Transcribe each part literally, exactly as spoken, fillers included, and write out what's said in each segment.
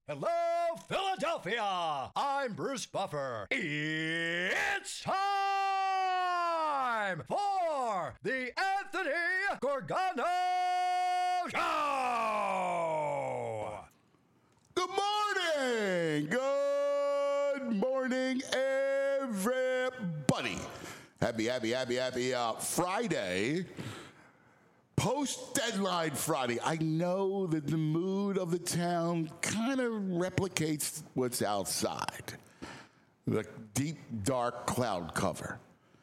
Hello, Philadelphia! I'm Bruce Buffer. It's time for the Anthony Gorgano Show! Good morning! Good morning, everybody. Happy, happy, happy, happy uh, Friday. Post-deadline Friday. I know that the mood of the town kind of replicates what's outside. The deep, dark cloud cover.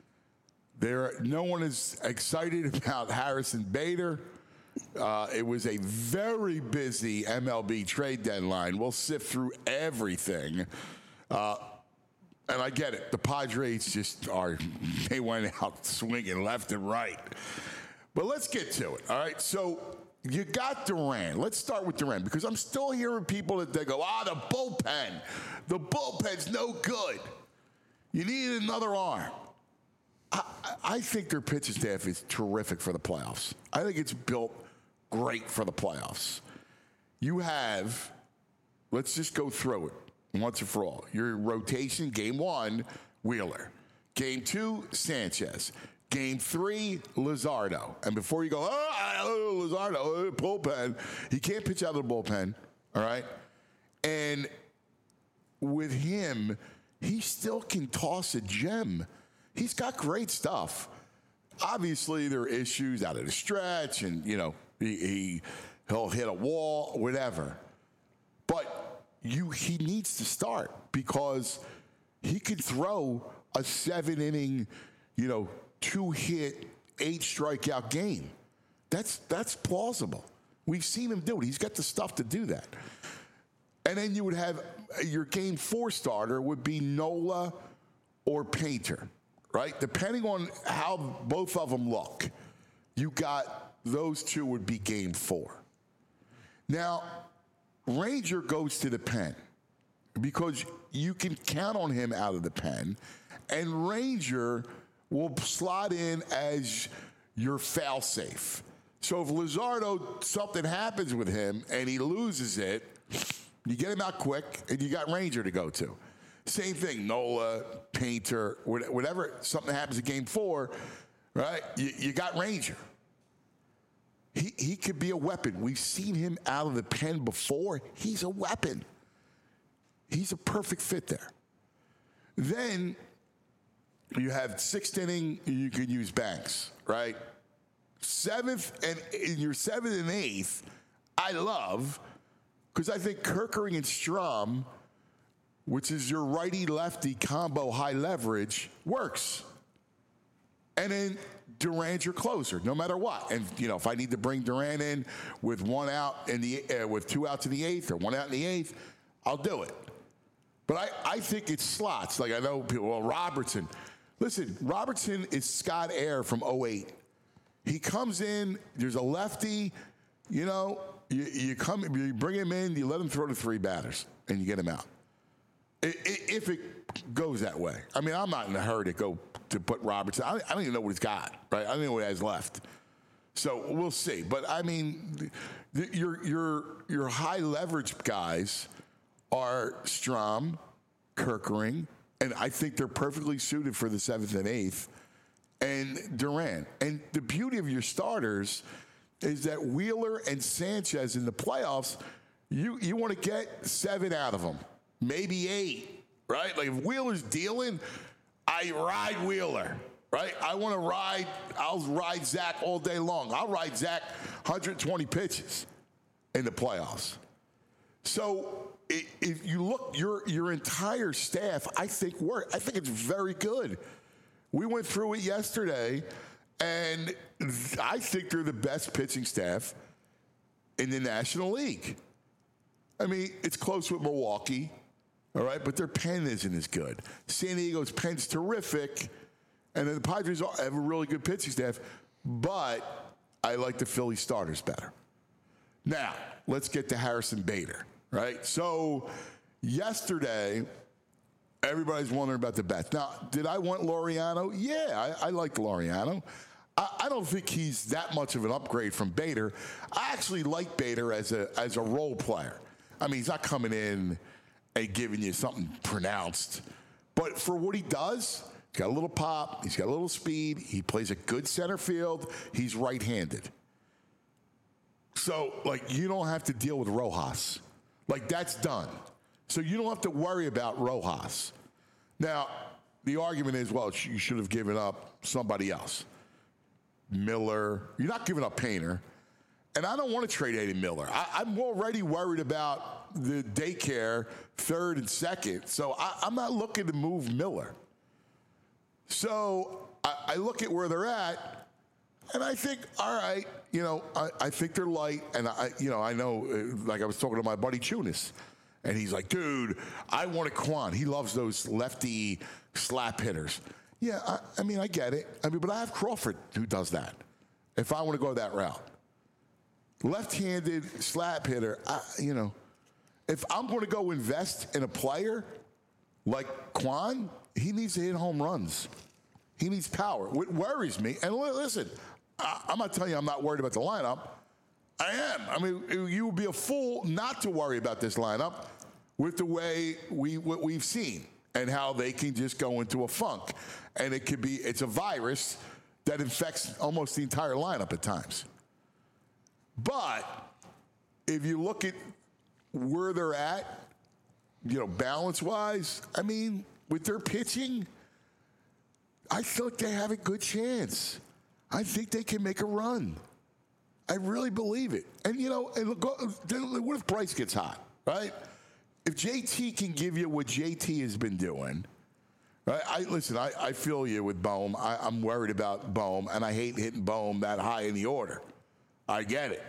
There, no one is excited about Harrison Bader. Uh, it was a very busy M L B trade deadline. We'll sift through everything. Uh, and I get it. The Padres just are, they went out swinging left and right. But let's get to it, all right? So you got Duran. Let's start with Duran because I'm still hearing people that they go, ah, the bullpen. The bullpen's no good. You need another arm. I, I think their pitching staff is terrific for the playoffs. I think it's built great for the playoffs. You have, let's just go through it once and for all. Your rotation, game one, Wheeler. Game two, Sanchez. Game three, Luzardo. And before you go, oh, Luzardo, oh, bullpen, he can't pitch out of the bullpen, all right? And with him, he still can toss a gem. He's got great stuff. Obviously, there are issues out of the stretch, and, you know, he, he, he'll hit a wall, whatever. But you, he needs to start because he could throw a seven-inning, you know, two-hit, eight-strikeout game. That's that's plausible. We've seen him do it. He's got the stuff to do that. And then you would have your game four starter would be Nola or Painter, right? Depending on how both of them look, you got those two would be game four. Now, Ranger goes to the pen because you can count on him out of the pen, and Ranger will slot in as your foul safe. So if Luzardo, something happens with him and he loses it, you get him out quick and you got Ranger to go to. Same thing, Nola, Painter, whatever, something happens in game four, right? You, you got Ranger. He, he could be a weapon. We've seen him out of the pen before. He's a weapon. He's a perfect fit there. Then you have sixth inning, you can use Banks, right? Seventh, and in your seventh and eighth, I love, because I think Kerkering and Strom, which is your righty-lefty combo high leverage, works. And then Duran's your closer, no matter what. And, you know, if I need to bring Duran in with one out in the uh, with two outs in the eighth or one out in the eighth, I'll do it. But I, I think it's slots. Like I know people, well, Robertson. Listen, Robertson is Scott Air from oh eight. He comes in, there's a lefty, you know, you, you come, you bring him in, you let him throw to three batters, and you get him out. If it goes that way. I mean, I'm not in a hurry to go to put Robertson. I don't even know what he's got, right? I don't know what he has left. So we'll see. But, I mean, your, your, your high leverage guys are Strom, Kerkering, and I think they're perfectly suited for the seventh and eighth, and Duran. And the beauty of your starters is that Wheeler and Sanchez in the playoffs, you, you want to get seven out of them, maybe eight, right? Like if Wheeler's dealing, I ride Wheeler, right? I want to ride, I'll ride Zach all day long. I'll ride Zach one hundred twenty pitches in the playoffs. So if you look, your your entire staff, I think work. I think it's very good. We went through it yesterday, and I think they're the best pitching staff in the National League. I mean, it's close with Milwaukee, all right, but their pen isn't as good. San Diego's pen's terrific, and then the Padres have a really good pitching staff, but I like the Philly starters better. Now, let's get to Harrison Bader. Right? So yesterday, everybody's wondering about the bets. Now, did I want Laureano? Yeah, I, I liked Laureano. I, I don't think he's that much of an upgrade from Bader. I actually like Bader as a as a role player. I mean, he's not coming in and giving you something pronounced. But for what he does, he's got a little pop. He's got a little speed. He plays a good center field. He's right-handed. So, like, you don't have to deal with Rojas. Like, that's done. So you don't have to worry about Rojas. Now, the argument is, well, you should have given up somebody else. Miller. You're not giving up Painter. And I don't want to trade Aiden Miller. I, I'm already worried about the daycare, third and second. So I, I'm not looking to move Miller. So I, I look at where they're at, and I think, all right, you know, I, I think they're light. And, I, you know, I know, uh, like I was talking to my buddy Chunas, and he's like, dude, I want a Kwan. He loves those lefty slap hitters. Yeah, I, I mean, I get it. I mean, but I have Crawford who does that if I want to go that route. Left-handed slap hitter, I, you know, if I'm going to go invest in a player like Kwan, he needs to hit home runs. He needs power. What worries me, and listen, I, I'm not telling you I'm not worried about the lineup. I am. I mean, you would be a fool not to worry about this lineup with the way we what we've seen and how they can just go into a funk. And it could be, it's a virus that infects almost the entire lineup at times. But if you look at where they're at, you know, balance-wise, I mean, with their pitching, I feel like they have a good chance. I think they can make a run. I really believe it. And, you know, and look, what if Bryce gets hot, right? If J T can give you what J T has been doing, right? I listen, I, I feel you with Bohm. I, I'm worried about Bohm, and I hate hitting Bohm that high in the order. I get it.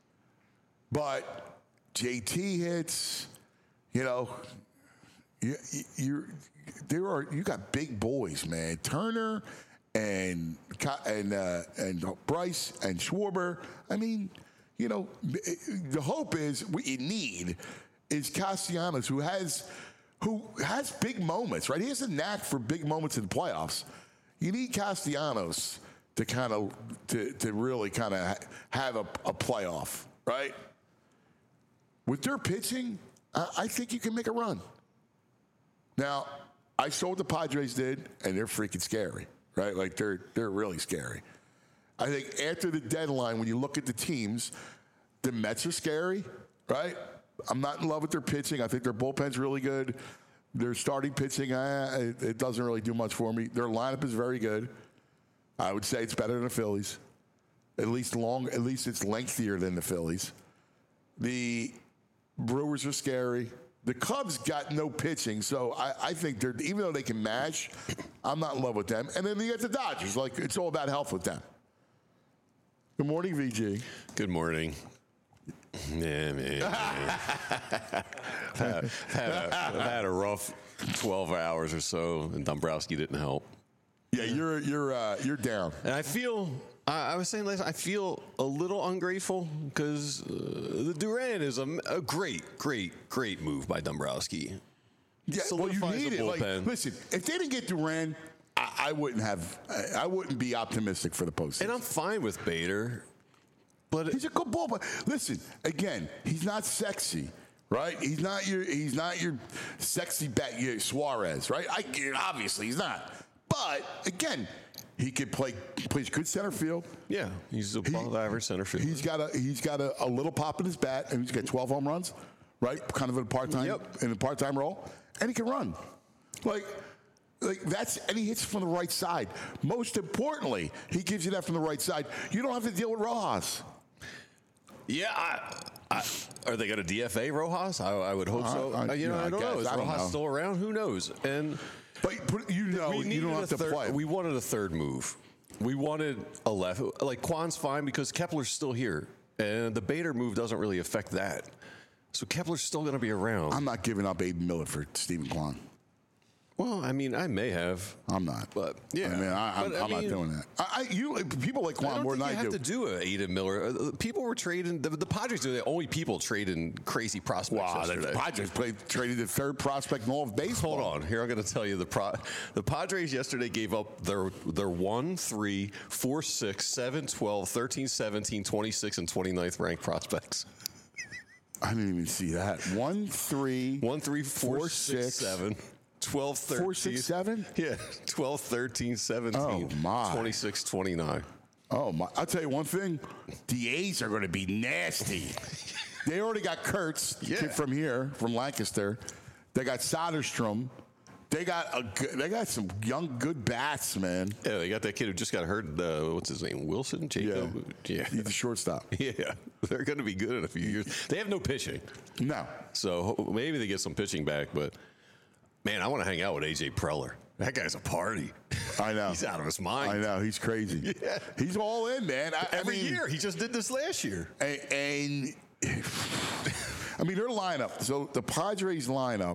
But J T hits, you know, you, you're, there are, you got big boys, man. Turner and and uh, and Bryce and Schwarber. I mean, you know, the hope is what you need is Castellanos, who has who has big moments, right? He has a knack for big moments in the playoffs. You need Castellanos to kind of to to really kind of ha- have a, a playoff, right? With their pitching, I, I think you can make a run. Now, I saw what the Padres did, and they're freaking scary, right? Like they're they're really scary. I think after the deadline, when you look at the teams, the Mets are scary, right? I'm not in love with their pitching. I think their bullpen's really good. Their starting pitching, uh, it, it doesn't really do much for me. Their lineup is very good. I would say it's better than the Phillies. At least long. At least it's lengthier than the Phillies. The Brewers are scary. The Cubs got no pitching, so I, I think they're, even though they can mash, I'm not in love with them. And then you get the Dodgers. Like, it's all about health with them. Good morning, V G. Good morning. Yeah, man. man. I've, had, had a, I've had a rough twelve hours or so, and Dombrowski didn't help. Yeah, you're you're uh, you're down. And I feel, I, I was saying last, I feel a little ungrateful because uh, the Duran is a, a great, great, great move by Dombrowski. Yeah, well, you Solidifies need the it. Like, bullpen. listen, if they didn't get Duran, I, I wouldn't have. I, I wouldn't be optimistic for the postseason. And I'm fine with Bader, but He's a good ball player. Listen, again, he's not sexy, right? He's not your he's not your sexy bat your Suarez, right? I obviously he's not. But again, he could play plays good center field. yeah, he's above average center field. He's got a he's got a, a little pop in his bat, and he's got twelve home runs, right? Kind of in a part time Yep. in a part time role, and he can run. Like. Like that's and he hits from the right side. Most importantly, he gives you that from the right side. You don't have to deal with Rojas. Yeah, I, I, are they going to D F A Rojas? I, I would hope so. I- I- Uh, you know, yeah, I I don't know. guess. Is I don't Rojas know. still around? Who knows? And But, but you know, we you needed don't a have to third, play. We wanted a third move. We wanted a left. Like Kwan's fine because Kepler's still here, and the Bader move doesn't really affect that. So Kepler's still going to be around. I'm not giving up Aiden Miller for Stephen Kwan. well, I mean, I may have. I'm not. But yeah, I mean, I, I'm, But, I I'm not mean, doing that. I, I you people like I Kwan don't more think than you I have do. to do a Aiden Miller. Uh, People were trading. The, the Padres are the only people trading crazy prospects Wow, the yesterday. Padres played traded the third prospect in all of baseball. Hold on. Here I'm going to tell you the pro- the Padres yesterday gave up their their one, three, four, six, seven, twelve, thirteen, seventeen, twenty-six, and twenty-ninth ranked prospects. I didn't even see that. One, three, One, three, four, four, six, six, seven. twelve, thirteen. four, six, seven? Yeah, twelve, thirteen, seventeen. Oh, my. twenty-six, twenty-nine. Oh, my. I'll tell you one thing. The A's are going to be nasty. They already got Kurtz Yeah. kid from here, from Lancaster. They got Soderstrom. They got a good, they got some young, good bats, man. Yeah, they got that kid who just got hurt. Uh, what's his name? Wilson? Jacob? Yeah. He's the shortstop. Yeah. They're going to be good in a few years. They have no pitching. No. So ho- maybe they get some pitching back, but man, I want to hang out with A J Preller. That guy's a party. I know. He's out of his mind. I know. He's crazy. Yeah. He's all in, man. I, Every I mean, year. He just did this last year. And, and I mean, their lineup. So the Padres lineup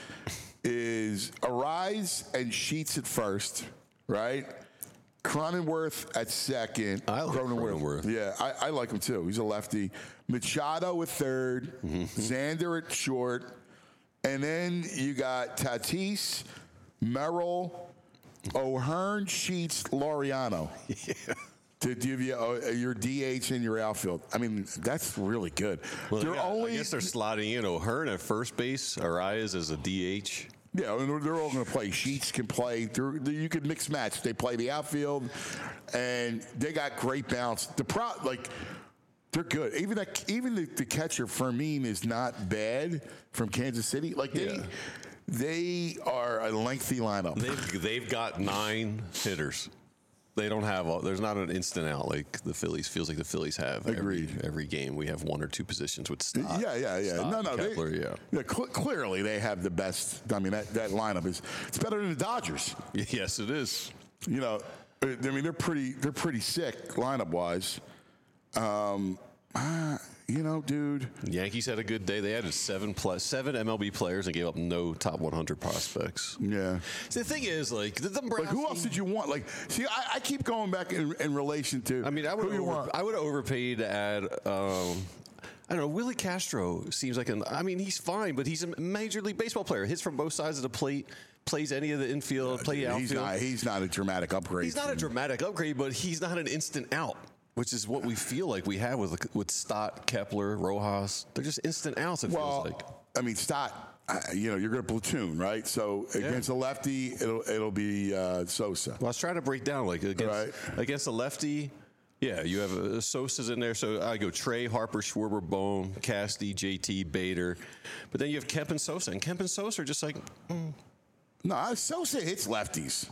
is Arise and Sheets at first, right? Cronenworth at second. I like Cronenworth. Yeah, I, I like him too. He's a lefty. Machado at third. Mm-hmm. Xander at short. And then you got Tatis, Merrill, O'Hearn, Sheets, Laureano. Yeah. To give you uh, your D H and your outfield. I mean, that's really good. Well, they're they got- only, I guess they're slotting in O'Hearn at first base, Arias as a D H. yeah, and they're, they're all going to play. Sheets can play. They're, they, you can mix match. They play the outfield, and they got great bounce. The pro, like, they're good. Even that, even the, the catcher Fermin is not bad from Kansas City. Like they, Yeah. they are a lengthy lineup. They've, they've got nine hitters. They don't have all, there's not an instant out like the Phillies. Feels like the Phillies have. Agreed. Every, every game we have one or two positions with Stott. Yeah, yeah, yeah. Stott, no, no. They, Kepler, yeah. yeah cl- clearly, they have the best. I mean, that, that lineup is it's better than the Dodgers. Yes, it is. You know, I mean, they're pretty. They're pretty sick lineup wise. Um, ah, you know, dude. Yankees had a good day. They added seven plus seven M L B players and gave up no top one hundred prospects. Yeah. See, the thing is, like, the, the Like, who else did you want? Like, see, I, I keep going back in, in relation to. I mean, I would who you over, want. I would have overpaid to add. Um, I don't know. Willie Castro seems like an. I mean, he's fine, but he's a major league baseball player. Hits from both sides of the plate. Plays any of the infield. Play outfield. He's not. He's not a dramatic upgrade. He's not a dramatic upgrade, but he's not an instant out, which is what we feel like we have with with Stott, Kepler, Rojas. They're just instant outs. It Well, feels like. I mean, Stott. uh, You know, you're going to platoon, right? So against a lefty, it'll it'll be uh, Sosa. Well, I was trying to break down like against Right. against a lefty. Yeah, you have uh, Sosa's in there, so I go Trey, Harper, Schwarber, Bone, Casty, J T, Bader, but then you have Kemp and Sosa, and Kemp and Sosa are just like. Mm. No, Sosa hits lefties.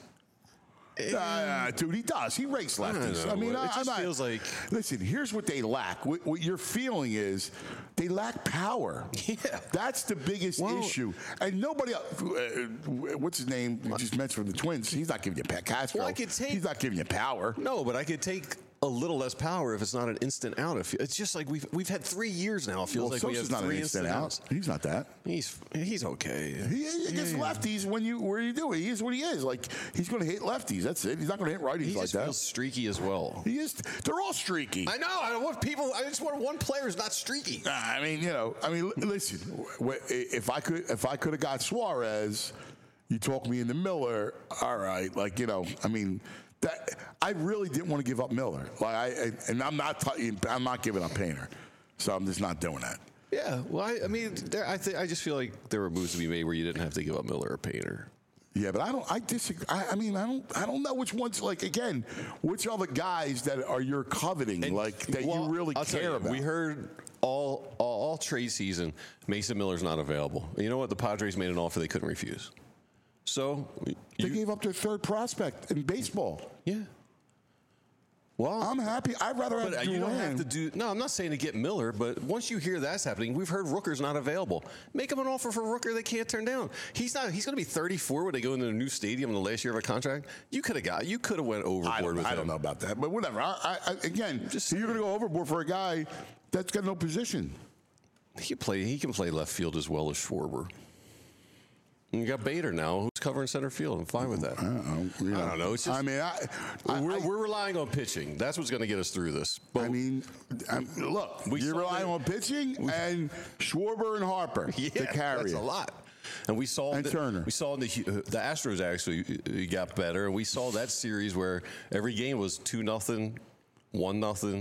Uh, dude, he does. He rakes lefties. know. I, mean, It I, just I'm not, feels like- Listen, here's what they lack. What, what you're feeling is they lack power. Yeah. That's the biggest Well- issue. And nobody else. Uh, what's his name? You just mentioned from the Twins. He's not giving you pa- Castro. Well, I could take- He's not giving you power. No, but I could take a little less power if it's not an instant out. If it's just like we've we've had three years now. It feels Well, like we Sosa's have not three an instant instant out. outs. He's not that. He's he's okay. He against lefties when you where you do it. He is what he is. Like he's going to hit lefties. That's it. He's not going to hit righties He like just that. feels streaky as well. He is. They're all streaky. I know. I don't want people. I just want one player who's not streaky. Nah, I mean, you know, I mean, li- listen. wh- If I could, if I could have got Suarez, you talk me into Miller. All right, like you know, I mean, that I really didn't want to give up Miller. Like I, I and I'm not, t- I'm not giving up Painter, so I'm just not doing that. Yeah. Well, I, I mean, there, I think I just feel like there were moves to be made where you didn't have to give up Miller or Painter. Yeah, but I don't. I disagree. I, I mean, I don't. I don't know which ones. Like again, which are the guys that are you're coveting, like that Well, you really I'll tell care you, about. We heard all, all all trade season Mason Miller's not available. You know what? The Padres made an offer they couldn't refuse. So they you, gave up their third prospect in baseball. yeah. Well, I'm happy. I'd rather have But you don't have Duran. to do. No, I'm not saying to get Miller, but once you hear that's happening, we've heard Rooker's not available. Make him an offer for Rooker they can't turn down. He's not. He's going to be thirty-four when they go into a new stadium in the last year of a contract. You could have got. You could have went overboard I don't, with I him. don't know about that, but whatever. I, I, I, again, Just you're going to go overboard for a guy that's got no position. He can play. He can play left field as well as Schwarber. And you got Bader now, who's covering center field. I'm fine with that. I don't know. You I don't know. It's just. I mean, I, I, we're, I, we're relying on pitching. That's what's going to get us through this. But I mean, I, look, We you're saw relying that- on pitching and Schwarber and Harper yeah, to carry that's it. a lot. And we saw And the, Turner. We saw in the uh, the Astros actually uh, got better, and we saw that series where every game was two nothing, one nothing,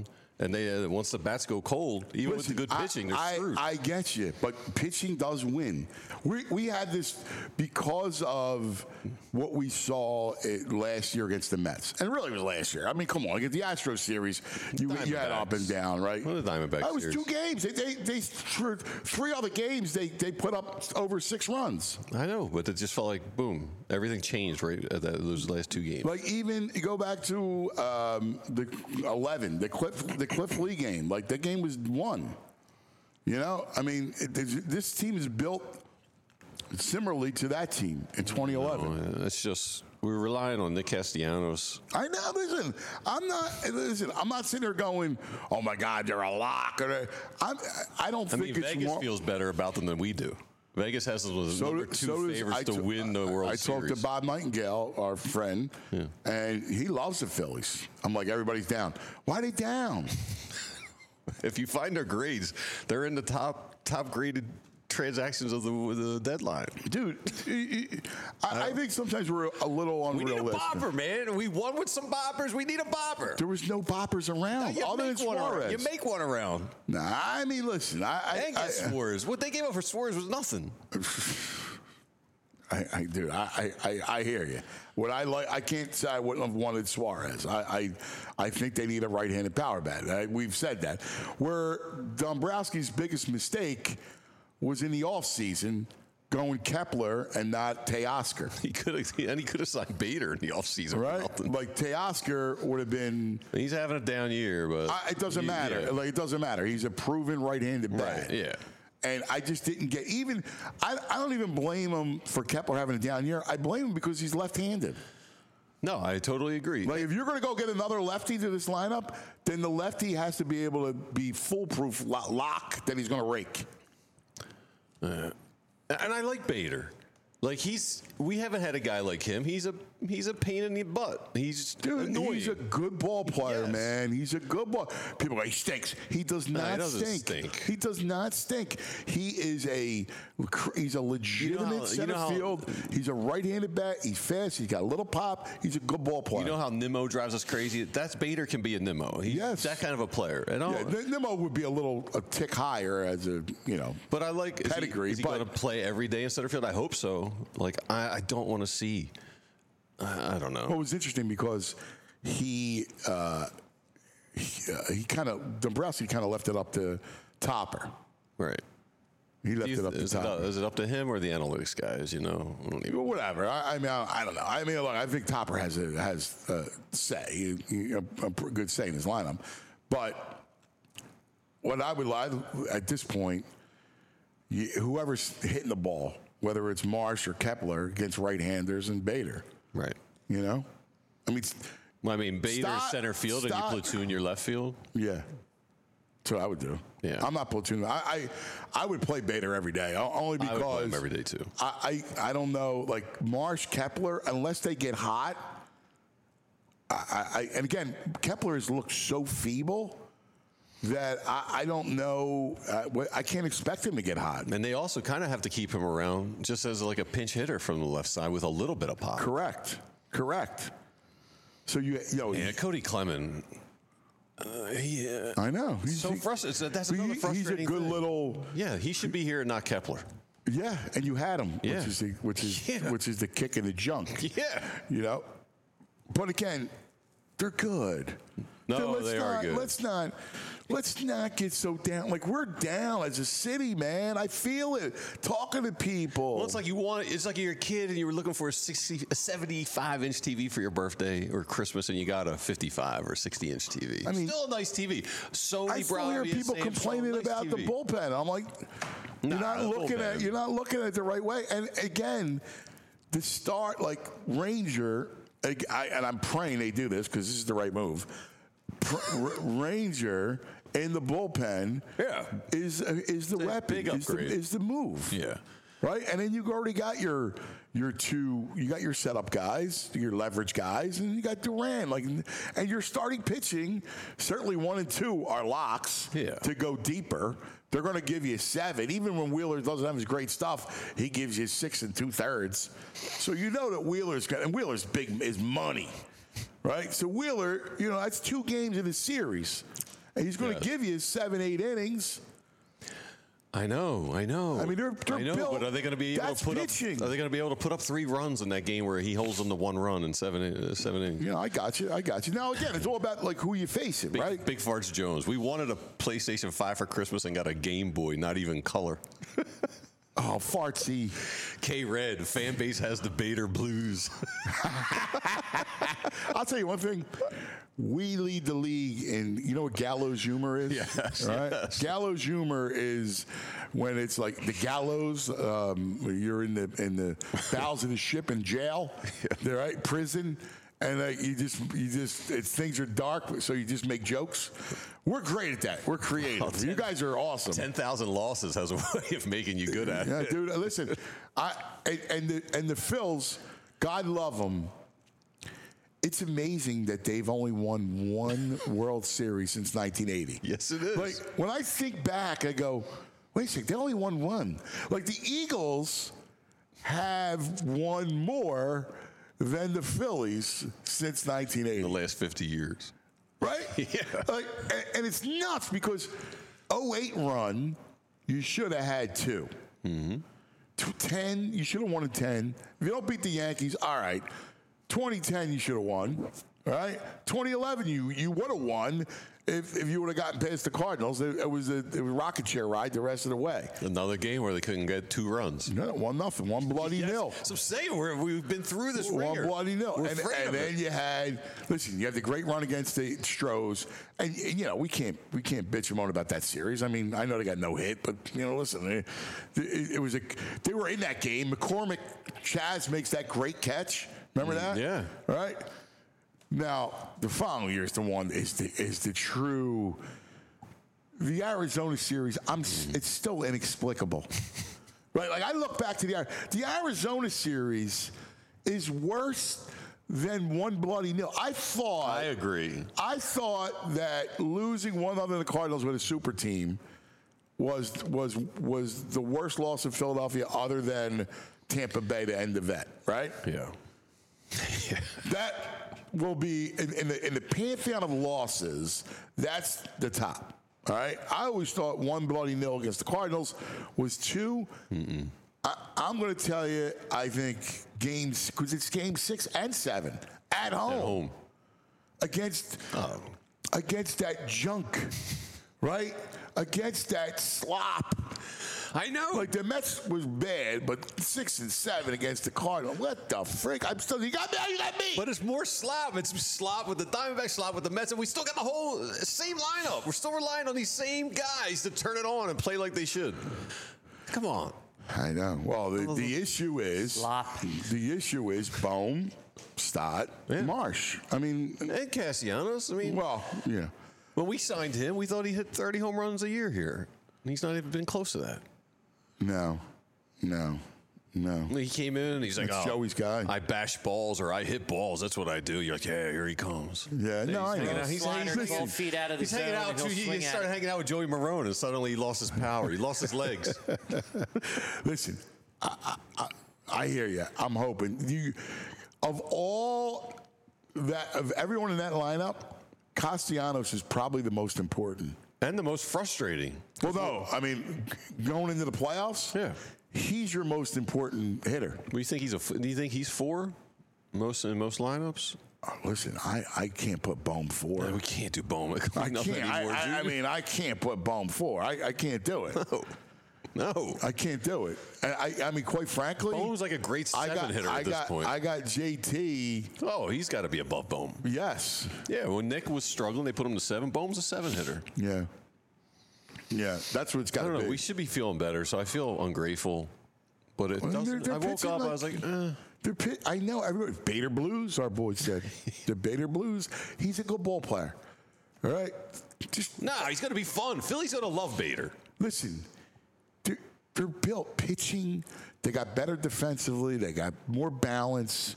And they uh, once the bats go cold, even Listen, with the good pitching, they're I, screwed. I, I get you, but pitching does win. We we had this because of what we saw it last year against the Mets, and really it was last year. I mean, come on, against the Astros series, you, you had up and down, right? What are the Diamondbacks That was series? two games. They they, they for three other games they they put up over six runs. I know, but it just felt like boom, everything changed right at that, those last two games. Like even you go back to um, the eleven, the Cliff the Cliff Lee game. Like that game was won. You know, I mean, it, this team is built similarly to that team in twenty eleven. No, it's just we're relying on Nick Castellanos. I know. Listen, I'm not. Listen, I'm not sitting there going, "Oh my God, they're a lock." Or I'm, I don't I think mean, it's Vegas more, feels better about them than we do. Vegas has them as So number do- two so does- favorites I to t- win the World I Series. talked to Bob Nightingale, our friend, Yeah. and he loves the Phillies. I'm like, everybody's down. Why are they down? If you find their grades, they're in the top top graded transactions of the, the deadline. Dude, I, I think sometimes we're a little We need a unrealistic. bopper, man. We won with some boppers. We need a bopper. There was no boppers around You other than make, one around. Suarez. you make one around. Nah, I mean, listen, I, I, And I, get Suarez. What they gave up for Suarez was nothing. I, I dude, I, I, I hear you. What I like, I can't say I wouldn't have wanted Suarez. I, I, I think they need a right-handed power bat. I, we've said that. Where Dombrowski's biggest mistake was in the offseason going Kepler and not Teoscar. He could have, and he could have signed Bader in the offseason. for Right? nothing. Like Teoscar would have been. He's having a down year, but I, it doesn't he- matter. yeah. Like it doesn't matter. He's a proven right-handed bat. Right, yeah. And I just didn't get even. I, I don't even blame him for Kepler having a down year. I blame him because he's left-handed. No, I totally agree. Like if you're going to go get another lefty to this lineup, then the lefty has to be able to be foolproof lo- lock that he's going to rake. Uh, and I like Bader. Like he's, we haven't had a guy like him. He's a, he's a pain in the butt. He's Dude, annoying. he's a good ball player, Yes. man. He's a good ball. People go, he stinks. He does No, he not doesn't stink. stink. He does not stink. He is a he's a legitimate how- you center know how- field. He's a right-handed bat. He's fast. He's got a little pop. He's a good ball player. You know how Nimmo drives us crazy? That's Bader can be a Nimmo. He's Yes. that kind of a player. And all, yeah, N- Nimmo would be a little a tick higher as a you know. but I like is he- Pedigree, Is he, but- going to play every day in center field? I hope so. Like I, I don't want to see. I, I don't know. Well, it was interesting because he uh, he, uh, he kind of Dombrowski kind of left it up to Topper. Right. He left Do you- it up to is, it, Topper. is it up to him or the analytics guys? You know, I don't even. Well, whatever. I, I mean, I, I don't know. I mean, look, I think Topper has a, has a say, he- he- a, a pr- good say in his lineup. But what I would like at this point, you, whoever's hitting the ball, whether it's Marsh or Kepler against right-handers and Bader, Right. you know, I mean, Well, I mean, Bader Stop- center field stop. and you platoon your left field. yeah. That's what I would do. Yeah. I'm not platooning. I, I I would play Bader every day, o- only I because would play him every day too. I, I, I don't know, like Marsh, Kepler, unless they get hot. I, I and again, Kepler has looked so feeble that I, I don't know. Uh, what- I can't expect him to get hot. And they also kind of have to keep him around just as like a pinch hitter from the left side with a little bit of pop. Correct. Correct. So you, you know, Yeah, Cody Clement. Uh, he, uh, I know. He's so he- frustrating. That's he- another He's a frustrating good thing. little. Yeah, he should be here and not Kepler. Yeah, and you had him, Yeah. which is the, which is Yeah. which is the kick in the junk. Yeah. You know, but again, they're good. No, So let's they not, are good. Let's not let's not get so down. Like we're down as a city, man. I feel it. Talking to people. Well, it's like you want. It's like you're a kid and you were looking for a sixty, a seventy-five inch T V for your birthday or Christmas, and you got a fifty-five or sixty inch T V. I mean- still a nice T V. Sony I still hear Bravia, people Samsung, complaining nice about T V. the bullpen. I'm like, Nah, you're not the looking bullpen. at you're not looking at it the right way. And again, the start like Ranger, ag- I, and I'm praying they do this because this is the right move. Pr- R- Ranger in the bullpen, Yeah. is uh, is the It's a weapon, big is the, upgrade. is the move, Yeah. right. And then you already got your your two, you got your setup guys, your leverage guys, and you got Duran. Like, and your starting pitching, certainly one and two are locks Yeah. to go deeper. They're going to give you seven. Even when Wheeler doesn't have his great stuff, he gives you six and two thirds. So you know that Wheeler's got, and Wheeler's big is money, right? So Wheeler, you know, that's two games in the series. and he's going to Yes. give you seven, eight innings. I know, I know. I mean, they're- they're I know, built- but are they going to be able that's to put pitching. up? Are they going to be able to put up three runs in that game where he holds them to one run in seven uh, seven innings? You know, I got you. I got you. Now, again, it's all about like who you facing, Big, right? Big Farts Jones. We wanted a PlayStation five for Christmas and got a Game Boy, not even color. Oh, fartsy. K Red, fan base has the Bader blues. I'll tell you one thing. We lead the league in, you know what gallows humor is? Yes, Right? yes. Gallows humor is when it's like the gallows, um, you're in the in the bowels of the ship in jail, yeah. Right? Prison. And uh, you just, you just, it's, things are dark, so you just make jokes. We're great at that. We're creative. Oh, ten, you guys are awesome. ten thousand losses has a way of making you good at Yeah, it. dude. Listen, I and, and the and the Phils, God love them. It's amazing that they've only won one World Series since nineteen eighty. Yes, it is. Like when I think back, I go, wait a second, they only won one. Like the Eagles have won more than the Phillies since nineteen eighty. the last fifty years. Right? Yeah. Like, and, and it's nuts because oh eight run, you should have had two. Mm-hmm. ten, you should have won a ten. If you don't beat the Yankees, all right. twenty ten, you should have won. All right? twenty eleven, you you would have won if, if you would have gotten past the Cardinals. It, it was a it was a rocket chair ride the rest of the way. Another game where they couldn't get two runs. No, one nothing, one bloody Yes. nil. So I'm saying we're, we've been through this One ringer. bloody nil. We're And, afraid and of then it. you had, listen, you had the great run against the Stros. And, and, you know, we can't we can't bitch and moan about that series. I mean, I know they got no hit, but, you know, listen, it, it, it was a, they were in that game. McCormick, Chaz makes that great catch. Remember that? yeah. All right? Now, the following year is the one, is the, is the true, the Arizona series, I'm, it's still inexplicable. Right, like I look back to the the Arizona series is worse than one bloody nil. I thought I agree. I thought that losing one other than the Cardinals with a super team was was was the worst loss of Philadelphia other than Tampa Bay to end the vet. Right? Yeah. That will be in, in the in the pantheon of losses. That's the top. All right. I always thought one bloody nil against the Cardinals was two. Mm-mm. I, I'm going to tell you. I think games because it's game six and seven at home, At home. against Oh. against that junk, right? Against that slop. I know. Like the Mets was bad, but six and seven against the Cardinals. What the frick? I'm still. You got me. You got me. But it's more slop. It's slop with the Diamondbacks, slop with the Mets, and we still got the whole same lineup. We're still relying on these same guys to turn it on and play like they should. Come on. I know. Well, the, the issue is Slop. the issue is Bohm, Stott, Yeah. Marsh. I mean, And Castellanos. I mean, well, yeah. when we signed him, we thought he hit thirty home runs a year here. And he's not even been close to that. No, no, no. He came in and he's like, That's oh, Joey's guy. I bash balls or I hit balls. That's what I do. You're like, yeah, here he comes. Yeah, no, I hanging know. out. He's, Slider he's, twelve feet out of the he's hanging zone, out. and Too, he'll he swing at started it. hanging out with Joey Marone, and suddenly he lost his power. He lost his legs. Listen, I, I, I, I hear you. I'm hoping you. Of all that, of everyone in that lineup, Castellanos is probably the most important. And the most frustrating. Well, no, I mean, going into the playoffs, Yeah. he's your most important hitter. Do you think he's a? f- Do you think he's four? Most in most lineups. Oh, listen, I, I can't put Bohm four. Man, we can't do Bowman. I Nothing can't. anymore, I, I, I dude. mean, I can't put Bohm four. I, I can't do it. no, no. I can't do it. And I, I mean, quite frankly, Bowman's like a great I seven got, hitter I at this got, point. I got J T. oh, he's got to be above Bowman. Yes. Yeah, when Nick was struggling, they put him to seven. Bowman's a seven hitter. Yeah. Yeah. That's what it's I got don't to know. be. We should be feeling better, so I feel ungrateful. But it Well, they're- doesn't. they're I woke pitching up. I like- was like, eh. They're pit, I know everybody. Bader Blues, our boy said. The Bader Blues. He's a good ball player. All right. Just nah, he's gonna be fun. Philly's gonna love Bader. listen. They're, they're built pitching. They got better defensively. They got more balance.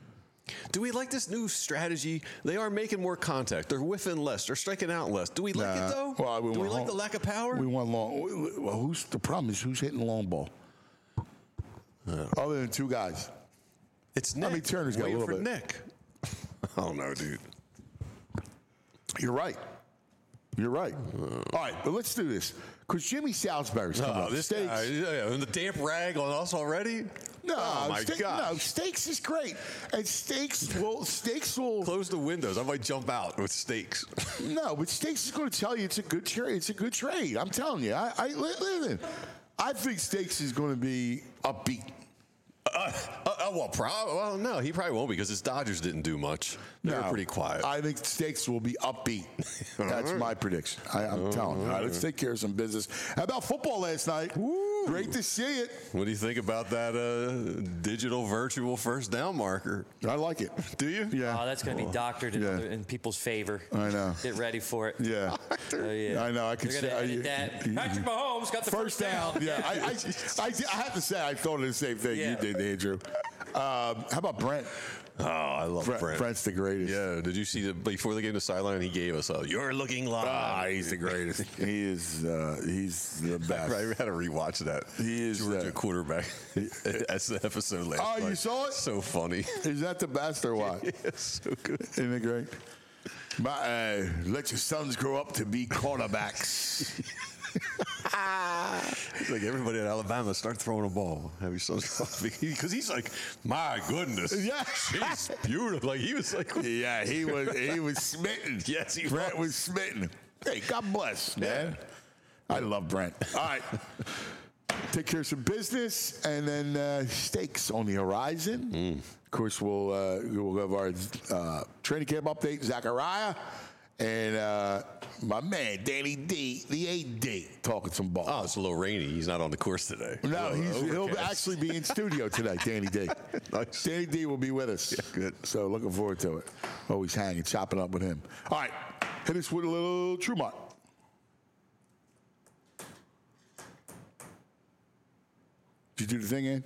Do we like this new strategy? They are making more contact. They're whiffing less. They're striking out less. Do we like Nah. it though? Well, we Do we want like home- the lack of power? We want long. Well, who's the problem? Is who's hitting long ball? Other than two guys. it's Nick. I mean, Turner's got a Waiting little for bit. Nick. I don't know, dude. You're right. You're right. All right, but let's do this. Because Jimmy Salisbury's coming Oh, up. this Steaks. guy, yeah, and the damp rag on us already? No, oh my steak, gosh. no, steaks is great. And steaks will, steaks will. Close the windows. I might jump out with steaks. No, but steaks is going to tell you it's a good trade. It's a good trade. I'm telling you. I, I listen. I think steaks is going to be upbeat. Uh, uh, uh, well, prob- well, no, he probably won't because his Dodgers didn't do much. They No, were pretty quiet. I think steaks will be upbeat. That's my prediction. I, I'm telling you. All right, let's take care of some business. How about football last night? Woo. Great to see it. What do you think about that uh, digital virtual first down marker? I like it. Do you? Yeah. Oh, that's going to be doctored in, Yeah. other, in people's favor. I know. Get ready for it. Yeah. Oh, yeah. I know. I could They're say going to edit that. you- Patrick Mahomes got the First down. Yeah, I, I, I, I have to say, I thought of the same thing Yeah. you did, Andrew. Um, how about Brent? Oh, I love Brent Brent. Brent's the greatest. Yeah, did you see that before the game, the sideline he gave us a "You're looking live." Ah, he's the greatest. he is. Uh, he's the best. I had to rewatch that. He is, Georgia uh, quarterback. That's the episode last Oh, night. you saw it? So funny. Is that the best or what? Yeah, so good. Isn't it great? My, uh, let your sons grow up to be quarterbacks. It's like everybody at Alabama start throwing a ball. Have your sons because he's like, my goodness, Yeah. she's beautiful. Like he was like, Yeah, he was. He was smitten. Yes, he Brent was. was smitten. Hey, God bless, man. I love Brent. All right. Take care of some business, and then uh, steaks on the horizon. Of course, we'll uh, we'll have our uh, training camp update, Zachariah, and uh, my man Danny D, the A D, talking some ball. oh, it's a little rainy. He's not on the course today. No, Oh, he's, he'll overcast. actually be in studio today, Danny D. Nice. Danny D will be with us. Yeah, good. So looking forward to it. Always hanging, chopping up with him. All right, hit us with a little Trumont. Did you do the thing, Ann?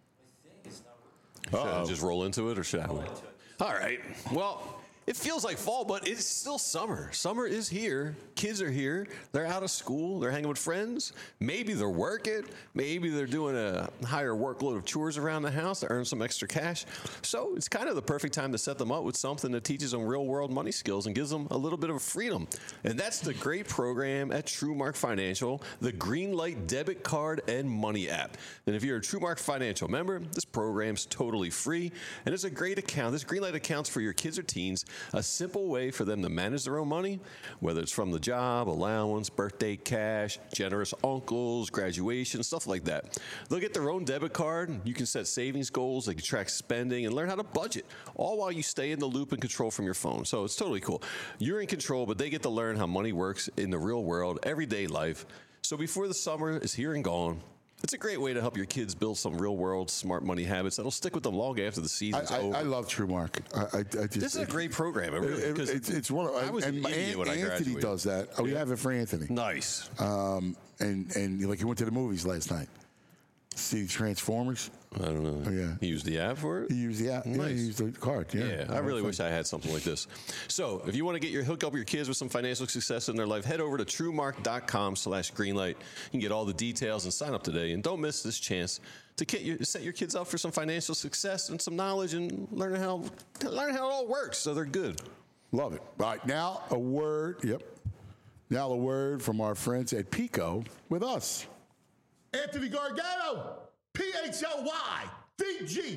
Should I just roll into it or should I? All right. Well, it feels like fall, but it's still summer. Summer is here. Kids are here. They're out of school. They're hanging with friends. Maybe they're working. Maybe they're doing a higher workload of chores around the house to earn some extra cash. So it's kind of the perfect time to set them up with something that teaches them real world money skills and gives them a little bit of freedom. And that's the great program at TrueMark Financial, the Greenlight debit card and money app. And if you're a TrueMark Financial member, this program's totally free. And it's a great account. This Greenlight account's for your kids or teens, a simple way for them to manage their own money, whether it's from the job, allowance, birthday cash, generous uncles, graduation, stuff like that. They'll get their own debit card. You can set savings goals, they can track spending, and learn how to budget, all while you stay in the loop and control from your phone. So it's totally cool. You're in control, but they get to learn how money works in the real world, everyday life. So before the summer is here and gone, it's a great way to help your kids build some real-world smart money habits that'll stick with them long after the I, season's I, over. I love TrueMark. I, I, I just, This is a great program. It really, It, 'cause it's, it's one of, I was and an idiot An- when I Anthony graduated. does that. Oh, you Yeah. have it for Anthony. Nice. Um, and and like he went to the movies last night. See Transformers. I don't know. Oh, yeah. He used the app for it? He used the app. Yeah, Nice. he used the card. Yeah, Yeah, I really wish I had something like this. So if you want to get your hook up your kids with some financial success in their life, head over to truemark.com slash greenlight. You can get all the details and sign up today. And don't miss this chance to get your, set your kids up for some financial success and some knowledge and learn how learn how it all works so they're good. Love it. All right, now a word. Yep. Now a word from our friends at Pico with us. Anthony Gargano, P H L Y D G.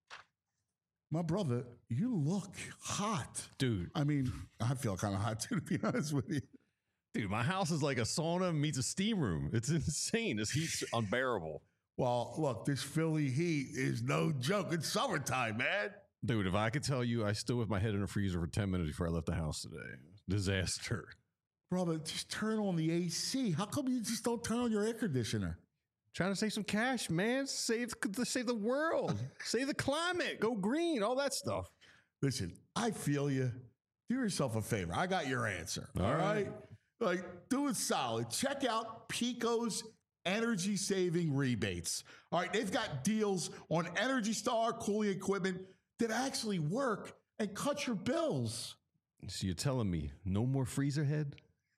My brother, you look hot. Dude. I mean, I feel kind of hot too, to be honest with you. Dude, my house is like a sauna meets a steam room. It's insane. This heat's unbearable. Well, look, this Philly heat is no joke. It's summertime, man. Dude, if I could tell you, I stood with my head in a freezer for ten minutes before I left the house today. Disaster. Brother, just turn on the A C. How come you just don't turn on your air conditioner? Trying to save some cash, man. Save, save the world. Save the climate. Go green. All that stuff. Listen, I feel you. Do yourself a favor. I got your answer. All All right. right. Like, do it solid. Check out Pico's energy saving rebates. All right. They've got deals on Energy Star cooling equipment that actually work and cut your bills. So you're telling me no more freezer head?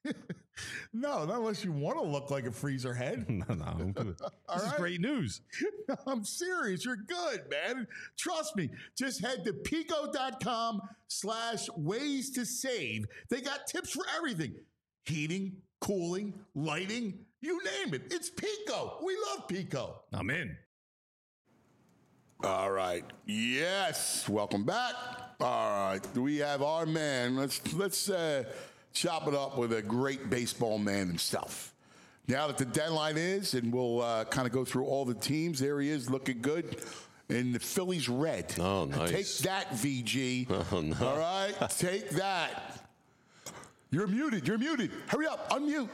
No, not unless you want to look like a freezer head. No, no, I'm good. All This is right. great news. I'm serious. You're good, man. Trust me. Just head to pico.com slash ways to save. They got tips for everything. heating, cooling, lighting, you name it. It's Pico. We love Pico. I'm in. All right. Yes. Welcome back. All right. We have our man. Let's let's uh, chop it up with a great baseball man himself. Now that the deadline is, and we'll uh, kind of go through all the teams. There he is, looking good. In the Phillies red. Oh, nice. Take that, V G. Oh, no. All right? Take that. You're muted. You're muted. Hurry up. Unmute.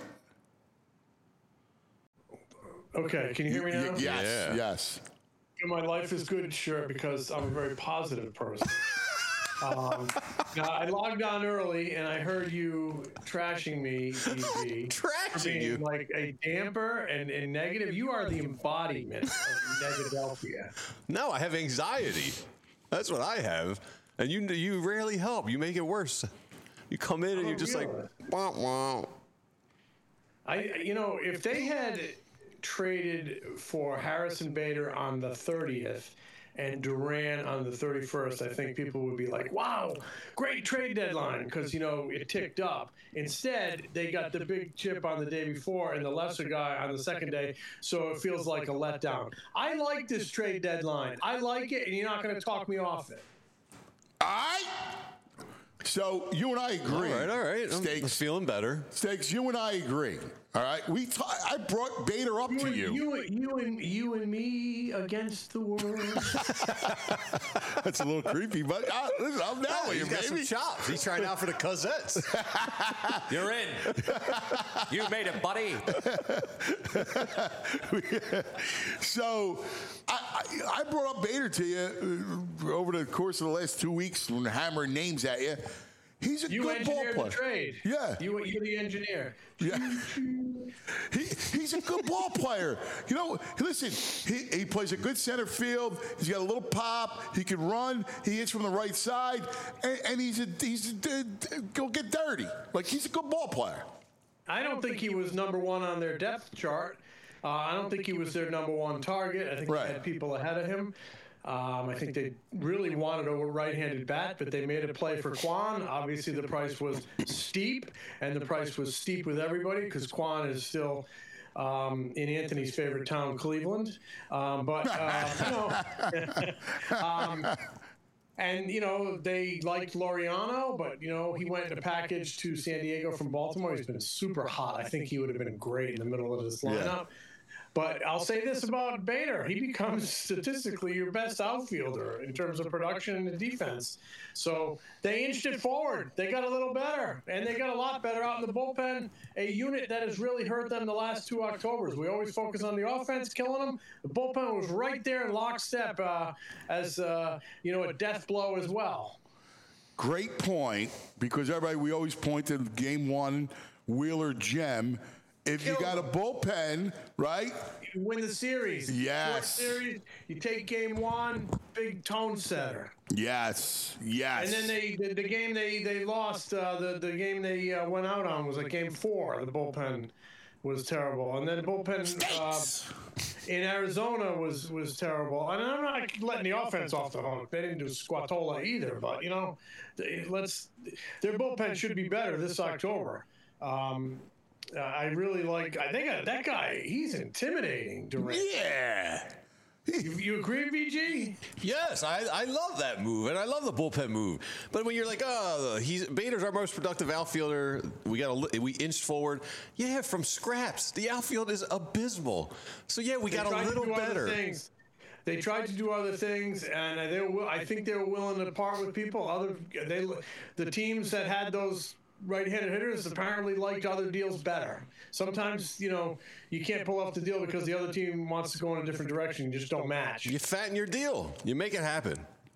Okay, can you hear me now? Y- yes. Yeah. Yes. My life is good, sure, because I'm a very positive person. um, now, I logged on early, and I heard you trashing me, V G. Trashing being you? like a damper and, and negative. You are the embodiment of Negadelphia. No, I have anxiety. That's what I have. And you you rarely help. You make it worse. You come in and I'm you're just like, realist. wah, wah. I, you know, if they had traded for Harrison Bader on the thirtieth and Duran on the thirty-first, I think people would be like, wow, great trade deadline, because, you know, it ticked up. Instead, they got the big chip on the day before and the lesser guy on the second day, so it feels like a letdown. I like this trade deadline. I like it, and you're not going to talk me off it. All right. So you and I agree. All right, all right. I'm Stakes. feeling better. Stakes, you and I agree. All right. We ta- I brought Bader up to and- you. You, you, and, you and me against the world. That's a little creepy, but uh, listen, I'm down with you, He's got some baby. chops. He's trying out for the Cosettes. You're in. You made it, buddy. So I, I, I brought up Bader to you uh, over the course of the last two weeks when hammering names at you. He's a You good ball engineered player. the trade. Yeah. You, you're the engineer. Yeah. he, he's a good ball player. You know, listen, he, he plays a good center field. He's got a little pop. He can run. He hits from the right side. And, and he's a, he's a, go get dirty. Like, he's a good ball player. I don't think he was number one on their depth chart. Uh, I don't think he was their number one target. I think Right. they had people ahead of him. Um, I think they really wanted a right-handed bat, but they made a play for Quan. Obviously, the price was steep, and the price was steep with everybody because Quan is still um, in Anthony's favorite town, Cleveland. Um, but, uh, you know, um, and, you know, they liked Laureano, but, you know, he went in a package to San Diego from Baltimore. He's been super hot. I think he would have been great in the middle of this lineup. But I'll say this about Bader. He becomes statistically your best outfielder in terms of production and defense. So they inched it forward. They got a little better, and they got a lot better out in the bullpen, a unit that has really hurt them the last two Octobers. We always focus on the offense killing them. The bullpen was right there in lockstep uh, as, uh, you know, a death blow as well. Great point, because everybody, we always point to game one, Wheeler Gem. If you got a bullpen, right? You win the series. Yes. Fourth series, you take game one, big tone setter. Yes, yes. And then they the, the game they they lost. Uh, the the game they uh, went out on was like game four. The bullpen was terrible, and then the bullpen uh, in Arizona was was terrible. And I'm not letting the offense off the hook. They didn't do squatola either, but you know, they, let's their bullpen should be better this October. Um, Uh, I really like. I think uh, that guy. He's intimidating. Durant. Yeah. You, you agree, V G? Yes, I, I love that move, and I love the bullpen move. But when you're like, oh, he's Bader's our most productive outfielder. We got a, we inched forward. Yeah, from scraps. The outfield is abysmal. So yeah, we They got a tried to little do other better. things. They tried to do other things, and they were, I think they were willing to part with people. Other they the teams that had those right-handed hitters apparently liked other deals better. Sometimes, you know, you can't pull off the deal because the other team wants to go in a different direction. You just don't match. You fatten your deal. You make it happen.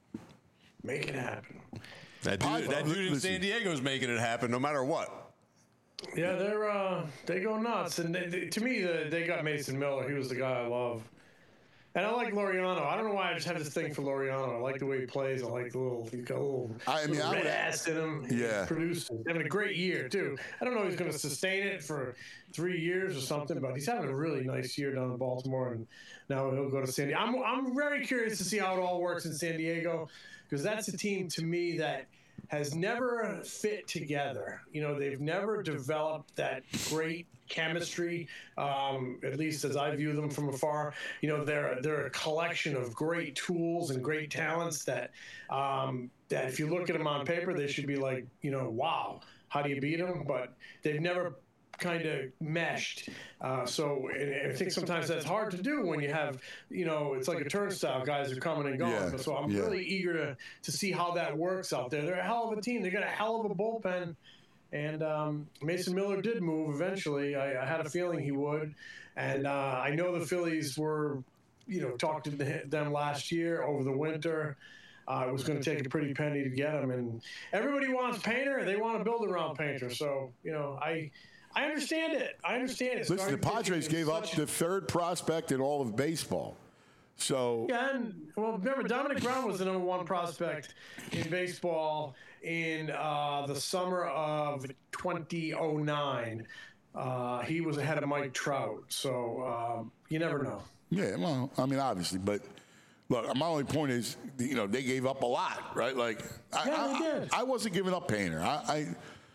Make it happen. That dude, that dude in Listen. San Diego is making it happen no matter what. Yeah, they're uh, they go nuts. And they, they, to me, the, they got Mason Miller. He was the guy I love. And I like Laureano. I don't know why I just have this thing for Laureano. I like the way he plays. I like the little, he's got a little, I mean, little I red would- ass in him. He's Yeah. producing. He's having a great year, too. I don't know if he's going to sustain it for three years or something, but he's having a really nice year down in Baltimore, and now he'll go to San Diego. I'm, I'm very curious to see how it all works in San Diego, because that's a team, to me, that has never fit together. You know, they've never developed that great chemistry, um, at least as I view them from afar. You know, they're they're a collection of great tools and great talents that um, that if you look at them on paper, they should be like, you know, wow, how do you beat them? But they've never kind of meshed. Uh, so and I think sometimes that's hard to do when you have, you know, it's like a turnstile, guys are coming and going. Yeah, But so I'm yeah. really eager to, to see how that works out there. They're a hell of a team. They got a hell of a bullpen. And um, Mason Miller did move eventually. I, I had a feeling he would. And uh, I know the Phillies were, you know, talked to them last year over the winter. Uh, it was going to take a pretty penny to get him. And everybody wants Painter. They want to build around Painter. So, you know, I I understand it. I understand it. Listen, the Padres gave up the third prospect in all of baseball. So Yeah, and well, remember Dominic Brown was the number one prospect in baseball in uh, the summer of twenty oh nine. Uh, he was ahead of Mike Trout, so um, you never know. yeah, well, I mean, obviously, but look, my only point is, you know, they gave up a lot, right? Like, I, Yeah, I, they did. I, I wasn't giving up Painter. I, I,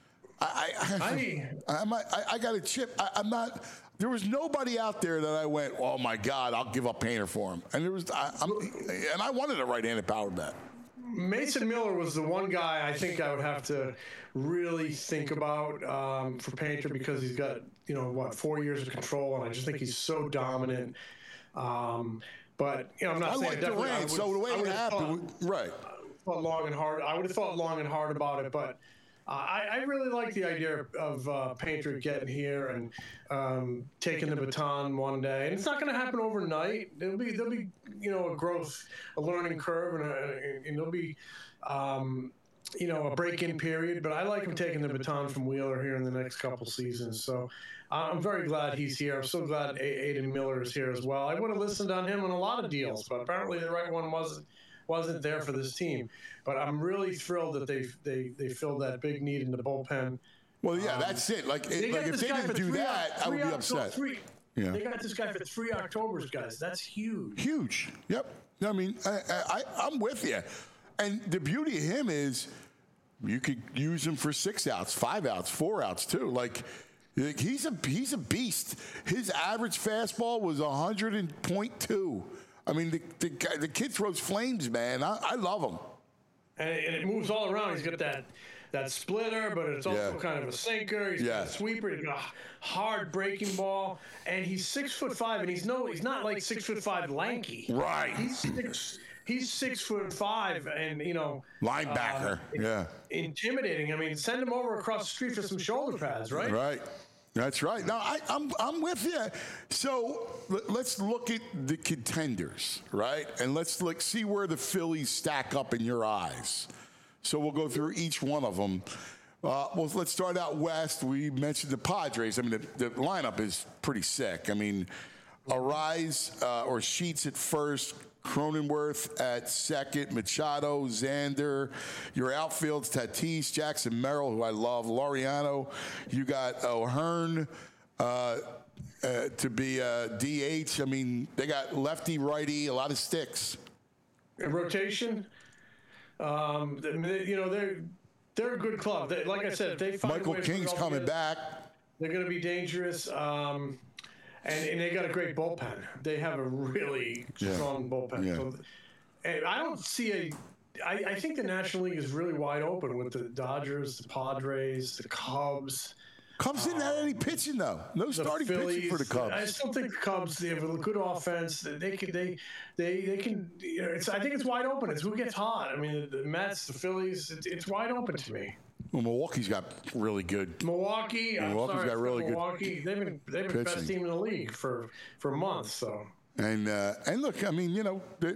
I, I, I, I'm not- I, I got a chip. I, I'm not. There was nobody out there that I went, oh my God, I'll give up Painter for him. And there was, I, I'm, and I wanted a right-handed power bat. Mason Miller was the one guy I think I would have to really think about um, for Painter because he's got, you know, what, four years of control, and I just think he's so dominant. Um, but, you know, I'm not I saying like definitely. I Durant, would've- so the way I it would've happened, thought- right? thought long and hard. I would have thought long and hard about it, but uh, I, I really like the idea of uh, Painter getting here and um, taking the baton one day. And it's not going to happen overnight. There'll be there'll be you know a growth, a learning curve, and, a, and there'll be um, you know a break-in period. But I like him taking the baton from Wheeler here in the next couple seasons. So I'm very glad he's here. I'm so glad Aiden Miller is here as well. I would have listened on him on a lot of deals, but apparently the right one wasn't. wasn't there for this team. But I'm really thrilled that they they they filled that big need in the bullpen. Well, yeah, that's it. Like, They it, got like if this they guy didn't for do three that, Oc- I would three be Oc- upset. Three, Yeah. They got this guy for three Octobers, guys. That's huge. Huge. Yep. I mean, I, I, I'm with you. And the beauty of him is you could use him for six outs, five outs, four outs too. Like, like he's a he's a beast. His average fastball was one hundred point two. I mean, the, the, guy- the kid throws flames, man. I, I love him. And it, and it moves all around. He's got that that splitter, but it's also Yeah. kind of a sinker. He's got Yeah. a sweeper. He's got a hard breaking ball, and he's six foot five. And he's no, he's not like six foot five lanky. Right. He's six. He's six foot five, and you know, Linebacker. uh, yeah. intimidating. I mean, send him over across the street for some shoulder pads, right? Right. That's right. No, I, I'm I'm with you. So let, let's look at the contenders, right? And let's look see where the Phillies stack up in your eyes. So we'll go through each one of them. Uh, well, let's start out west. We mentioned the Padres. I mean, the, the lineup is pretty sick. I mean, Arise uh, or Sheets at first. Cronenworth at second, Machado, Xander. Your outfield's Tatis, Jackson Merrill, who I love, Laureano. You got O'Hearn uh, uh, to be uh, D H. I mean, they got lefty, righty, a lot of sticks. In rotation. Um, they, you know, they're they're a good club. They, like I said, if they find a Michael way to King's put it all coming together, back. They're going to be dangerous. Um, and, and they got a great bullpen. They have a really Yeah. strong bullpen. Yeah. So, and I don't see a. I, I think the National League is really wide open with the Dodgers, the Padres, the Cubs. Cubs didn't have any pitching though. No The starting pitching for the Phillies. I Cubs. still think the Cubs. They have a good offense. They can. They. They. They can. You know, it's. I think it's wide open. It's who gets hot. I mean, the Mets, the Phillies. It's, it's wide open to me. Well, Milwaukee's got really good. Milwaukee. I'm Milwaukee's sorry, got really good Milwaukee. They've been. They've been the best pitching. team in the league for for months. So. And uh, and look, I mean, you know, the,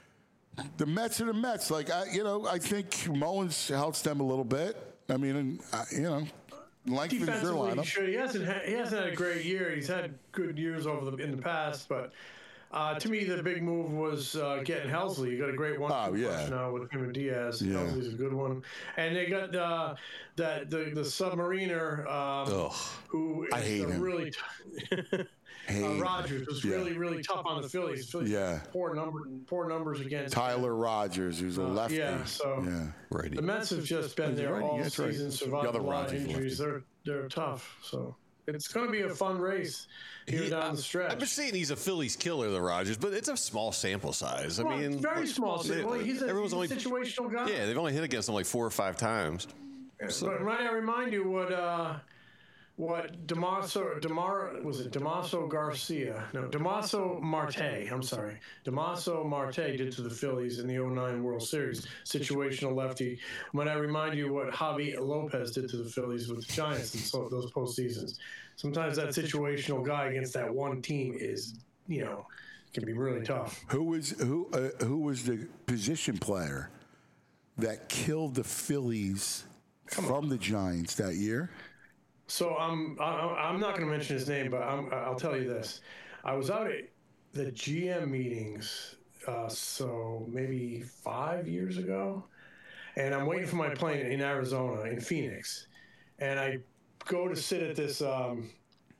the Mets are the Mets. Like, I, you know, I think Mullins helps them a little bit. I mean, and, uh, you know, lengthens their Defensively, he lineup. should. He hasn't. Had, he hasn't had a great year. He's had good years over the in the past, but. Uh, to me, the big move was uh, getting Helsley. You got a great one Oh, yeah. now with him and Diaz. Yeah. Helsley's a good one, and they got uh, that the the submariner um, Ugh. who I is hate a him. really. T- uh, Rogers was Yeah. really, really tough on the Phillies. Phillies Yeah. poor number, poor numbers against Tyler Rogers, who's a lefty. Yeah, so yeah. Righty. the Mets have just been there righty, all that's right. season, The survived other a lot of Rogers injuries. They're they're tough. So it's going to be a fun race here He- down the stretch. I've been saying he's a Phillies killer, the Rogers, but it's a small sample size. I Well, mean, very small. they- Well, he's a, everyone's he's a only situational guy. yeah, they've only hit against him like four or five times. But might I remind you what uh, what Damaso Demar was it Damaso Garcia? No, Damaso Marte. I'm sorry, Damaso Marte did to the Phillies in the oh nine World Series. Situational lefty. Might I remind you what Javi Lopez did to the Phillies with the Giants in so, those postseasons? Sometimes that situational guy against that one team is, you know, can be really tough. Who was who? Uh, who was the position player that killed the Phillies from the Giants that year? So I'm I- I'm not going to mention his name, but I'm, I'll tell you this: I was out at the G M meetings, uh, so maybe five years ago, and I'm waiting for my plane in Arizona, in Phoenix, and I go to sit at this um,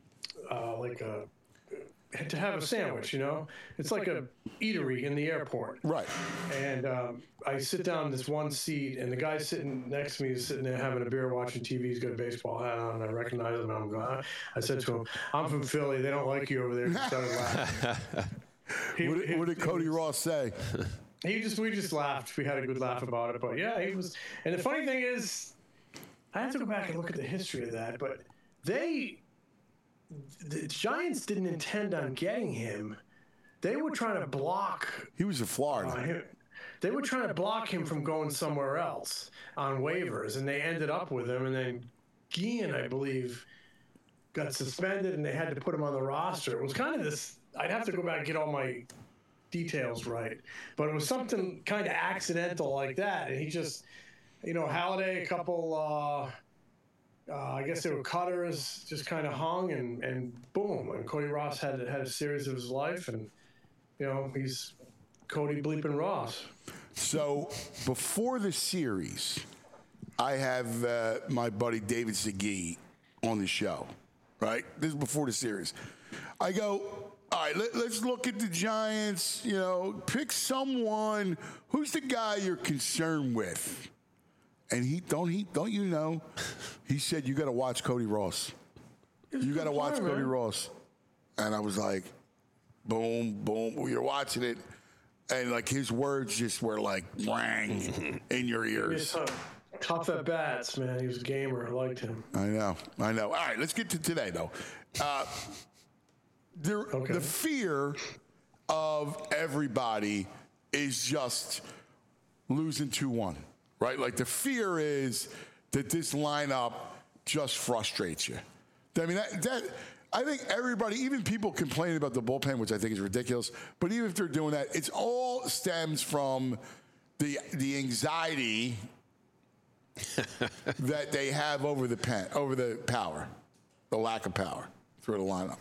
uh, like a to have a sandwich. You know, it's like a eatery in the airport. Right. And um, I sit down in this one seat, and the guy sitting next to me is sitting there having a beer, watching T V. He's got a baseball hat on, and I recognize him. And I'm going. I said to him, "I'm from Philly. They don't like you over there." He started laughing. He, What did, he- what did Cody Ross say? he just we just laughed. We had a good laugh about it. But yeah, he was. And the funny thing is, I have to go back and look at the history of that. But they, the Giants didn't intend on getting him. They were trying to block He was in uh, Florida. him. They were trying to block him from going somewhere else on waivers, and they ended up with him. And then Guillen, I believe, got suspended, and they had to put him on the roster. It was kind of this. I'd have to go back and get all my details right, but it was something kind of accidental like that. And he just, you know, Halladay, a couple. Uh, uh, I guess they were cutters, just kind of hung, and, and boom. And Cody Ross had had a series of his life, and you know he's Cody bleeping Ross. So before the series, I have uh, my buddy David Segui on the show, right? This is before the series. I go, all right, let, let's look at the Giants, you know, pick someone. Who's the guy you're concerned with? And he, don't he, don't you know, he said, you got to watch Cody Ross. You got to watch player, Cody man. Ross. And I was like, boom, boom. We were watching it. And like his words just were like rang in your It's ears. tough, tough at bats, man. He was a gamer. I liked him. I know, I know. All right, let's get to today though. Uh, there, Okay. The fear of everybody is just losing two one, right? Like the fear is that this lineup just frustrates you. I mean, that, that I think everybody, even people complaining about the bullpen, which I think is ridiculous, but even if they're doing that, it's all stems from the the anxiety that they have over the pen, over the power, the lack of power through the lineup.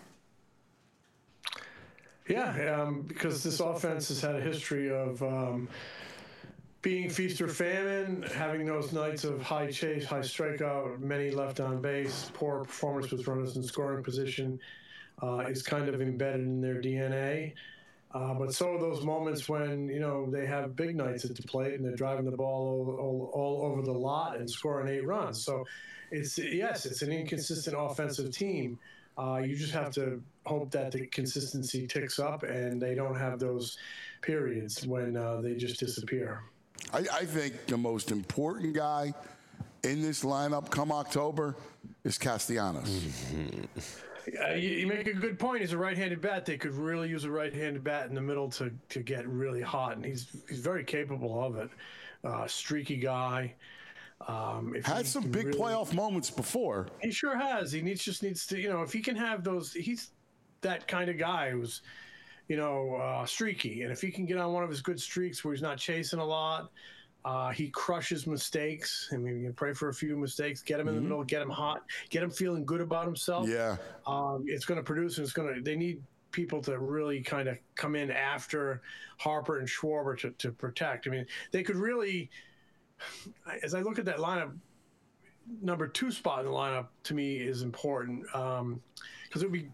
Yeah, um, because this offense has had a history of um, being feast or famine, having those nights of high chase, high strikeout, many left on base, poor performance with runners in scoring position uh, is kind of embedded in their D N A. Uh, but so are those moments when, you know, they have big nights at the plate and they're driving the ball all, all, all over the lot and scoring eight runs. So it's, yes, it's an inconsistent offensive team. Uh, you just have to hope that the consistency ticks up and they don't have those periods when uh, they just disappear. I, I think the most important guy in this lineup come October is Castellanos. Uh, you, you make a good point. He's a right-handed bat. They could really use a right-handed bat in the middle to, to get really hot, and he's he's very capable of it. Uh, streaky guy. Um, if Had he some can big really- playoff moments before. He sure has. He needs just needs to, you know, if he can have those, he's that kind of guy who's, you know, uh, streaky. And if he can get on one of his good streaks where he's not chasing a lot, uh, he crushes mistakes. I mean, you can pray for a few mistakes, get him in the middle, get him hot, get him feeling good about himself. Yeah. Um, it's going to produce, and it's going to, they need people to really kind of come in after Harper and Schwarber to, to protect. I mean, they could really, as I look at that lineup, number two spot in the lineup to me is important because um, it would be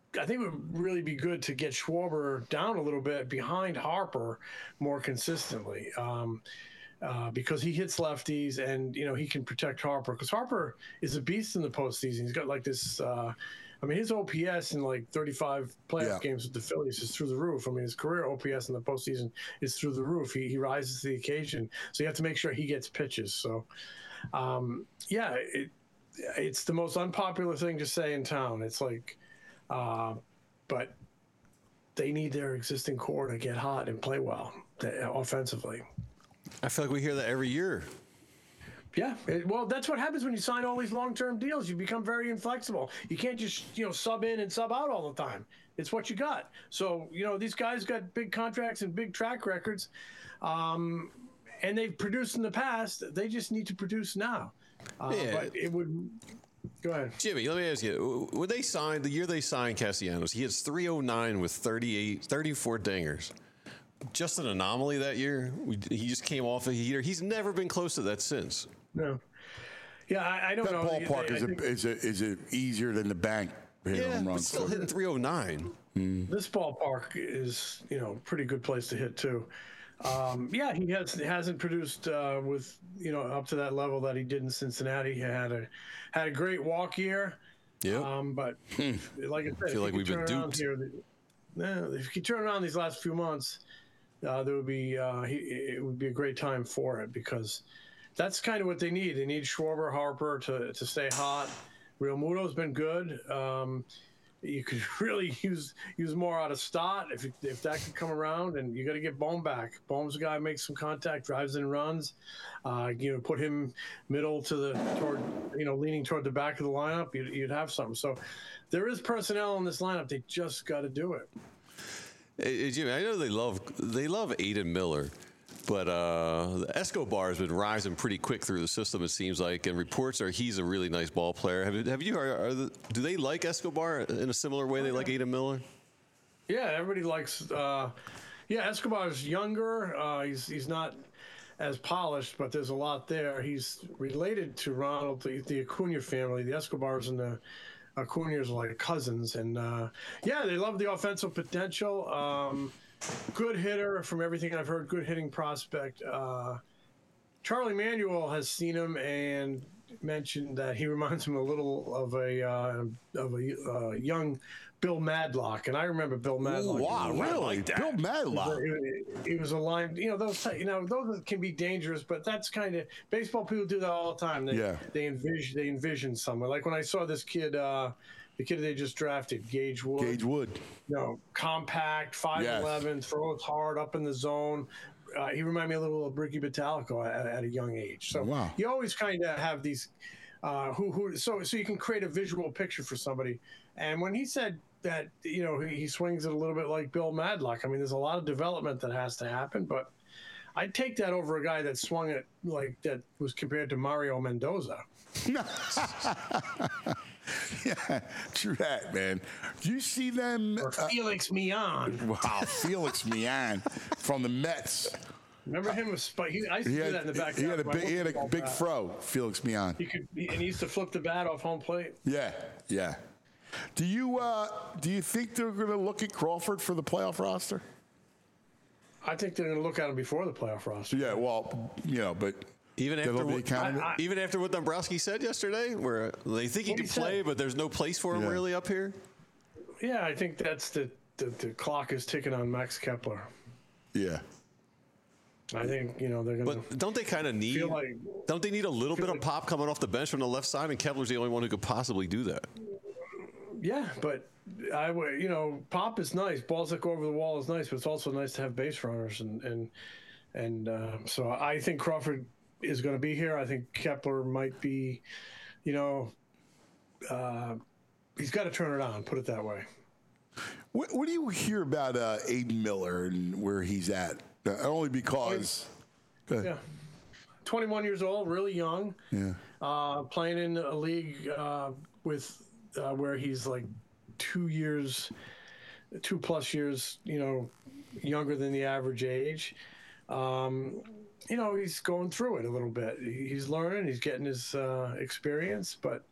I think it would really be good to get Schwarber down a little bit behind Harper more consistently. Um, Uh, because he hits lefties and, you know, he can protect Harper. Because Harper is a beast in the postseason. He's got like this, uh, I mean, his O P S in like thirty-five playoff Yeah. games with the Phillies is through the roof. I mean, his career O P S in the postseason is through the roof. He, he rises to the occasion. So you have to make sure he gets pitches. So, um, yeah, it, it's the most unpopular thing to say in town. It's like, uh, but they need their existing core to get hot and play well uh, offensively. I feel like we hear that every year. Yeah, it, well, that's what happens when you sign all these long-term deals. You become very inflexible. You can't just, you know, sub in and sub out all the time. It's what you got. So, you know, these guys got big contracts and big track records, um, and they've produced in the past. They just need to produce now. Uh, Yeah. But it would. Go ahead. Jimmy, let me ask you. When they signed, the year they signed Castellanos, he hits three oh nine with thirty-eight, thirty-four dingers. Just an anomaly that year. We, he just came off a heater. He's never been close to that since. No. Yeah, I, I don't That know. ballpark They- I is, a, think is, a, is a easier than the bank hitting Yeah, home but runs. still hitting three oh nine. This ballpark is, you know, pretty good place to hit too. Um, yeah, he has hasn't produced uh, with you know up to that level that he did in Cincinnati. He had a had a great walk year. Yeah. Um, but like I said, if Feel like he we've could been turn around duped. Here, no, if he turn around these last few months, uh, there would be uh, he, it would be a great time for it because that's kind of what they need. They need Schwarber, Harper to to stay hot. Real Muto's been good. Um, you could really use use more out of Stott if if that could come around, and you got to get Bohm back. Bohm's a guy who makes some contact, drives and runs. Uh, you know, put him middle to the toward you know leaning toward the back of the lineup. You'd, you'd have something. So there is personnel in this lineup. They just got to do it. Hey, hey, Jimmy, I know they love they love Aiden Miller, but uh, Escobar has been rising pretty quick through the system. It seems like, and reports are he's a really nice ball player. Have, have you? Are, are the, do they like Escobar in a similar way they like Aiden Miller? Yeah, everybody likes. Uh, yeah, Escobar's younger. Uh, he's he's not as polished, but there's a lot there. He's related to Ronald, the, the Acuna family. The Escobars and the Acuna's are like cousins, and uh, yeah, they love the offensive potential. Um, good hitter from everything I've heard. Good hitting prospect. Uh, Charlie Manuel has seen him and mentioned that he reminds him a little of a uh, of a uh, young Bill Madlock, and I remember Bill Madlock. Wow, really? Bill Madlock. He was a line, you know, those, you know, those can be dangerous, but that's kind of baseball people do that all the time. They, Yeah. they envision, they envision somewhere. Like when I saw this kid, uh, the kid they just drafted, Gage Wood. Gage Wood. You know, compact, five eleven, throws hard, up in the zone. Uh, he reminded me a little of Ricky Batalico at, at a young age. So Wow. you always kind of have these, uh, who who so so you can create a visual picture for somebody. And when he said that, you know, he, he swings it a little bit like Bill Madlock. I mean, there's a lot of development that has to happen, but I'd take that over a guy that swung it like that was compared to Mario Mendoza. Yeah, true that, man. Do you see them? Or Felix Millan. Wow, Felix Millan from the Mets. Remember him with Spike? He, I used to He do had, that in the back. he had a of my big, he had a football big bat. fro, Felix Millan. He could, he, and he used to flip the bat off home plate. Yeah, yeah. Do you uh, do you think they're going to look at Crawford for the playoff roster? I think they're going to look at him before the playoff roster. Yeah, well, you know, but Even that'll after be a what, candidate. I- I- even after what Dombrowski said yesterday, where they think he What'd can he say? play, but there's no place for him Yeah. really up here. Yeah, I think that's the, the, the clock is ticking on Max Kepler. yeah. I think, you know, they're going to But don't they kind of need? feel like. Don't they need a little feel bit of like- pop coming off the bench from the left side? And Kepler's the only one who could possibly do that. Yeah, but I would, you know, pop is nice. Balls that go over the wall is nice, but it's also nice to have base runners, and and and uh, so I think Crawford is going to be here. I think Kepler might be, you know, uh, he's got to turn it on. Put it that way. What, what do you hear about uh, Aiden Miller and where he's at? Uh, only because. Go ahead. Yeah, twenty-one years old, really young. Yeah. Uh, playing in a league uh, with uh, where he's like two years, two plus years, you know, younger than the average age. Um, you know, he's going through it a little bit. He's learning, he's getting his uh, experience, but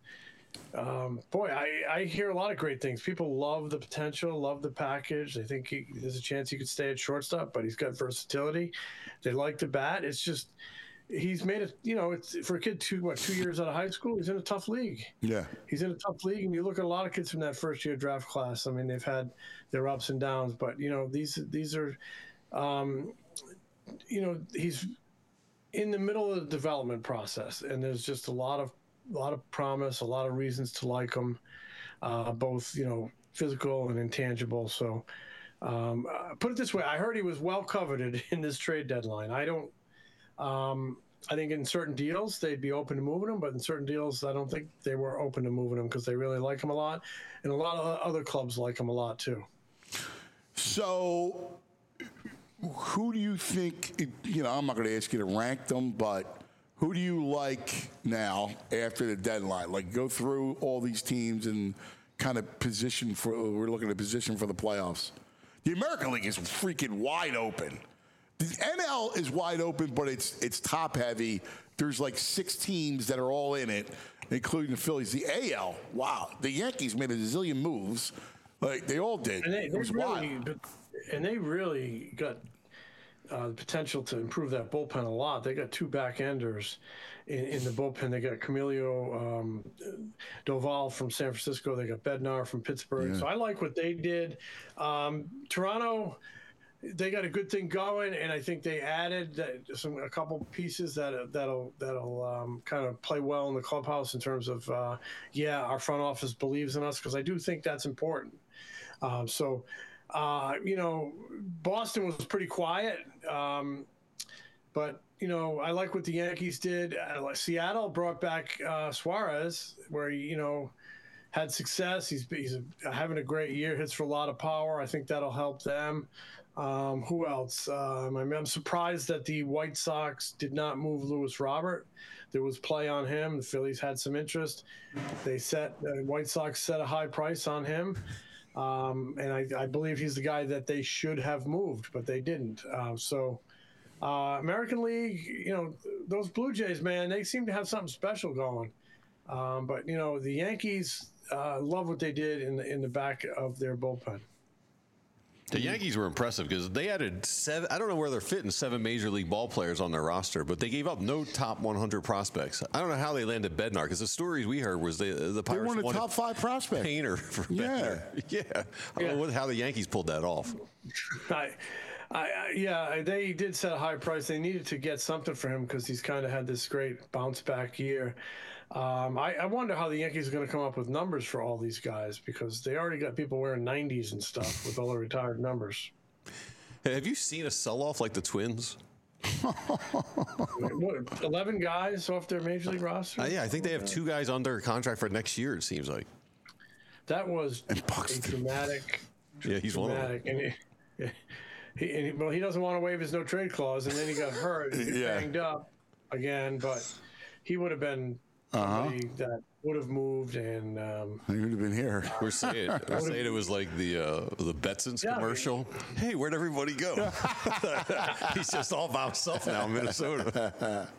um, boy, I, I hear a lot of great things. People love the potential, love the package. They think he, there's a chance he could stay at shortstop, but he's got versatility. They like the bat. It's just he's made it. You know, it's for a kid two what two years out of high school. He's in a tough league. Yeah, he's in a tough league, and you look at a lot of kids from that first year draft class. I mean, they've had their ups and downs, but you know, these these are, um, you know, he's in the middle of the development process, and there's just a lot of a lot of promise, a lot of reasons to like him, uh, both you know physical and intangible. So, um, uh, put it this way: I heard he was well coveted in this trade deadline. I don't. Um, I think in certain deals they'd be open to moving him, but in certain deals I don't think they were open to moving him because they really like him a lot, and a lot of other clubs like him a lot too. So, who do you think? You know, I'm not going to ask you to rank them, but. Who do you like now after the deadline? Like, go through all these teams and kind of position for, we're looking at position for the playoffs. The American League is freaking wide open. The N L is wide open, but it's it's top heavy. There's like six teams that are all in it, including the Phillies. The A L, wow. The Yankees made a zillion moves. Like, they all did. And they, it was they really, wild. And they really got Uh, the potential to improve that bullpen a lot. They got two back enders in, in the bullpen. They got Camilo um, Doval from San Francisco. They got Bednar from Pittsburgh. Yeah. So I like what they did. Um, Toronto, they got a good thing going, and I think they added that, some a couple pieces that that'll that'll um, kind of play well in the clubhouse in terms of uh, yeah, our front office believes in us, because I do think that's important. Um, so. Uh, you know, Boston was pretty quiet, um, but, you know, I like what the Yankees did. Uh, Seattle brought back uh, Suarez, where he, you know, had success. He's, he's a, having a great year, hits for a lot of power. I think that'll help them. Um, who else? Um, I mean, I'm surprised that the White Sox did not move Luis Robert. There was play on him. The Phillies had some interest. They set, the White Sox set a high price on him. Um, and I, I believe he's the guy that they should have moved, but they didn't. Uh, so, uh, American League, you know, those Blue Jays, man, they seem to have something special going. Um, but you know, the Yankees uh, love what they did in the in the back of their bullpen. The Yankees were impressive because they added seven. I don't know where they're fitting seven major league ball players on their roster, but they gave up no top one hundred prospects. I don't know how they landed Bednar, because the stories we heard was they, the Pirates They won a wanted top five prospect. Painter for Yeah. Bednar. Yeah, I don't Yeah. know what, how the Yankees pulled that off. I, I, I, yeah, they did set a high price. They needed to get something for him because he's kind of had this great bounce back year. Um, I, I wonder how the Yankees are going to come up with numbers for all these guys, because they already got people wearing nineties and stuff with all the retired numbers. Hey, have you seen a sell-off like the Twins? What, eleven guys off their major league roster? Uh, yeah, I think they have two guys under contract for next year, it seems like. That was And a Buxton. dramatic. Yeah, he's one of them. dramatic. And he, he, and he, well, he doesn't want to waive his no trade clause, and then he got hurt, and he Yeah. banged up again. But he would have been Uh-huh. somebody that would have moved, and um, He would have been here. We're saying, we're saying it was like the uh, the Betsons Yeah. commercial. Hey, where'd everybody go? He's just all by himself now in Minnesota.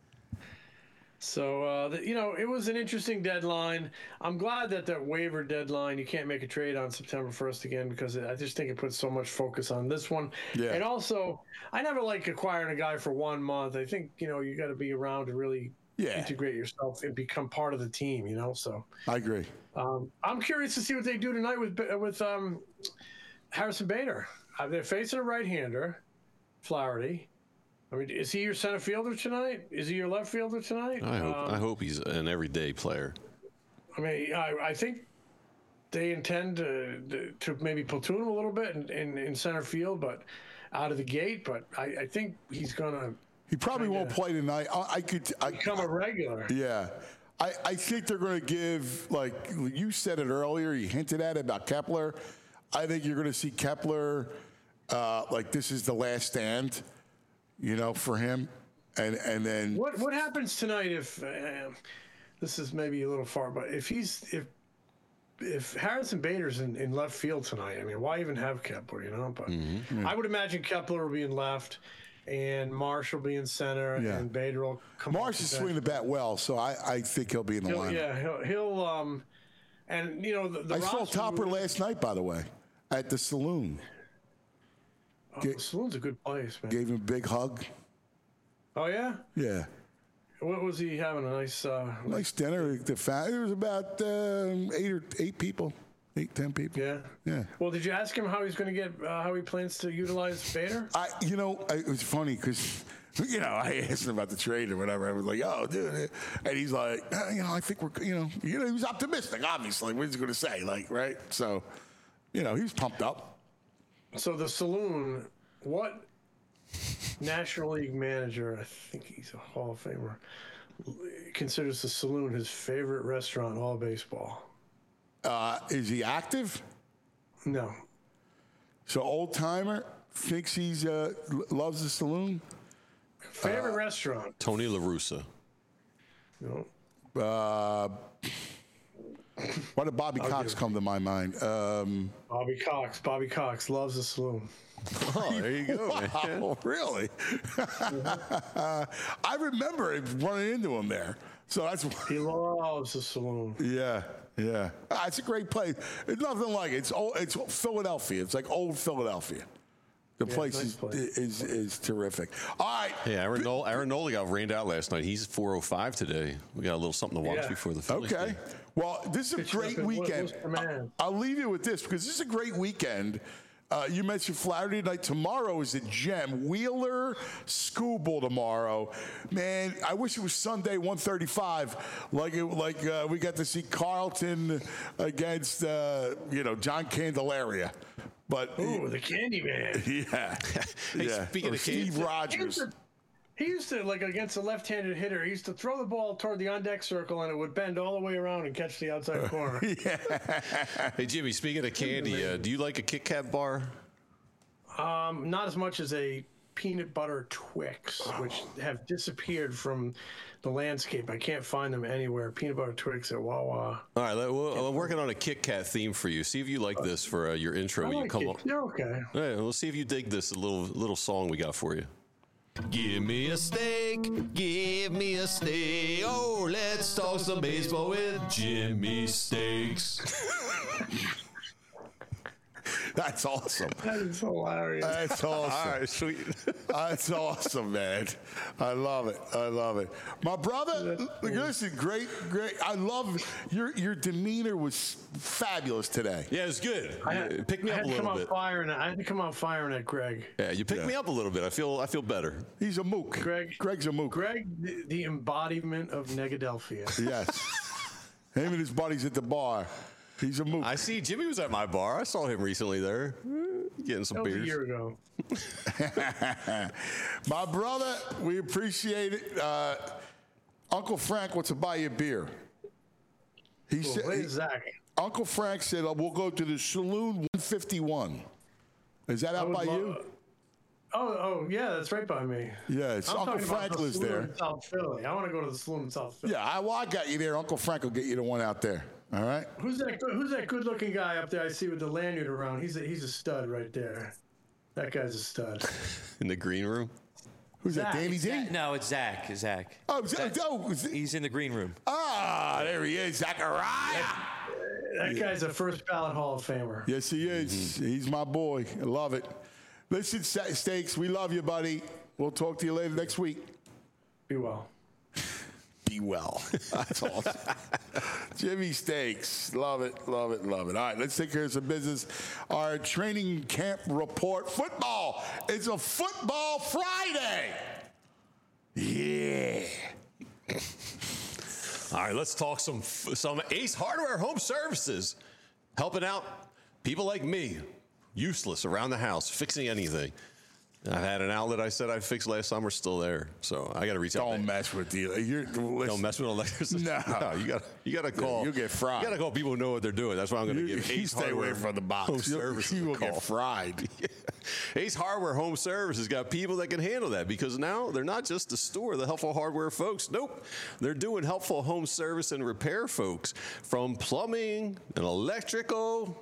so uh, the, you know, it was an interesting deadline. I'm glad that that waiver deadline, you can't make a trade on September first again, because I just think it puts so much focus on this one. Yeah. And also, I never like acquiring a guy for one month. I think, you know, you got to be around to really Yeah. integrate yourself and become part of the team, you know. So I agree. um, I'm curious to see what they do tonight with with um, Harrison Bader. Uh, they're facing a right-hander, Flaherty. I mean, is he your center fielder tonight? Is he your left fielder tonight? I hope Um, I hope he's an everyday player. I mean, I, I think they intend to, to maybe platoon him a little bit in, in, in center field, but out of the gate. But I, I think he's gonna He probably won't Kinda. play tonight. I, I could. I, become a regular. yeah. I, I think they're going to give, like you said it earlier, you hinted at it about Kepler. I think you're going to see Kepler, uh, like this is the last stand, you know, for him. And and then What what happens tonight if uh, this is maybe a little far, but if he's if if Harrison Bader's in, in left field tonight, I mean, why even have Kepler? You know, but I would imagine Kepler will be in left. and Marsh will be in center, Yeah. and Bader will come. Marsh is swinging the bat well, so I, I think he'll be in the He'll, lineup. yeah, he'll, he'll um, and you know the, the I saw roster Topper moves- last night, by the way, at the saloon. Oh, the Saloon's a good place, man. Gave him a big hug. Oh yeah, Yeah. what was he having? A nice. Uh, Nice dinner. The fa- There was about um, eight or eight people, eight, ten people. yeah. Yeah. Well, did you ask him how he's going to get? Uh, how he plans to utilize Bader? I, you know, I, it was funny because, you know, I asked him about the trade or whatever. I was like, oh, dude. And he's like, "Uh, you know, I think we're, you know, you know, he was optimistic, obviously. What he's going to say, like, right? So, you know, he was pumped up. So the Saloon, what National League manager? I think he's a Hall of Famer. Considers the Saloon his favorite restaurant in all baseball. Uh, is he active? No. So old timer thinks he's uh, l- loves the saloon. Favorite restaurant? Tony La Russa. No. Uh, why did Bobby Cox come to my mind? Um, Bobby Cox. Bobby Cox loves the Saloon. Oh, there you go, man. wow, really? I remember running into him there. So that's He loves the Saloon. yeah, yeah. Ah, it's a great place. It's nothing like it. It's old, it's Philadelphia. It's like old Philadelphia. The place, nice is, place. is is terrific. All right. Hey, Aaron Nola, Aaron Nola got rained out last night. He's four oh five today. We got a little something to watch Yeah. before the Phillies Okay. game. Well, this is a Pitch up great in Wo- weekend. Worcester, man. I- I'll leave you with this because this is a great weekend. Uh, you mentioned Flaherty night. Tomorrow is a gem. Wheeler Schoolbowl tomorrow. Man, I wish it was Sunday, one thirty-five, like it, like uh, we got to see Carlton against uh, you know John Candelaria. But Ooh, the Candyman. yeah, Hey, yeah. speaking Or of Steve Kansas- He used, Rogers. to, he used to, like, against a left-handed hitter, he used to throw the ball toward the on-deck circle, and it would bend all the way around and catch the outside corner. Hey, Jimmy, speaking of candy, uh, do you like a Kit Kat bar? Um, not as much as a peanut butter Twix, which have disappeared from the landscape. I can't find them anywhere. Peanut butter Twix at Wawa. All right, let- we'll, I'm working on a Kit Kat theme for you. See if you like this for uh, your intro. I You like come it. up. They're okay. All right, we'll see if you dig this little little song we got for you. Give me a steak, give me a steak. Oh, let's talk some baseball with Jimmy Steaks. That's awesome. That is hilarious. That's awesome. All right, sweet. That's awesome, man. I love it. I love it. My brother, listen, great, great. I love your your demeanor was fabulous today. Yeah, it's good. I had, Pick me I up had a to come little out bit. firing. I had to come out firing at Greg. Yeah, you picked Yeah. me up a little bit. I feel I feel better. He's a mook. Greg- Greg's a mook. Greg, the, the embodiment of Negadelphia. Yes. Him and his buddies at the bar. He's a mook. I see Jimmy was at my bar. I saw him recently there, getting some That was a beers. year ago. My brother, we appreciate it. Uh, Uncle Frank wants to buy you a beer. He Cool. said. Where's Zach? Uncle Frank said, uh, "We'll go to the Saloon one fifty-one." Is that out would by love- you? Oh, oh, yeah, that's right by me. Yeah, it's I'm Uncle talking about Frank the lives saloon there. in South Philly. I want to go to the saloon in South Philly. Yeah, I, well, I got you there. Uncle Frank will get you the one out there. All right. Who's that? good- Who's that good-looking guy up there? I see with the lanyard around. He's a, he's a stud right there. That guy's a stud. In the green room. Who's that? Zach. Danny D? Zach- no, it's Zach. Zach. Oh, Zach. Oh, is it- He's in the green room. ah, there he is, Zachariah. That guy's a first ballot Hall of Famer. Yes, he is. He's my boy. I love it. Listen, Sa- Steaks, we love you, buddy. We'll talk to you later next week. Be well. Be well. That's awesome. Jimmy Steaks. Love it, love it, love it. All right, let's take care of some business. Our training camp report. Football. It's a football Friday. Yeah. All right, let's talk some some Ace Hardware Home Services, helping out people like me, useless around the house, fixing anything. I've had an outlet I said I'd fix last summer, still there. So I got to reach out. Don't to- mess with you. You're, Don't mess with electricians. No. you got you got to call. you'll get fried. You got to call people who know what they're doing. That's why I'm going to You, give you Ace stay away Hardware from the box. Home You'll- Services you a will call. get fried. Ace Hardware Home Services got people that can handle that because now they're not just the store, the helpful hardware folks. Nope. They're doing helpful home service and repair folks from plumbing and electrical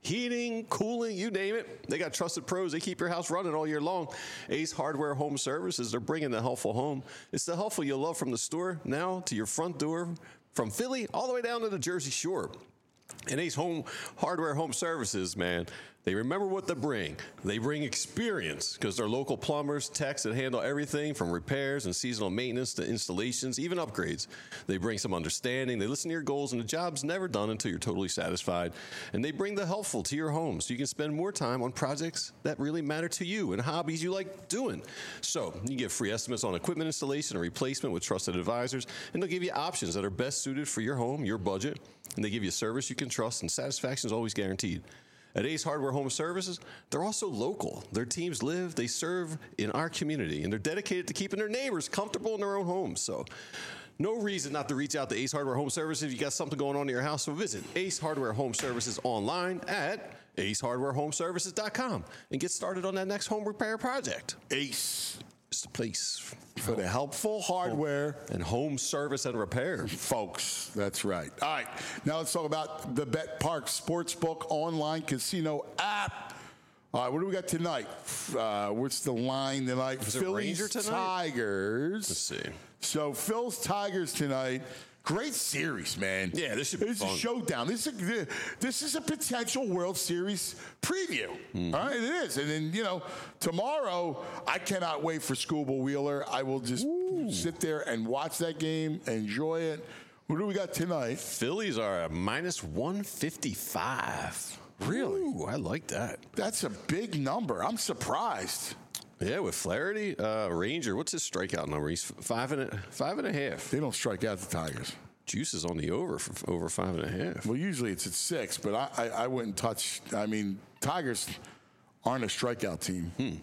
heating, cooling, you name it. They got trusted pros. They keep your house running all year long. Ace Hardware Home Services, they're bringing the helpful home. It's the helpful you'll love from the store now to your front door, from Philly all the way down to the Jersey Shore. And Ace Home Hardware Home Services, man, they remember what they bring. They bring experience because they're local plumbers, techs that handle everything from repairs and seasonal maintenance to installations, even upgrades. They bring some understanding. They listen to your goals, and the job's never done until you're totally satisfied. And they bring the helpful to your home so you can spend more time on projects that really matter to you and hobbies you like doing. So you can get free estimates on equipment installation and replacement with trusted advisors, and they'll give you options that are best suited for your home, your budget, and they give you service you can trust, and satisfaction is always guaranteed. At Ace Hardware Home Services, they're also local. Their teams live, they serve in our community, and they're dedicated to keeping their neighbors comfortable in their own homes. So no reason not to reach out to Ace Hardware Home Services if you got something going on in your house. So visit Ace Hardware Home Services online at ace hardware home services dot com and get started on that next home repair project. Ace. It's the place For the helpful hardware. and home service and repair. Folks, that's right. All right, now let's talk about the Bet Park Sportsbook online casino app. All right, what do we got tonight? Uh, what's the line tonight? Is it Phillies Ranger tonight? Tigers. Let's see. So Phil's Tigers tonight. Great series, man. Yeah, this should be This is fun. a showdown. This is a, this is a potential World Series preview. Mm-hmm. All right, it is. And then, you know, tomorrow, I cannot wait for Scuba Wheeler. I will just sit there and watch that game, enjoy it. What do we got tonight? Phillies are a minus one fifty-five. Really? Ooh, I like that. That's a big number. I'm surprised. Yeah, with Flaherty, uh, Ranger. What's his strikeout number? He's five and a, five and a half. They don't strike out the Tigers. Juice is on the over for over five and a half. Well, usually it's at six, but I, I, I wouldn't touch. I mean, Tigers aren't a strikeout team. Hmm.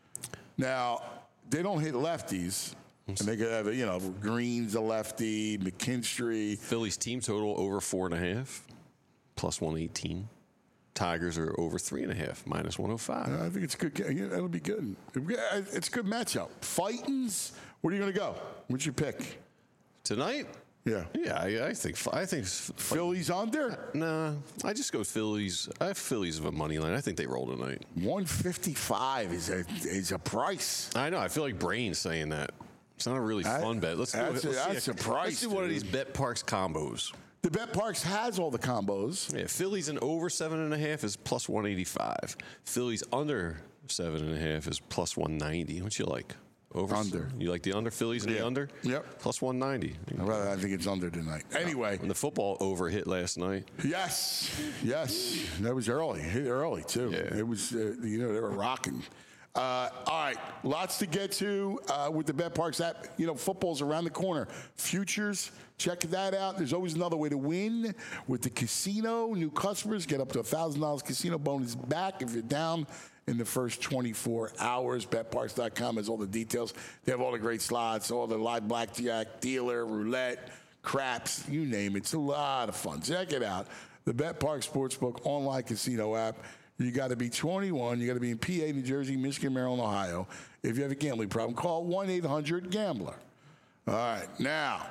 Now, they don't hit lefties. And they could have, you know, Green's a lefty, McKinstry. Phillies team total over four and a half, plus one eighteen. Tigers are over three and a half, minus one oh five. I think it's a good. ga- Yeah, that'll be good. It's a good matchup. Fightins. Where are you going to go? What's your pick? Tonight? Yeah. Yeah, I, I think I think Phillies under Nah, I just go Phillies. I have Phillies of a money line. I think they roll tonight. one fifty-five is a is a price. I know. I feel like Brain's saying that. It's not a really That- fun bet. Let's do, that's it. a- Let's see that's a price, Let's do one of dude. these Bet Parks combos. The Bet Parks has all the combos. Yeah, Phillies and over seven and a half is plus one eighty-five. Phillies under seven and a half is plus one ninety. What you like? Over Under. You like the under? Phillies and Yeah. the under? Yep. Plus one ninety. I rather- I think it's under tonight. Anyway, And the football over hit last night. yes, yes, that was early. Hit early too. Yeah. It was, uh, you know, they were rocking. Uh, all right, lots to get to uh, with the Bet Parks app. You know, football's around the corner. Futures, check that out. There's always another way to win with the casino. New customers get up to one thousand dollars casino bonus back if you're down in the first twenty-four hours. Bet Parks dot com has all the details. They have all the great slots, all the live blackjack, dealer, roulette, craps, you name it. It's a lot of fun. Check it out. The Bet Park Sportsbook online casino app. You got to be twenty-one. You got to be in P A, New Jersey, Michigan, Maryland, Ohio. If you have a gambling problem, call one eight hundred gambler. All right, now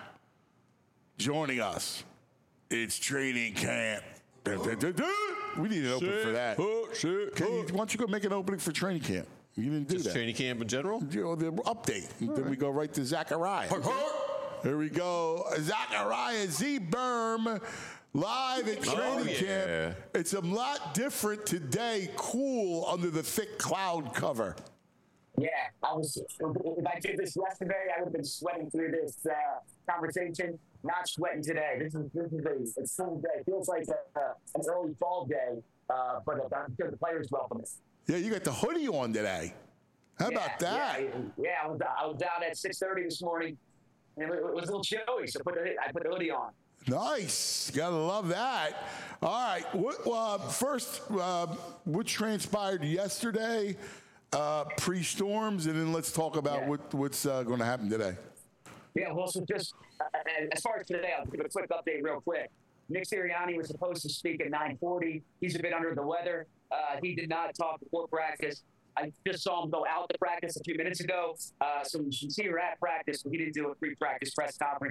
joining us, it's training camp. We need an opening for that. Can you, why don't you go make an opening for training camp? You didn't do Just that. training camp in general? You know, the update. Then we go right to Zachariah. Here we go. Zachariah Z. Berm. Live at training yeah. camp. It's a lot different today. Cool under the thick cloud cover. Yeah, I was. If I did this yesterday, I would have been sweating through this uh, conversation. Not sweating today. This is this is a, a full day. It feels like a, a, an early fall day, uh, but I'm sure the players welcome it. Yeah, you got the hoodie on today. How yeah, about that? Yeah, yeah I, was, I was down at six thirty this morning, and it, it was a little chilly, so put the, I put the hoodie on. Nice. Gotta love that. All right. What, uh, first, uh, what transpired yesterday, uh, pre-storms, and then let's talk about Yeah. what, what's uh, going to happen today. Yeah, well, so just uh, as far as today, I'll give a quick update real quick. Nick Sirianni was supposed to speak at nine forty. He's a bit under the weather. Uh, he did not talk before practice. I just saw him go out to practice a few minutes ago. Uh, so you can see her at practice, but he didn't do a pre-practice press conference.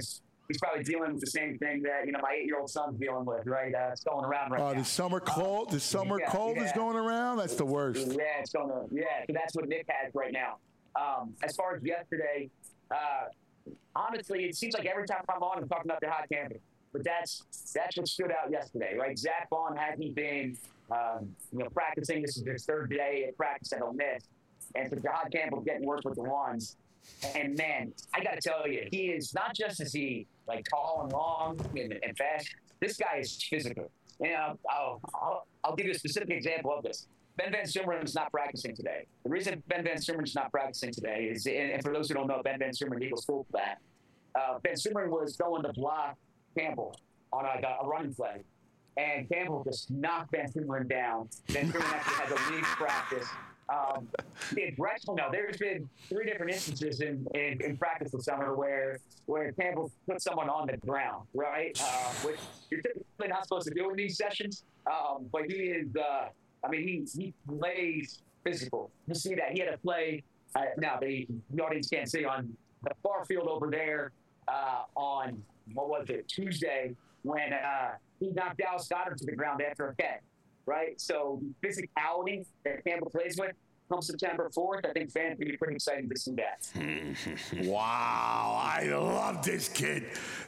he's probably dealing with the same thing that you know my eight-year-old son's dealing with, right? Uh, it's going around right Uh, now. the summer cold, the summer yeah, cold is yeah. going around. That's the worst. Yeah, it's going to. Yeah, so that's what Nick has right now. Um, as far as yesterday, uh, honestly, it seems like every time I'm on, I'm talking about the hot camping. But that's that's what stood out yesterday, right? Zach Vaughn hasn't been, um, you know, practicing. This is his third day at practice at Ole Miss, and so Jahad Campbell's getting work with the ones. And man, I got to tell you, he is not just is he like tall and long and, and fast. This guy is physical. And I'll, I'll, I'll, I'll give you a specific example of this. Ben Van Summeren's not practicing today. The reason Ben Van Summeren's not practicing today is, and, and for those who don't know, Ben Van Sumeren, Eagles fullback, uh, Ben Sumeren was going to block Campbell on a, a running play, and Campbell just knocked Van Sumeren down. Van Sumeren actually had to leave practice. Um, in Drexel, no, there's been three different instances in, in, in practice this summer where where Campbell put someone on the ground, right? Uh, which you're typically not supposed to do in these sessions. Um, but he is, uh, I mean, he he plays physical. You see that he had to play. Uh, now the, the audience can't see on the far field over there uh, on what was it Tuesday when uh, he knocked Dallas Goddard to the ground after a catch. Right, so the physicality that Campbell plays with come September fourth, I think fans will be pretty excited to see that. Wow, I love this kid,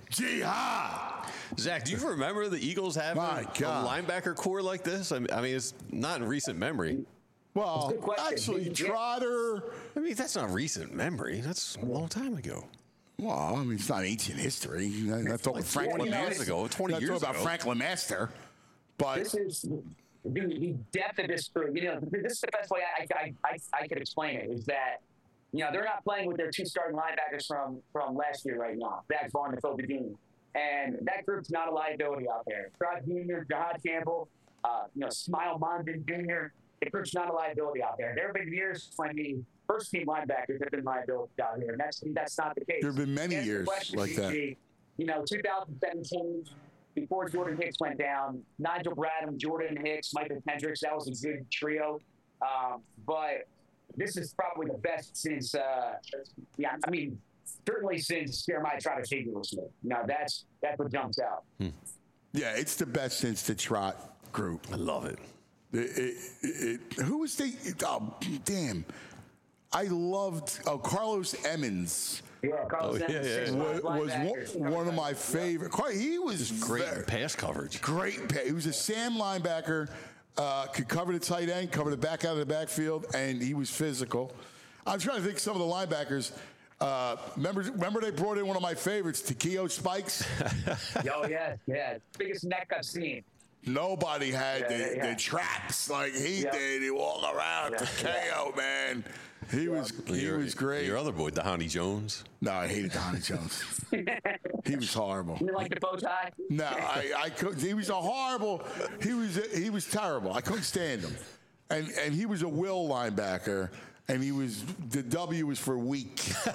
Jihad. Zach, do you remember the Eagles having My a God. linebacker core like this? I mean, I mean, it's not in recent memory. Well, Good question. actually, Yeah. Trotter. I mean, that's not recent memory. That's a long time ago. Well, I mean, it's not ancient history. That's talking Like Frank twenty Lemaster. years ago, twenty Not years talking about ago. Frank Lemaster. But This is the, the depth of this group. You know, this is the best way I, I, I, I could explain it is that, you know, they're not playing with their two starting linebackers from, from last year right now, Zach Vaughn and Kobe Dean. And that group's not a liability out there. Trot Junior, Jahad Campbell, uh, you know, Smile Mondin Junior, the group's not a liability out there. There have been years when the first team linebackers have been liabilities out here, and that's that's not the case. There have been many Answer the years question, like that. G G. You know, two thousand seventeen, before Jordan Hicks went down, Nigel Bradham, Jordan Hicks, Michael Kendricks, that was a good trio. Um, but this is probably the best since, uh, yeah, I mean, certainly since Jeremiah Trotter Savior was here. Now, that's, that's what jumps out. yeah, it's the best since the Trot group. I love it. It, it, it, who was the? It, oh, damn! I loved oh, Carlos Emmons. Yeah, Carlos Oh, yeah, Emmons, yeah, six yeah. Was, wide was linebackers. one, one of my favorite. Car- He was Great very- pass coverage. Great. pa- He was a Sam linebacker. Uh, could cover the tight end, cover the back out of the backfield, and he was physical. I'm trying to think of some of the linebackers. Uh, remember, remember they brought in one of my favorites, Takeo Spikes. Oh, yeah, yeah. Biggest neck I've seen. Nobody had Yeah, the, yeah, yeah. the traps like he Yeah. did. He walked around. Yeah, Takeo, man, he was he Your- was great. Your other boy, Dahani Jones. No, I hated Donnie Jones. He was horrible. You like the bow tie? No, I, I couldn't. He was a horrible. He was he was terrible. I couldn't stand him, and and he was a will linebacker, and he was the W was for weak.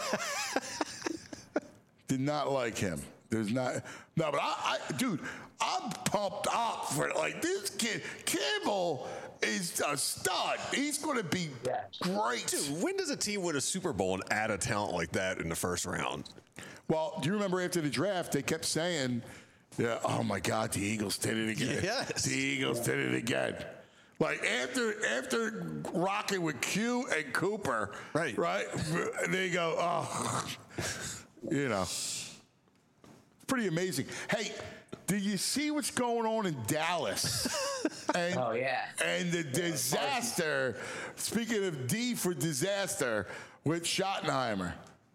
Did not like him. There's not no, but I, I dude, I'm pumped up for like this kid. Campbell is a stud. He's going to be Yeah. great. Dude, when does a team win a Super Bowl and add a talent like that in the first round? Well, do you remember after the draft, they kept saying, yeah, oh my God, the Eagles did it again. Yes. The Eagles did it again. Like after after rocking with Q and Cooper, Right. right? They go, oh, you know, pretty amazing. Hey, do you see what's going on in Dallas? And, Oh, yeah. and the disaster, speaking of D for disaster, with Schottenheimer.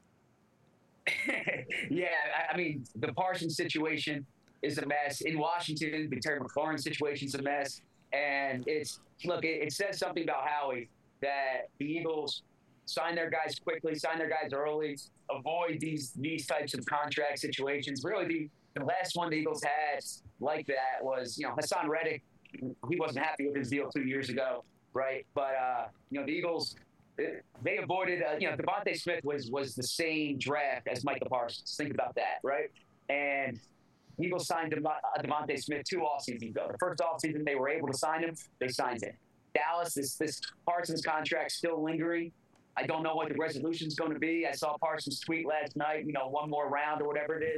Yeah, I, I mean, the Parsons situation is a mess. In Washington, the Terry McLaurin situation's a mess. And it's, look, it, it says something about Howie that the Eagles sign their guys quickly, sign their guys early, avoid these these types of contract situations. Really, the, the last one the Eagles had like that was, you know, Hassan Reddick. He wasn't happy with his deal two years ago, right? But, uh, you know, the Eagles, they avoided, uh, you know, Devontae Smith was was the same draft as Micah Parsons. Think about that, right? And the Eagles signed Dev- uh, Devontae Smith two off seasons ago. The first off season they were able to sign him, they signed him. Dallas, this this Parsons contract still lingering. I don't know what the resolution is going to be. I saw Parsons tweet last night, you know, one more round or whatever it is.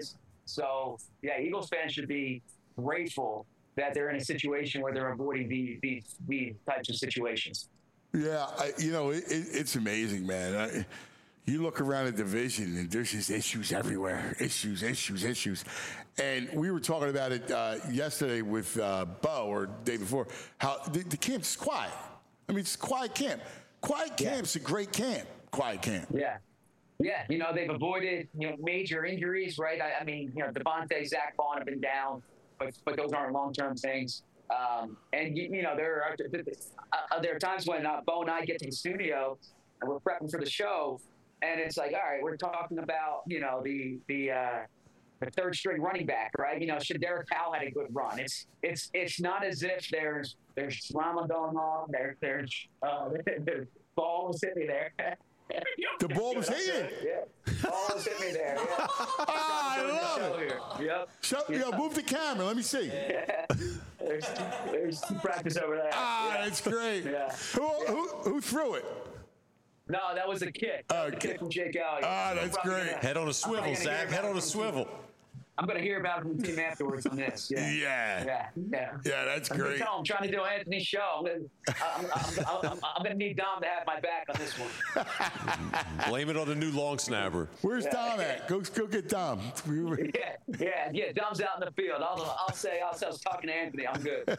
So, yeah, Eagles fans should be grateful that they're in a situation where they're avoiding these these, these types of situations. Yeah, I, you know, it, it, it's amazing, man. I, you look around the division, and there's just issues everywhere. Issues, issues, issues. And we were talking about it uh, yesterday with uh, Bo, or the day before, how the, the camp's quiet. I mean, it's a quiet camp. Quiet camp's a great camp. Quiet camp. Yeah. Yeah, you know, they've avoided, you know, major injuries, right? I, I mean, you know, Devontae, Zach Vaughn have been down, but but those aren't long-term things. Um, and, you, you know, there are, uh, there are times when uh, Bo and I get to the studio and we're prepping for the show, and it's like, all right, we're talking about, you know, the the uh, the third string running back, right? You know, Shadarius Powell had a good run. It's it's it's not as if there's there's drama going on. There there's uh, there's balls hitting me there. The ball was hitting. Yeah, ball was hitting me there. Yeah. Ah, I love it. Here. Yep. Show, yeah. Yo, move the camera. Let me see. Yeah. There's there's practice over there. Ah, yeah. that's great. Yeah. Who, who who threw it? No, that was a kick. That was a kick from Jake Elliott. Ah, that's great. Gonna, Head on a swivel, Zach. Head on a swivel. I'm going to hear about it from the team afterwards on this. Yeah. Yeah. Yeah. Yeah. Yeah, that's I'm great. Tell him I'm trying to do Anthony's show. I'm going I'm, I'm, I'm, I'm to need Dom to have my back on this one. Blame it on the new long snapper. Where's Dom at? Go go get Dom. Yeah, yeah, yeah. Dom's out in the field. I'll, I'll say I'll say I was talking to Anthony. I'm good.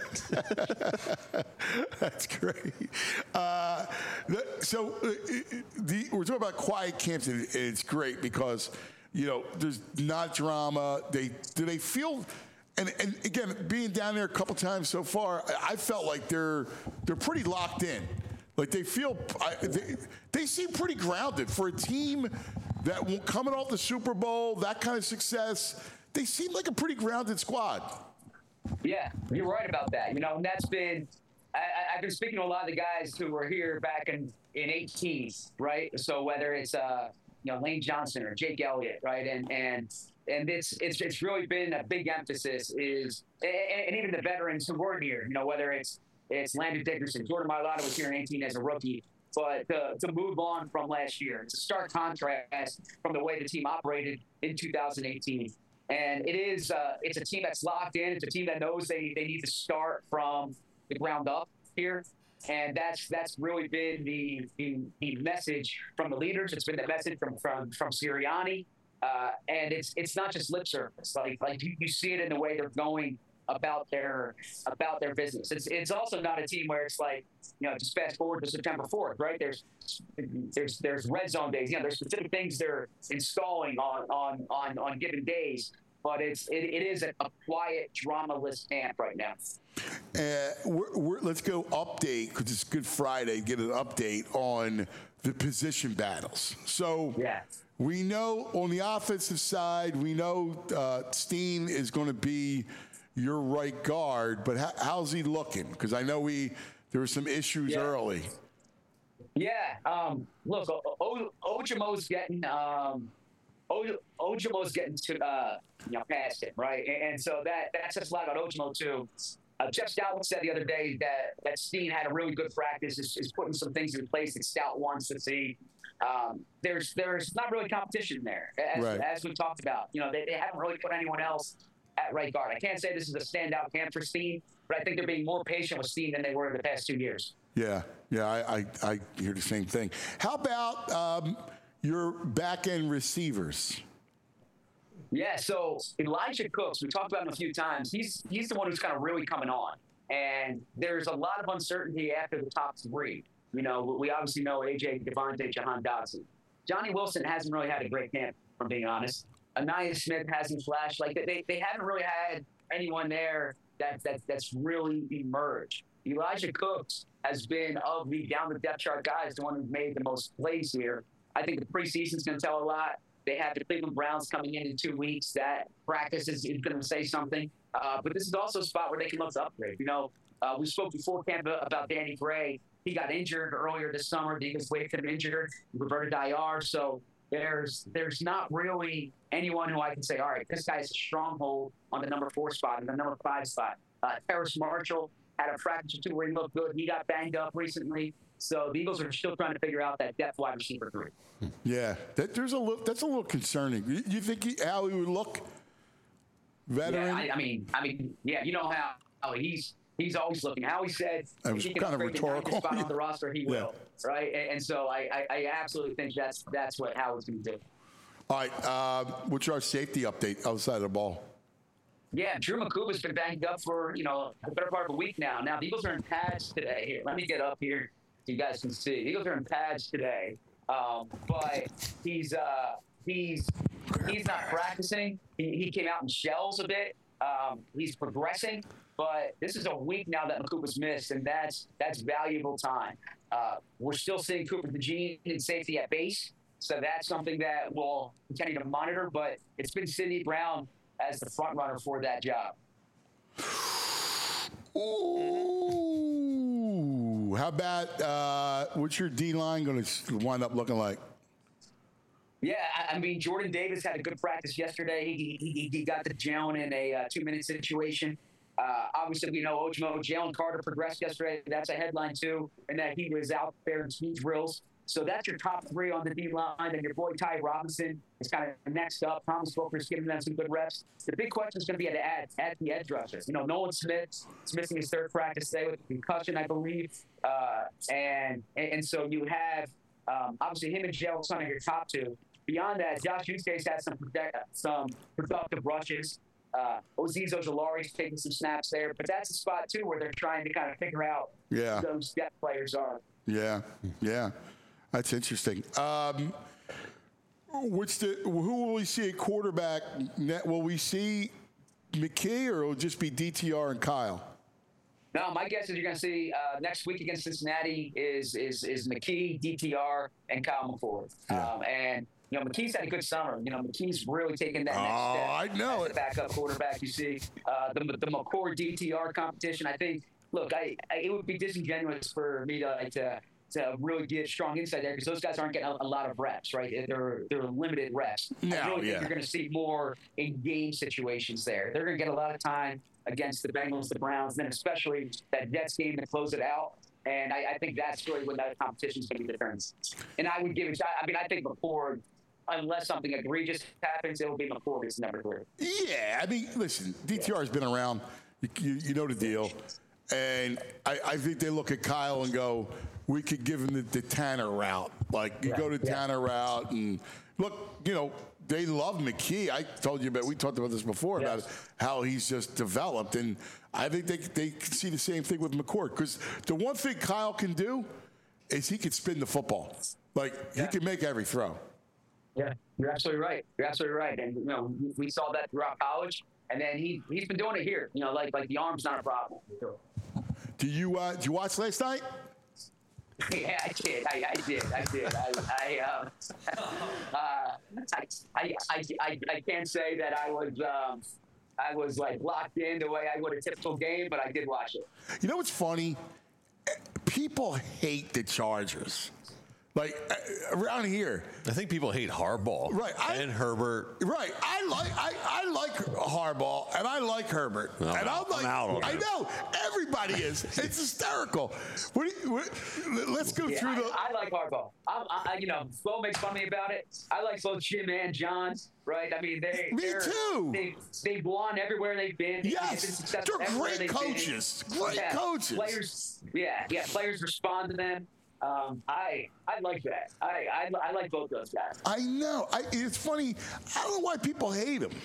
That's great. Uh, the, so uh, the, we're talking about quiet camps, and it's great because, you know, there's not drama. They do they feel, and, and again, being down there a couple times so far, I felt like they're they're pretty locked in. Like they feel, I, they, they seem pretty grounded for a team that coming off the Super Bowl, that kind of success. They seem like a pretty grounded squad. Yeah, you're right about that. You know, and that's been. I, I've been speaking to a lot of the guys who were here back in in eighteen, right? So whether it's uh. you know, Lane Johnson or Jake Elliott, right? And and and it's it's it's really been a big emphasis is, and, and even the veterans who weren't here, you know, whether it's it's Landon Dickerson, Jordan Mailata was here in eighteen as a rookie, but to, to move on from last year, it's a stark contrast from the way the team operated in two thousand eighteen. And it is uh, it's a team that's locked in. It's a team that knows they they need to start from the ground up here. And that's that's really been the, the the message from the leaders. It's been the message from from from Sirianni, uh, and it's it's not just lip service. Like like you, you see it in the way they're going about their about their business. It's it's also not a team where it's like, you know, just fast forward to September fourth, right? There's there's there's red zone days. You know, there's specific things they're installing on on on, on given days. But it's it, it is a, a quiet, drama-less camp right now. Uh, we're, we're, let's go update, because it's Good Friday, get an update on the position battles. So yeah. we know on the offensive side, we know uh, Steen is going to be your right guard, but how, how's he looking? Because I know we there were some issues yeah. early. Yeah. Um, look, o- o- Ojomo's getting um, o- Ojomo's getting to uh, you know past him, right? And, and so that that says a lot about Ojomo too. Uh, Jeff Stout said the other day that that Steen had a really good practice, is, is putting some things in place that Stout wants to see. Um, there's there's not really competition there, as, right. as we talked about. You know, they, they haven't really put anyone else at right guard. I can't say this is a standout camp for Steen, but I think they're being more patient with Steen than they were in the past two years. Yeah, yeah, I, I, I hear the same thing. How about um, your back-end receivers? Yeah, so Elijah Cooks, we talked about him a few times. He's he's the one who's kind of really coming on. And there's a lot of uncertainty after the top three. You know, we obviously know A J, Devontae, Jahan Dotson. Johnny Wilson hasn't really had a great camp, if I'm being honest. Anaya Smith hasn't flashed. Like, they, they haven't really had anyone there that, that that's really emerged. Elijah Cooks has been, of the down the depth chart guys, the one who's made the most plays here. I think the preseason's going to tell a lot. They have the Cleveland Browns coming in in two weeks. That practice is, is going to say something. Uh, but this is also a spot where they can look to upgrade. You know, uh, we spoke before camp about Danny Gray. He got injured earlier this summer. The Eagles waited him injured, reverted to I R. So there's there's not really anyone who I can say, all right, this guy's a stronghold on the number four spot and the number five spot. Uh, Terrace Marshall had a practice or two where he looked good. He got banged up recently. So the Eagles are still trying to figure out that depth wide receiver three. Yeah, that, there's a little, that's a little concerning. You, you think he, how he would look veteran. Yeah, I, I mean, I mean, yeah, you know how, how he's he's always looking. How he said That if was he can kind of upgrade the ninth rhetorical. spot on the roster, he will, right? And, and so I, I, I absolutely think that's that's what Howard's going to do. All right, uh, what's our safety update outside of the ball? Yeah, Drew McCuba's been banged up for, you know, the better part of a week now. Now, the Eagles are in pads today. Here, let me get up here so you guys can see. The Eagles are in pads today, um, but he's uh, he's he's not practicing. He, he came out in shells a bit. Um, he's progressing, but this is a week now that McCuba's missed, and that's that's valuable time. Uh, we're still seeing Cooper DeJean in safety at base, so that's something that we'll continue to monitor, but it's been Sidney Brown as the front runner for that job. Ooh, how about uh, what's your D line going to wind up looking like? Yeah, I, I mean, Jordan Davis had a good practice yesterday. He he, he got the Jalen in a uh, two-minute situation. Uh, obviously, we know Ojimo, Jalen Carter progressed yesterday. That's a headline too, and that he was out there in speed drills. So that's your top three on the D line, and your boy Ty Robinson is kind of next up. Thomas Wilker's giving them some good reps. The big question is going to be at the ad, at the edge rushers. You know, Nolan Smith is missing his third practice today with a concussion, I believe, uh, and, and and so you have um, obviously him and Jalen Son are your top two. Beyond that, Josh Eustace has some protect, some productive rushes. Uh, Azeez Ojulari's taking some snaps there, but that's a spot too where they're trying to kind of figure out Yeah. who those depth players are. Yeah, yeah, that's interesting. Um, which the who will we see at quarterback? Net? Will we see McKee, or will it just be D T R and Kyle? No, my guess is you're going to see uh, next week against Cincinnati is is is McKee, D T R, and Kyle McCord. Yeah. Um, and you know, McKee's had a good summer. You know, McKee's really taken that next Oh, step. I know as it. the backup quarterback. You see uh, the the McCord D T R competition. I think. Look, I, I it would be disingenuous for me to like, to to really get strong insight there because those guys aren't getting a, a lot of reps, right? They're they're limited reps. No, I really yeah. think you're going to see more in game situations there. They're going to get a lot of time against the Bengals, the Browns, and then especially that Jets game to close it out. And I, I think that's really when that competition is going to be determined. And I would give it. I mean, I think McCord, unless something egregious happens, it will be McCord as number three. Yeah, I mean, listen, D T R has been around. You, you, you know the deal. And I, I think they look at Kyle and go, we could give him the, the Tanner route. Like, you Right, go to yeah. Tanner route. And look, you know, they love McKee. I told you about, we talked about this before, Yes. about how he's just developed. And I think they, they can see the same thing with McCord. Because the one thing Kyle can do is he can spin the football. Like, Yeah. he can make every throw. Yeah, you're absolutely right. You're absolutely right. And you know, we- we saw that throughout college, and then he he's been doing it here. You know, like like the arm's not a problem. Do you, uh, did you watch last night? Yeah, I did. I, I did. I did. I I, um, uh, I, I, I, I, I can't say that I was um, I was like locked in the way I would a typical game, but I did watch it. You know what's funny? People hate the Chargers. Like, uh, around here. I think people hate Harbaugh. Right, I- and Herbert. Right. I like I, I like Harbaugh and I like Herbert. I'm and out. I'm like, I'm out on I him. know. Everybody is. It's hysterical. What do you, what, let's go Yeah, through the. I, I like Harbaugh. I, I, you know, Flo makes fun of me about it. I like both Jim and John, right? I mean, they Me they're- too. They they've won everywhere they've been. They've Yes, been successful they're everywhere great they've been. coaches. Great Yeah, coaches. Players, yeah, yeah. Players respond to them. Um, I I like that. I, I I like both those guys. I know. I, it's funny. I don't know why people hate him.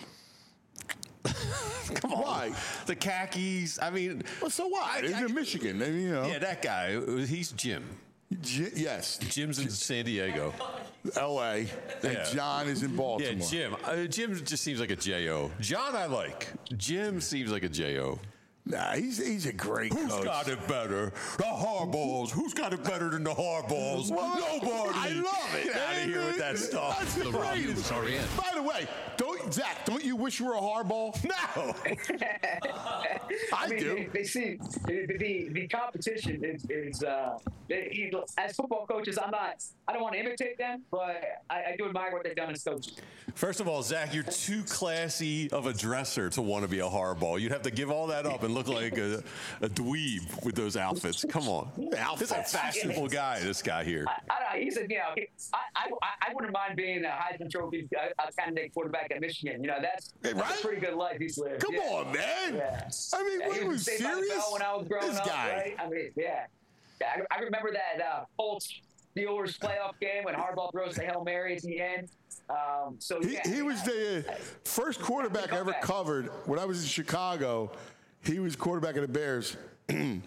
Come on. Why? The khakis. I mean, Well, so what? I- He's I- in Michigan. I mean, you know. yeah, that guy. He's Jim. J- yes. Jim's in San Diego. L A. And Yeah. John is in Yeah, Baltimore. Jim. Uh, Jim just seems like a J O. John, I like. Jim seems like a J O. Nah, he's he's a great Who's coach. got it better? The Harbaughs. Who's got it better than the Harbaughs? Well, Nobody. I love it. Get out of man. here with that stuff. That's the greatest. By the way, don't Zach, don't you wish you were a hardball? No. I, mean, do. They, they see the, the, the competition is, is uh, they, you know, as football coaches, I'm not, I don't want to imitate them, but I, I do admire what they've done as coaches. First of all, Zach, you're too classy of a dresser to want to be a Harbaugh. You'd have to give all that up and look like a, a dweeb with those outfits. Come on. This is a fashionable guy, this guy here. I, I, he's a, you know, he, I, I, I wouldn't mind being a Heisman Trophy uh, candidate quarterback at Michigan. You know, that's, Hey, that's right? a pretty good life he's lived. Come yeah. on, man. Yeah. I mean, Yeah, what he are you was Saved by the serious? Bell when I was growing This up, guy. right? I mean, yeah. yeah I, I remember that uh, Colts Steelers playoff game when Harbaugh throws the Hail Mary at the end. Um, so He, yeah, he was the first quarterback I ever comeback. covered when I was in Chicago. He was quarterback of the Bears, and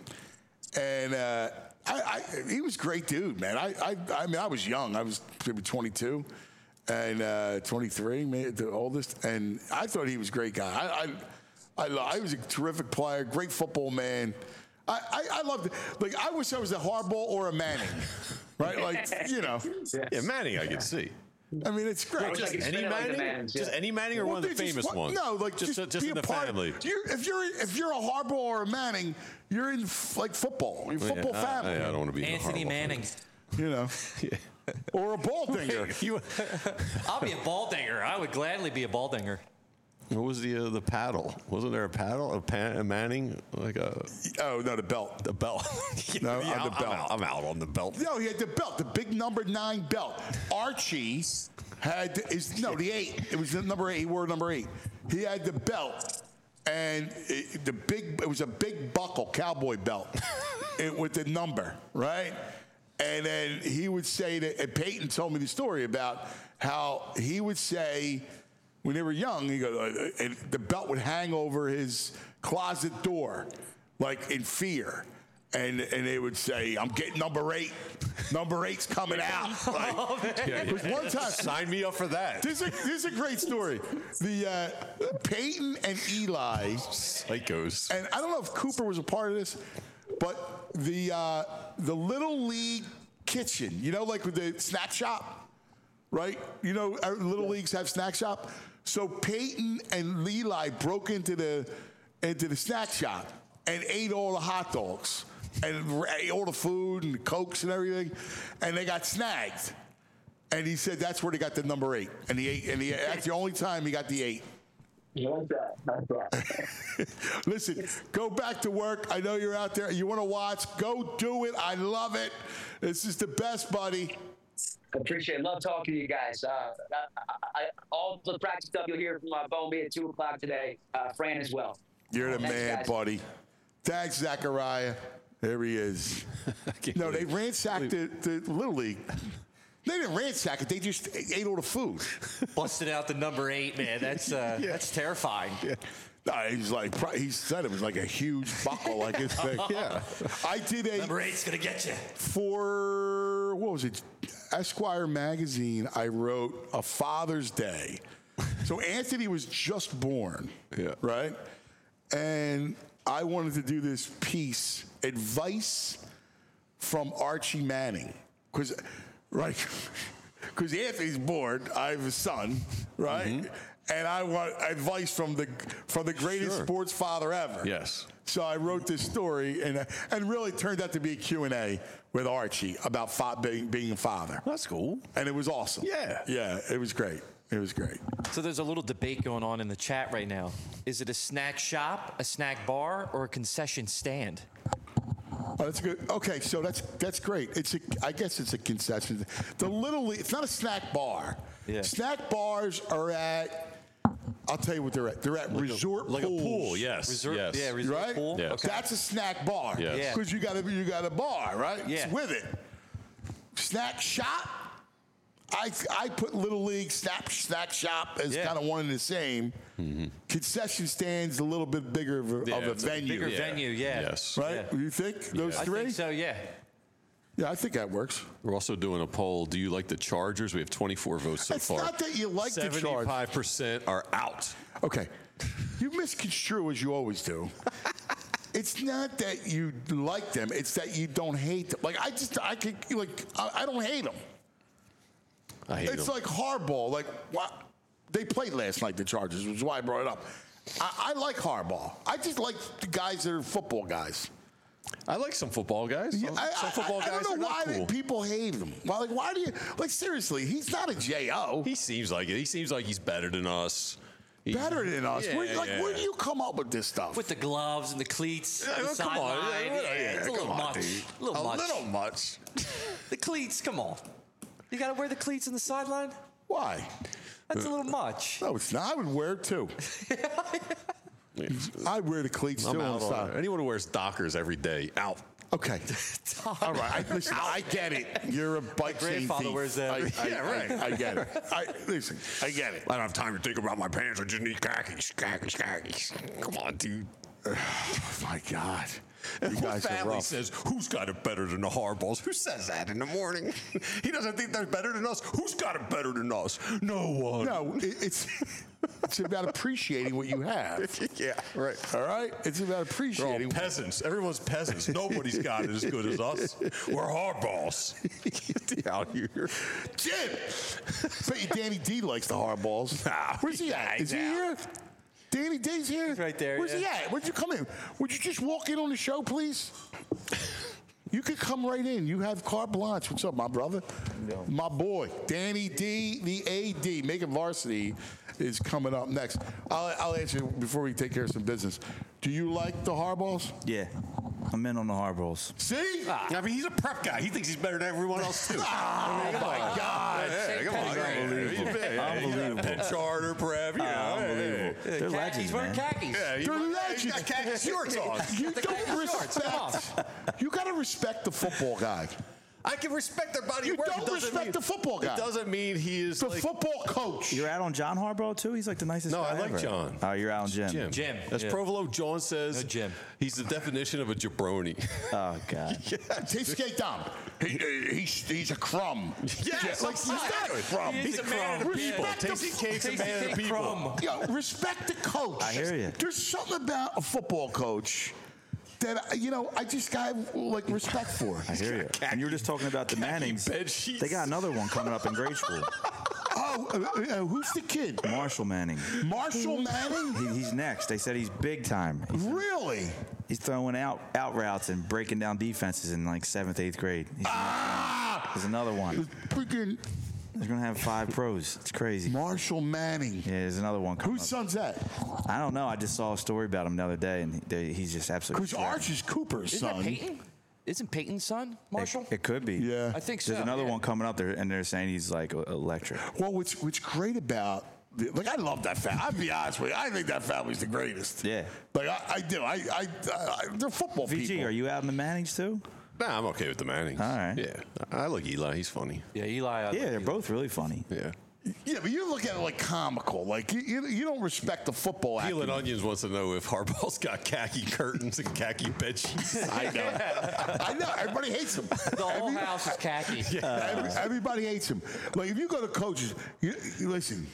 uh, I, I, he was a great dude, man. I, I, I mean, I was young. I was maybe twenty-two and uh, twenty-three, maybe the oldest, and I thought he was a great guy. I, I, I, lo- I was a terrific player, great football man. I, I, I loved it. Like, I wish I was a Harbaugh or a Manning, right? Like, you know, Yeah, Manning, I can see. I mean, it's great. Looks like he's Any spinning like the Manning? Mannings, Just yeah. any Manning or Well, one of the they just famous want- ones? No, like just just, just be in a the part. family. You're, if you're if you're a Harbaugh or a Manning, you're in f- like football. You're Yeah, football I- family. I, I don't want to be in the Anthony Harbaugh Manning. You know, or a Baldinger. family. You- I'll be a Baldinger. I would gladly be a Baldinger. What was the uh, the paddle? Wasn't there a paddle? A, pan, a Manning? Like a Oh no, the belt. the belt? No, Yeah, on the I'm belt. out. I'm out on the belt. No, he had the belt, the big number nine belt. Archie had is no the eight. It was the number eight. He wore number eight. He had the belt, and it, the big. It was a big buckle cowboy belt, it, with the number right. And then he would say that. And Peyton told me the story about how he would say when they were young. He goes, uh, and the belt would hang over his closet door, like in fear. And and they would say, "I'm getting number eight. Number eight's coming out." Like, it was one time. Sign me up for that. This is a, this is a great story. The uh, Peyton and Eli, Psychos. and I don't know if Cooper was a part of this, but the uh, the Little League kitchen, you know, like with the snack shop, right? You know, our Little Leagues have snack shop. So Peyton and Eli broke into the into the snack shop and ate all the hot dogs and ate all the food and the Cokes and everything, and they got snagged. And he said that's where they got the number eight, and he ate, and he, that's the only time he got the eight. You like that? Like that. Listen, go back to work. I know you're out there. You want to watch? Go do it. I love it. This is the best, buddy. Appreciate it. Love talking to you guys. Uh, I, I, all the practice stuff you'll hear from uh, Bowman at two o'clock today. Uh, Fran as well. You're the Thanks, man, guys. buddy. Thanks, Zachariah. There he is. No, they ransacked the, the Little League. They didn't ransack it. They just ate all the food. Busted out the number eight, man. That's uh, that's terrifying. No, he's like, he said it was like a huge buckle, like his thing. Yeah. I did a, Number eight's gonna get you. for, what was it? Esquire magazine, I wrote a Father's Day. So Anthony was just born, Yeah. right? And I wanted to do this piece, advice from Archie Manning, because, right, because Anthony's born, I have a son, right? Mm-hmm. And I want advice from the from the greatest Sure. sports father ever. Yes. So I wrote this story, and uh, and really turned out to be a Q and A with Archie about fa- being, being a father. That's cool. And it was awesome. Yeah. Yeah, it was great. It was great. So there's a little debate going on in the chat right now. Is it a snack shop, a snack bar, or a concession stand? Oh, that's good. Okay, so that's that's great. It's a, I guess it's a concession. The Little League, it's not a snack bar. Yeah. Snack bars are at, I'll tell you what they're at. They're at resort Like pools. a pool, yes. Resort, yes. yeah, resort Right? pool. Yeah. Okay. That's a snack bar. Yes. Yeah. Because you got a you got a bar, right? Yeah. It's with it. Snack shop. I I put Little League snack snack shop as Yeah. kind of one and the same. Concession stands a little bit bigger of a, Yeah, of a it's a venue, Bigger venue, yeah. Yes. right? Yeah. You think those I three? think so, yeah. Yeah, I think that works. We're also doing a poll. Do you like the Chargers? We have twenty-four votes so It's far. not that you like the Chargers. seventy-five percent are out. Okay, you misconstrue as you always do. It's not that you like them; it's that you don't hate them. Like I just, I could, like, I, I don't hate them. I hate It's them. like hardball. Like what they played last night, the Chargers, which is why I brought it up. I, I like hardball. I just like the guys that are football guys. I like some football guys. Some, I, some I- football I, guys I don't know are why not cool. people hate him. Why, like, why do you like seriously? He's not a J O. He seems like it. He seems like he's better than us. Better than us. Yeah, where, like, yeah. where do you come up with this stuff? With the gloves and the cleats, Yeah, the well, come on. sideline. Yeah, Yeah, yeah, it's a come little on, much. dude. A little a much. little much. The cleats, come on. You got to wear the cleats on the sideline? Why? That's a little much. No, it's not. I would wear it too. I wear the cleats I'm too on out the on side. it. Anyone who wears Dockers every day, out. Okay. All right. I, listen, I get it. You're a bike chain grandfather thief. wears that. I, I, Yeah, right. I, I get it. I, listen, I get it. I don't have time to think about my pants. I just need khakis, khakis, khakis. Come on, dude. Oh, my God. You And guys whose are family rough. says, who's got it better than the Hardballs? Who says that in the morning? He doesn't think they're better than us. Who's got it better than us? No one. No, it, it's it's about appreciating what you have. Yeah, right. All right? It's about They're all appreciating. peasants. Everyone's peasants. Nobody's got it as good as us. We're hardballs. Get out here. Jim! Bet you Danny D likes the hardballs. Nah, Where's he at? Is he here? Danny D's here? He's right there, Where's he yeah. at? Where'd you come in? Would you just walk in on the show, please? You could come right in. You have carte blanche. What's up, my brother? My boy, Danny D, the A D, Making Varsity, is coming up next. I'll, I'll ask you before we take care of some business. Do you like the hardballs? Yeah, I'm in on the hardballs. See? I mean, he's a prep guy. He thinks he's better than everyone else, too. Oh, my God. Yeah, come on. Unbelievable. Unbelievable. Penn Charter prep, you know. Unbelievable. They're Khakis, legends, wearing man. khakis. Yeah, he They're he's legends. got khaki shorts on. You The don't khaki shorts, come respect. You got to respect the football guy. I can respect their body You of work. don't It doesn't respect mean- the football guy. It doesn't mean he is The like, football coach. You're out on John Harbaugh too. He's like the nicest. No, guy I like ever. John. Oh, you're out on Jim. Jim. Jim, As yeah. Provolone John says, No, Jim. he's the definition of a jabroni. Oh God. He's skate down. He, he's, he's a crumb. Yes, like, he's not a exactly. crumb. He is He's a a man man of of the people. people. Tasty Cake's a Tasty man of Cake the people. crumb. Yo, respect the coach. I hear ya. There's something about a football coach that, you know, I just got, like, respect for. I hear you. And you were just talking about the Mannings. bed sheets. They got another one coming up in grade school. Oh, uh, uh, who's the kid? Marshall Manning. Marshall Manning? He, he's next. They said he's big time. He's, Really? he's throwing out out routes and breaking down defenses in like seventh, eighth grade. He's Ah! There's another one. Freaking They're gonna have five pros. It's crazy. Marshall Manning. Yeah, there's another one coming Whose up. son's that? I don't know. I just saw a story about him the other day, and he, he's just absolutely. Because shredded. Arch is Cooper's Isn't son. that Peyton? Isn't Peyton's son Marshall? It, it could be. Yeah. I think so. There's another yeah. one coming up there, and they're saying he's like e- electric. Well, what's what's great about the, like I love that family. I'll be honest with you. I think that family's the greatest. Yeah. Like I, I do. I, I, I they're football V G, people. are you out in the Mannings too? Nah, I'm okay with the Mannings. All right. Yeah. I like Eli. He's funny. Yeah, Eli. I Yeah, like they're Eli. both really funny. Yeah. Yeah, but you look at it like comical. Like you, you, you don't respect the football Peeling acumen. Onions wants to know if Harbaugh's got khaki curtains and khaki bed sheets. I know. I know. Everybody hates him. The whole Every- house is khaki. Every- everybody hates him. Like if you go to coaches, you, you listen.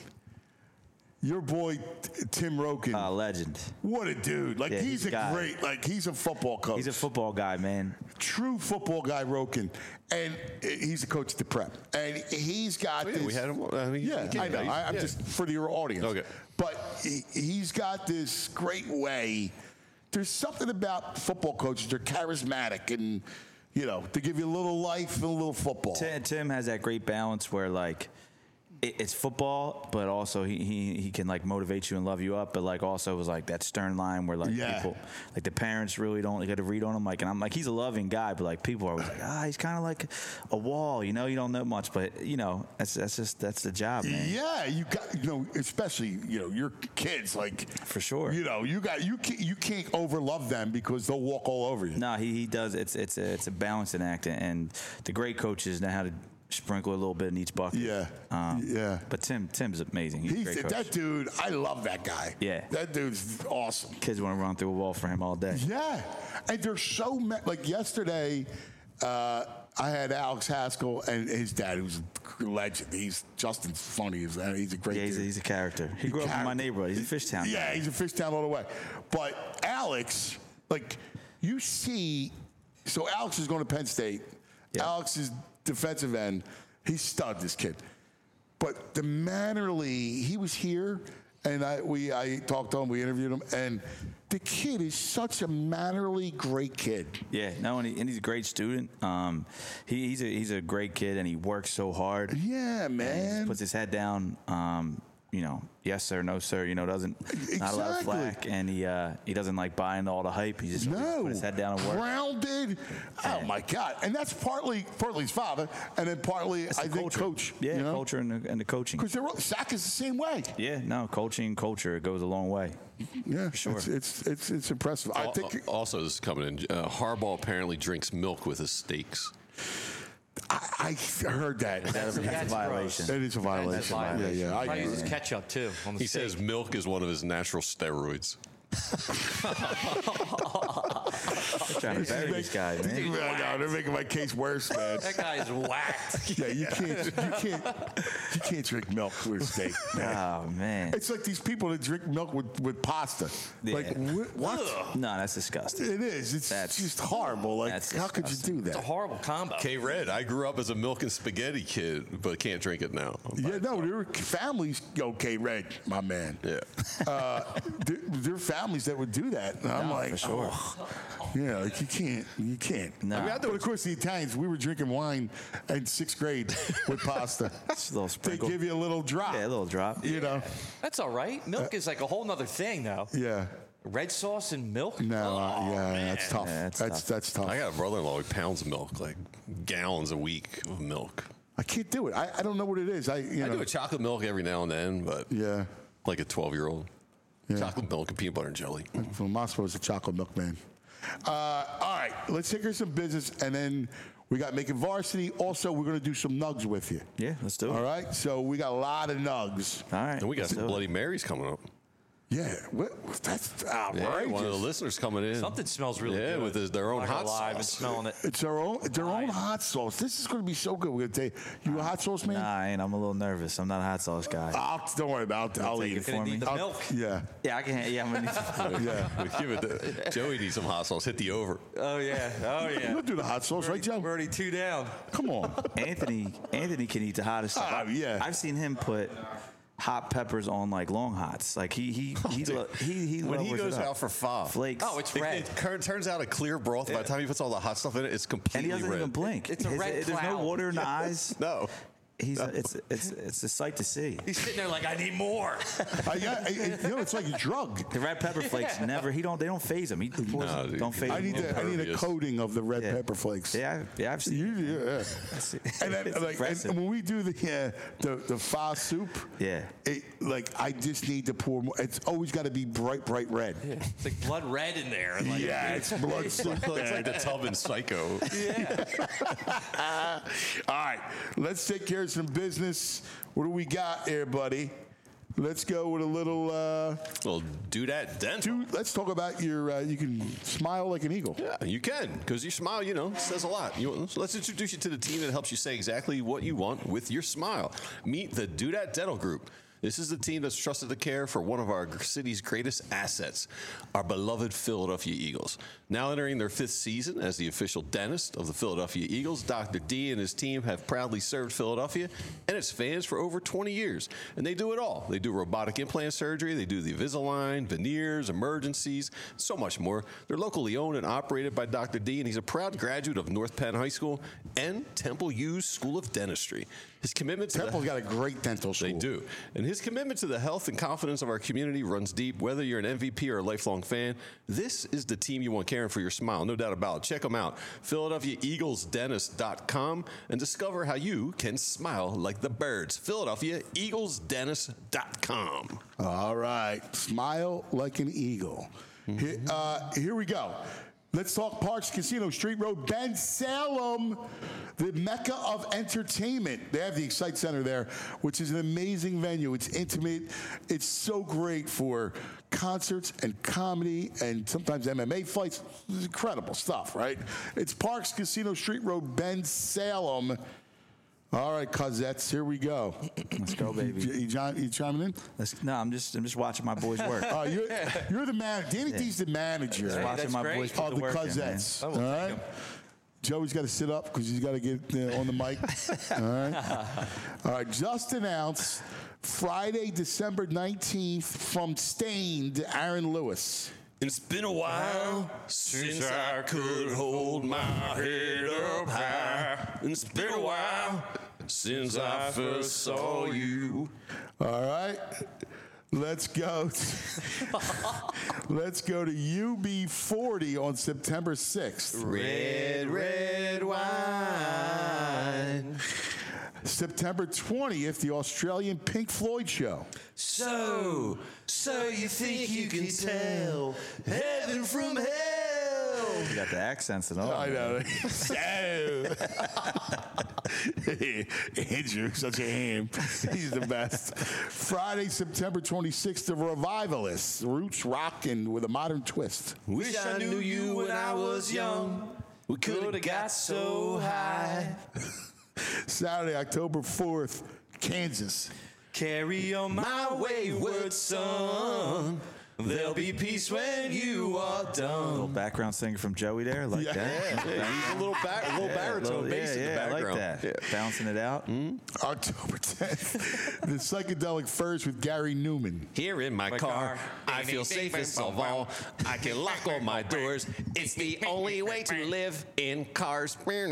Your boy T- Tim Roken, Uh, legend. what a dude! Like yeah, he's, he's a a guy. great, like he's a football coach. He's a football guy, man. true football guy, Roken, and he's the coach at the prep, and he's got Oh, yeah, this. we had him. I mean, Yeah, he I know. came- I, I'm yeah. just for your audience. Okay. But he, he's got this great way. There's something about football coaches. They're charismatic, and you know, they give you a little life and a little football. Tim, Tim has that great balance where like it, it's football, but also he, he he can like motivate you and love you up, but like also was like that stern line where like Yeah. people like the parents really don't get to read on him. Like, and I'm like he's a loving guy, but like people are always like ah he's kind of like a wall, you know, you don't know much, but you know that's that's just that's the job, man. Yeah, you got you know, especially you know your kids like For sure. You know, you got you can't, you can't overlove them because they'll walk all over you. No, he, he does. It's it's a, it's a balancing act, and the great coaches know how to sprinkle a little bit in each bucket. Yeah, um, yeah. But Tim Tim's amazing. He's, He's a great coach. that dude. I love that guy. Yeah. that dude's awesome. Kids want to run through a wall for him all day. Yeah, and they're so ma- like yesterday. Uh, I had Alex Haskell and his dad, who's a legend. He's Justin's funny. He's a, he's a great Yeah, he's a, dude. he's a character. He grew up in my Character. neighborhood. He's a Fishtown guy. Yeah, he's a Fishtown all the way. But Alex, like, you see, so Alex is going to Penn State. Yeah. Alex is defensive end. He's stud, this kid. But the mannerly, he was here, and I we I talked to him, we interviewed him, and the kid is such a mannerly, great kid. Yeah, no, and, he, and he's a great student. Um, he, he's a he's a great kid, and he works so hard. Yeah, And he man. just puts his head down. Um, you know, yes sir, no sir. You know, doesn't not a lot of Exactly. flack, and he uh, he doesn't like buying all the hype. He just No, put his head down and work. grounded. Oh my God! And that's partly partly his father, and then partly It's I the think culture. coach. Yeah, you know? culture and the, and the coaching. Because Sack is the same way. Yeah, no, coaching, culture, it goes a long way. Yeah, sure. It's it's it's, it's impressive. I Al- think also, this is coming in. Uh, Harbaugh apparently drinks milk with his steaks. I, I heard that. That's, a That's violation. That is a violation. That's a violation. Yeah, yeah. Probably I, uses ketchup too. On the He steak. says milk is one of his natural steroids. I'm trying to bury this guy, man. I know, they're making my case worse, man. That guy's whacked. Yeah, you can't, you can't, you can't drink milk with steak, man. Oh man. It's like these people that drink milk with, with pasta. Like Yeah. wh- what? No, that's disgusting. It is. It's That's- just horrible. Like, that's how could you disgusting. do It's a that? horrible combo. K Red, I grew up as a milk and spaghetti kid, but can't drink it now. Yeah, no, there are families. Okay, Red, my man. Yeah. Uh, there, there are families that would do that. And I'm No, like, for sure. oh, yeah, like you can't, you can't. No. I mean, I but of course, the Italians, we were drinking wine in sixth grade with pasta. Just a little They sprinkle. give you a little drop. Yeah, a little drop. You know? That's all right. Milk is like a whole nother thing, though. Yeah. Red sauce and milk. No, uh, Oh, yeah, man. that's tough. Yeah, that's that's tough. that's tough. I got a brother-in-law who pounds milk, like gallons a week of milk. I can't do it. I, I don't know what it is. I you I know. do a chocolate milk every now and then, but Yeah. like a twelve-year-old. Yeah. Chocolate milk and peanut butter and jelly. Well, Moscow's a chocolate milk man. Uh, all right, let's take care of some business, and then we got making varsity. Also, we're going to do some nugs with you. Yeah, let's do it. All right, so we got a lot of nugs. All right. And we got let's some do it. Bloody Marys coming up. Yeah, what, that's Yeah, outrageous. one of the listeners coming in. Something smells really yeah, good. with his, their own I'm not hot gonna lie, I've been sauce. smelling it. It's their own, their own hot sauce. This is going to be so good. We're going to tell you, you a hot sauce man? Nah, I ain't. I'm a little nervous. I'm not a hot sauce guy. I'll, don't worry about it. I'll take eat it it. for Gonna me. need the I'll- milk. Yeah, Yeah, I can. Yeah, I'm gonna need to. yeah. Give it to, Joey needs some hot sauce. Hit the over. Oh yeah. Oh yeah. You'll do the hot sauce, right, Joe? We're already two down. Come on. Anthony. Anthony can eat the hottest stuff. Ah, yeah. I've seen him put hot peppers on like long hots. Like he he he lo- he, he When he lowers it goes up. out for pho, flakes. Oh, it's It, red. it cur- turns out a clear broth. By the time he puts all the hot stuff in it, it's and completely he doesn't red. even blink. It's a His- red There's no cloud. water in the eyes. No. He's it's it's it's a sight to see. He's sitting there like, I need more. I got, I, I- you know, it's like a drug. The red pepper flakes never. He don't. They don't phase him. He pours, No, dude. don't phase I him. need, the, I need a Impervious. coating of the red Yeah. pepper flakes. Yeah, I- yeah. I've seen. You, yeah. it. And, then, It's like, and impressive. when we do the uh, the the pho soup, Yeah. it, like I just need to pour more. It's always got to be bright, bright red. It's like blood red in there. Like, Yeah, it's blood soup. It's like the tub in Psycho. All right, let's take care of some business. What do we got here, buddy? Let's go with a little. Uh, Well, do that dental. dude, let's talk about your. Uh, you can smile like an eagle. Yeah, you can, because your smile, you know, says a lot. You, so let's introduce you to the team that helps you say exactly what you want with your smile. Meet the Do That Dental Group. This is the team that's trusted to care for one of our city's greatest assets, our beloved Philadelphia Eagles. Now entering their fifth season as the official dentist of the Philadelphia Eagles, Doctor D and his team have proudly served Philadelphia and its fans for over twenty years. And they do it all. They do robotic implant surgery, they do the Invisalign, veneers, emergencies, so much more. They're locally owned and operated by Doctor D, and he's a proud graduate of North Penn High School and Temple U's School of Dentistry. His commitment to the- Temple's got a great dental school. they do. And his commitment to the health and confidence of our community runs deep. Whether you're an M V P or a lifelong fan, this is the team you want caring for your smile. No doubt about it. Check them out. Philadelphia Eagles Dentist dot com and discover how you can smile like the birds. Philadelphia Eagles Dentist dot com. All right, smile like an eagle. Here, uh, here we go. Let's talk Parks Casino, Street Road, Ben Salem, the mecca of entertainment. They have the Excite Center there, which is an amazing venue. It's intimate. It's so great for concerts and comedy and sometimes M M A fights. It's incredible stuff, right? It's Parks Casino, Street Road, Ben Salem. All right, Cosettes, here we go. Let's go, baby. You, you, John, you chiming in? Let's, no, I'm just I'm just watching my boys work. Uh, you're, you're the man. Danny D's the manager Just watching that's my great. boys put of the the work in, man. Cosettes. I All will take right. him. Joey's got to sit up because he's got to get uh, on the mic. All right. All right. Just announced Friday, December nineteenth from Stained, Aaron Lewis. It's been a while since I could hold my head up high. It's been a while since I first saw you. All right. Let's go. Let's go to U B forty on September sixth. Red, red wine. September twentieth, the Australian Pink Floyd show. So, so you think you can tell heaven from hell? You got the accents and all. I know. So. Andrew, such a ham. He's the best. Friday, September twenty-sixth, the Revivalists. Roots rockin' with a modern twist. Wish I knew you when I was young. We could have got so high. Saturday, October fourth, Kansas. Carry on my wayward son. There'll be peace when you are done. Little background singer from Joey there, like Yeah. that. Yeah, he's a little, back, a little Yeah, baritone little- bass yeah, in the yeah, I background. like that. Bouncing it out. Mm-hmm. October tenth, the Psychedelic Furs with Gary Newman. Here in my, My car, car. I feel safest of all. I can lock all my doors. It's the only way to live in cars.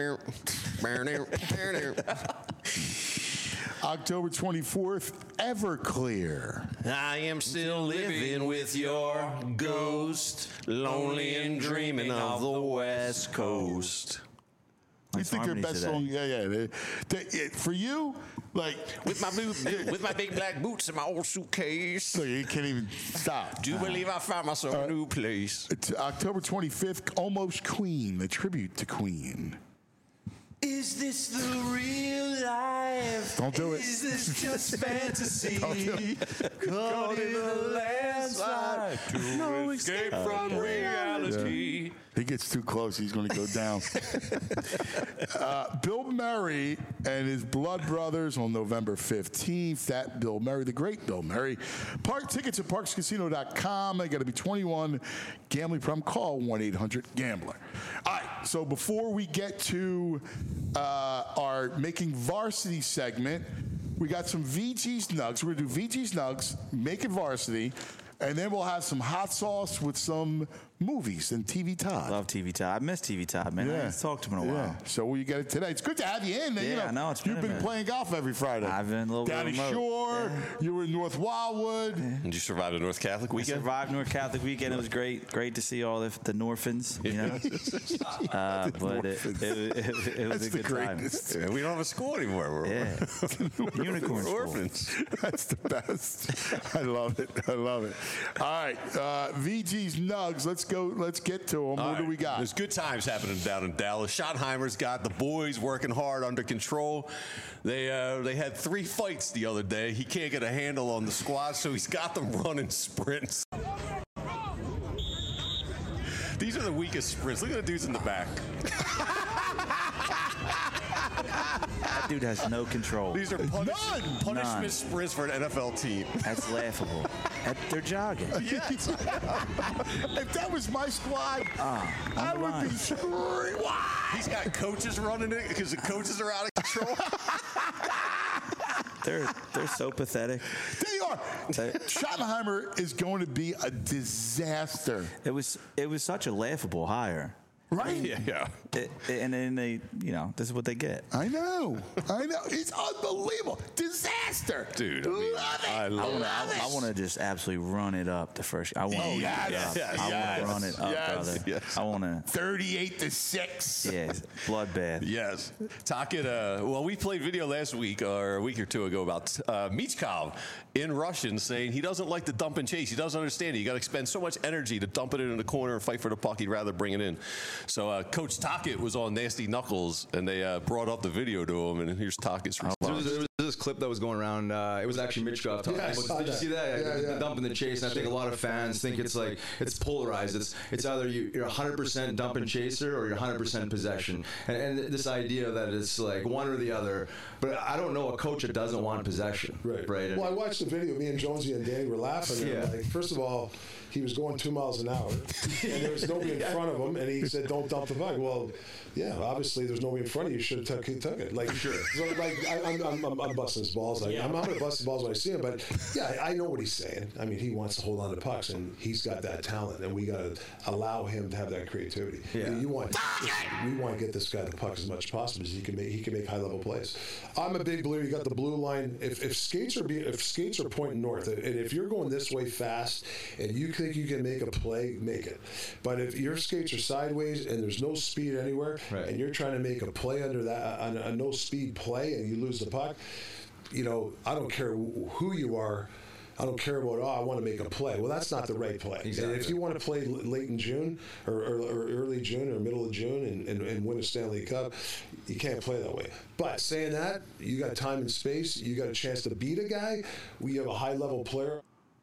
October twenty-fourth, Everclear. I am still living with your ghost, lonely and dreaming of the West Coast. You Nice think their harmonies best today. song? Yeah, yeah. They, they, it, for you, like, With my boot, with my big black boots and my old suitcase. look, you can't even stop. Do you believe I found myself a new place? It's October twenty-fifth, Almost Queen, the tribute to Queen. Is this the real life? Don't do it. Is this just fantasy? Don't do it. Caught in a landslide to no escape from reality. He gets too close, he's going to go down. uh, Bill Murray and his Blood Brothers on November fifteenth. That Bill Murray, the great Bill Murray. Park tickets at parks casino dot com. They got to be twenty-one. Gambling problem, call one eight hundred gambler. All right, so before we get to uh, our Making Varsity segment, we got some V G's Nugs. We're going to do V G's Nugs, Making Varsity, and then we'll have some hot sauce with some movies and T V Todd. Love T V Todd. I miss T V Todd, man. I haven't talked to him in a while. So we get it today. It's good to have you in. Yeah, you know, I know, it's you've been a been minute. playing golf every Friday. I've been a little bit Downey remote. Shore. You were in North Wildwood. Did you survive the North Catholic I weekend? survived North Catholic weekend. It was great. Great to see all the, the Norphans, you know. uh, but it, it, it, it, it was That's a the good time. greatest. Yeah, we don't have a school anymore. We're, Yeah. Unicorn we're school. orphans. That's the best. I love it. I love it. All right, uh, V G's Nugs. Let's go. Let's get to them. What All do right. we got? There's good times happening down in Dallas. Schottenheimer's got the boys working hard under control. They uh, they had three fights the other day. He can't get a handle on the squad, so he's got them running sprints. These are the weakest sprints. Look at the dudes in the back. That dude has no control. These are punish- None. punishment None. sprints for an N F L team. That's laughable. That- they're jogging. If that was my squad, Ah, I on the would line. be screaming. He's got coaches running it because the coaches are out of control. They're they're so pathetic. They are. Schottenheimer is going to be a disaster. It was it was such a laughable hire. Right? yeah, yeah. It, and then they, you know, this is what they get. I know. I know. It's unbelievable. Disaster. Dude, I mean, love it. I love I want to. love it. I, want to just absolutely run it up the first. I want. Oh, to yes, yes, I yes, want to run it up, yes, brother. yes. I want to. thirty-eight to six. Yeah, bloodbath. Yes. Talking, uh, well, we played video last week or a week or two ago about uh, Michkov in Russian saying he doesn't like to dump and chase. He doesn't understand it. You got to expend so much energy to dump it in the corner and fight for the puck. He'd rather bring it in. So uh, Coach Tockett was on Nasty Knuckles, and they uh, brought up the video to him, and here's Tockett's There response. was, there was this clip that was going around. Uh, it was actually Michkov talking. Yeah, I about- saw Did you that. see that? Yeah, the, yeah. the dump and the chase. And I think a lot of fans think it's like it's polarized. It's it's either you, you're one hundred percent dump and chaser or you're one hundred percent possession. And, and this idea that it's like one or the other. But I don't know a coach that doesn't want possession. Right. Right. Well, I watched the video. Me and Jonesy and Danny were laughing. And Yeah. like, first of all, he was going two miles an hour, and there was nobody in front of him, and he said, "Don't dump the puck." Well, yeah, obviously there's nobody in front of you. You should have took, took it. Like, Sure. So, like, I, I'm, I'm, I'm, I'm busting his balls. Like, I'm, I'm going to bust his balls when I see him. But yeah, I, I know what he's saying. I mean, he wants to hold on to pucks, and he's got that talent, and we got to allow him to have that creativity. Yeah. You, you want, we want to get this guy the puck as much as possible, as he can make. He can make high level plays. I'm a big believer. You got the blue line. If, if skates are being, if skates are pointing north, and if you're going this way fast, and you think you can make a play, make it. But if your skates are sideways and there's no speed anywhere, right. and you're trying to make a play under that, on a no speed play, and you lose the puck, you know, I don't care who you are. I don't care about, oh, I want to make a play. Well, that's not the right play. Exactly. And if you want to play late in June or, or, or early June or middle of June and, and, and win a Stanley Cup, you can't play that way. But saying that, you got time and space. You got a chance to beat a guy. We have a high-level player.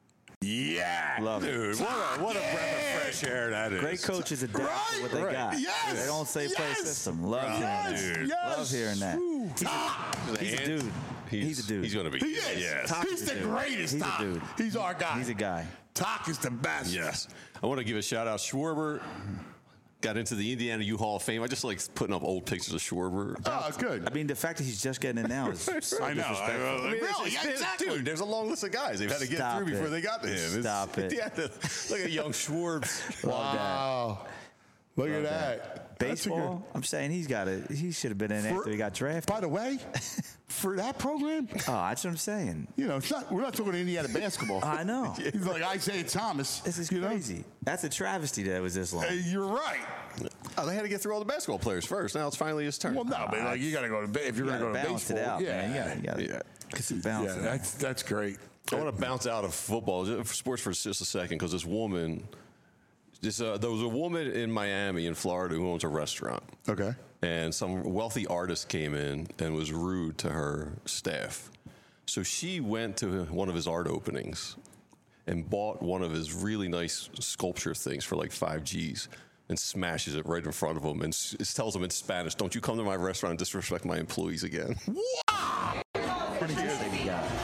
Yeah, Love Dude, it. what a, what a breath of fresh air that is. Great coaches adapt Right, to what they right. got. Yes, They don't say play yes. system. Love Yes, hearing that. yes. Love hearing that. He's a, he's a dude. He's, He's a dude. He's going to be. He is. Yes. Talk He's is a the dude. greatest. He's a Talk. dude. He's our guy. He's a guy. Talk is the best. Yes. I want to give a shout out. Schwarber got into the Indiana U Hall of Fame. I just like putting up old pictures of Schwarber. Oh, good. I mean, the fact that he's just getting it now is so I know. disrespectful. I, I mean, really? it's- it's- Exactly. Dude, there's a long list of guys they've had to get Stop through before it. they got to him. It's- Stop it. Yeah, look at young Schwarbs. Love that. Wow. Look Love at that. That's a Baseball, good- I'm saying he's got it. He should have been in For- after he got drafted. By the way, for that program, Oh, that's what I'm saying. you know, it's not. We're not talking Indiana basketball. I know. He's like Isaiah Thomas. This is you know? crazy. That's a travesty that it was this long. Hey, you're right. Oh, they had to get through all the basketball players first. Now it's finally his turn. Well, no, but like you got to go to ba- if you're You going to gotta go to balance baseball. it out, yeah, man. You gotta, you gotta Yeah. get some balance. yeah, in there. that's that's great. I want to bounce out of football, just- sports for just a second, because this woman, this uh, there was a woman in Miami, in Florida, who owns a restaurant. Okay. And some wealthy artist came in and was rude to her staff. So she went to one of his art openings and bought one of his really nice sculpture things for like five G's and smashes it right in front of him and s- tells him in Spanish, "Don't you come to my restaurant and disrespect my employees again." Pretty good that he got.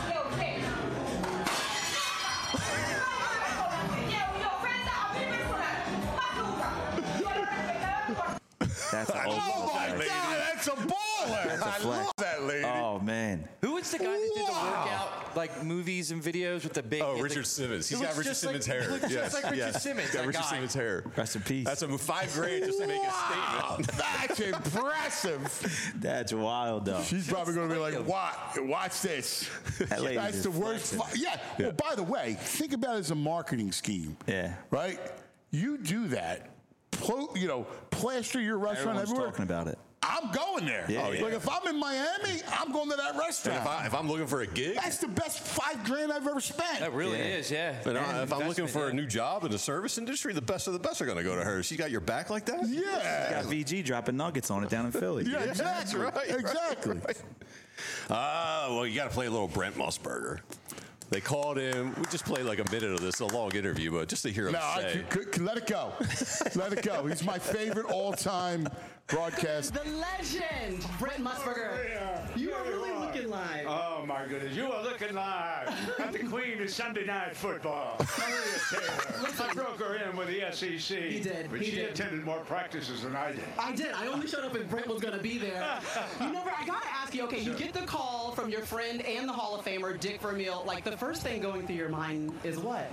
That's an old Oh my flag. God, that's a baller. That's a I flag. love that lady. Oh man. Who was the guy that did the Wow. workout, like movies and videos with the big? Oh, the- Richard Simmons. He He's got looks Richard just like- Simmons' he hair. looks just Yes, like Richard yes. Simmons, He's got that Richard guy. Simmons' hair. Rest in peace. That's a five grade just to make a statement. That's impressive. That's wild though. She's probably going to be like, "Watch, watch this." That lady That's is the worst. flexing. Fi- yeah. Well, by the way, think about it as a marketing scheme. Yeah. Right. You do that. Plo- you know, plaster your restaurant Everyone's everywhere. talking about it. I'm going there. Yeah, Like yeah. if I'm in Miami, I'm going to that And restaurant. if, I, if I'm looking for a gig, That's the best five grand I've ever spent. That really Yeah. is, yeah. and I- And if I'm looking investment, for a yeah. new job in the service industry, the best of the best are going to go to her. She got your back like that? Yeah. Got V G dropping nuggets on it down in Philly. Yeah, exactly. right, right, exactly. right. Ah, well, you got to play a little Brent Musburger. They called him. We just played like a minute of this, a long interview, but just to hear him No, I say. could, could, could let it go. Let it go. He's my favorite all-time broadcast. The legend, Brent Musburger. You are really looking live. Oh my goodness, you are looking live at the Queen of Sunday Night Football, Maria Taylor. I broke her in with the S E C. He did, But he she did. attended more practices than I did. I did. I only showed up if Brent was going to be there. You never. I gotta ask you. Okay, you get the call from your friend and the Hall of Famer Dick Vermeil. Like the first thing going through your mind is what?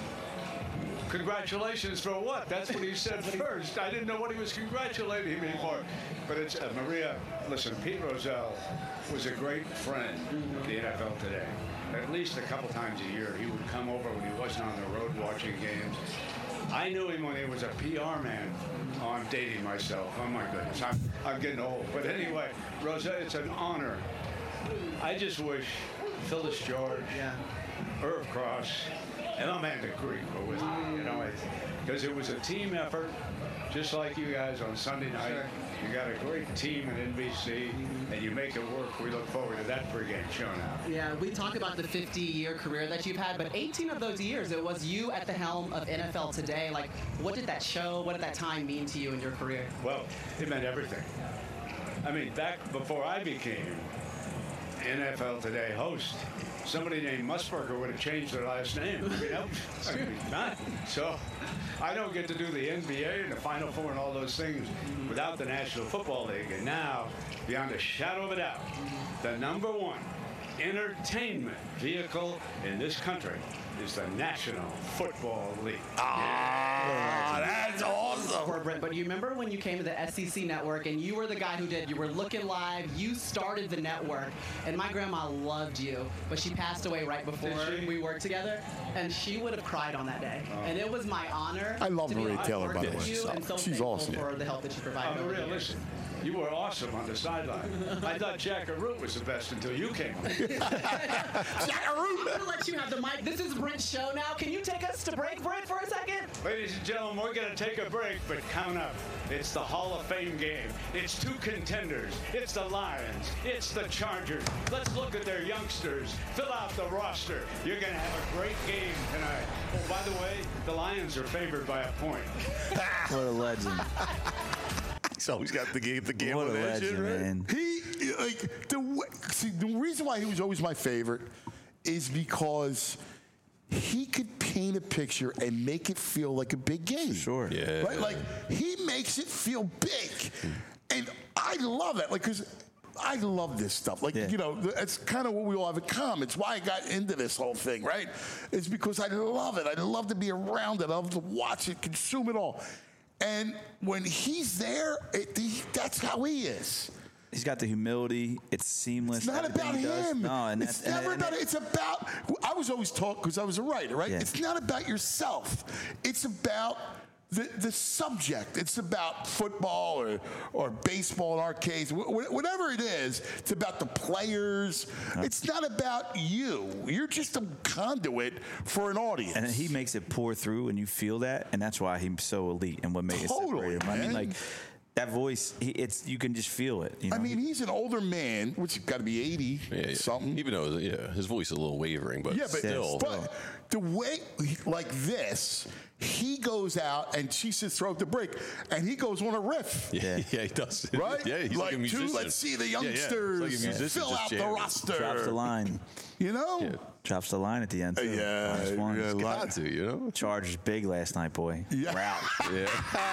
Congratulations for what? That's what he said first. I didn't know what he was congratulating me for. But it's uh, Maria. Listen, Pete Rozelle was a great friend of the N F L today. At least a couple times a year, he would come over when he wasn't on the road watching games. I knew him when he was a P R man. Oh, I'm dating myself. Oh my goodness, I'm I'm getting old. But anyway, Rozelle, it's an honor. I just wish Phyllis George, Yeah. Irv Cross, and Amanda Creek were with me, you know, because it was a team effort, just like you guys on Sunday night. You got a great team at N B C, and you make it work. We look forward to that pregame show now. Yeah, we talk about the fifty-year career that you've had, but eighteen of those years, it was you at the helm of N F L Today. Like, what did that show, what did that time mean to you in your career? Well, it meant everything. I mean, back before I became N F L Today host, somebody named Musburger would have changed their last name. You know? I mean, not. So I don't get to do the N B A and the Final Four and all those things without the National Football League. And now, beyond a shadow of a doubt, the number one entertainment vehicle in this country is the National Football League. Ah, that's awesome. Poor Brent, but you remember when you came to the S E C network and you were the guy who did, you were looking live, you started the network, and my grandma loved you, but she passed away right before we worked together, and she would have cried on that day. Oh. And it was my honor. I love to be Maria able to Taylor, work by the with way. you, and so She's thankful awesome. for the help that you provided Oh, over the Maria, years. listen, you were awesome on the sideline. I thought Jack Root was the best until you came on. I'm going to let you have the mic. This is Brent's show now. Can you take us to break, Brent, for a second? Ladies and gentlemen, we're going to take a break, but count up. It's the Hall of Fame game. It's two contenders. It's the Lions. It's the Chargers. Let's look at their youngsters. Fill out the roster. You're going to have a great game tonight. Oh, by the way, the Lions are favored by a point. What a legend. He's always got the game, the game What a on that shit, legend, right? man. He like the way- see the reason why he was always my favorite is because he could paint a picture and make it feel like a big game. Sure. Yeah. Right? Like he makes it feel big, and I love it. Like because I love this stuff. Like Yeah. you know, it's kind of what we all have in common. It's why I got into this whole thing. Right? It's because I love it. I love to be around it. I love to watch it, consume it all. And when he's there, it, he, that's how he is. He's got the humility. It's seamless. It's not everything about he does. him. No, and it's that's, never and, about it. It's about. I was always taught because I was a writer, right? Yeah. It's not about yourself. It's about the the subject. It's about football or or baseball in our case, wh- wh- whatever it is. It's about the players. It's not about you. You're just a conduit for an audience. And he makes it pour through, and you feel that, and that's why he's so elite and what makes it Totally, separate him. I mean, man. like that voice, he, it's you can just feel it. You know? I mean, he's an older man, which has got to be eighty Yeah, yeah. something. Even though, yeah, his voice is a little wavering, but Yeah, but still. but the way like this, he goes out and she sits throughout the break, and he goes on a riff. yeah, yeah, he does. Right? Yeah, he's like, a to, musician. let's see the Yeah, yeah. It's youngsters like a musician fill just out the jamming. roster. drops the line, You know? Yeah. drops the line at the end. Too. Yeah, Nice one. yeah, Got to, you know? Chargers big last night, boy. Yeah. Route. Yeah.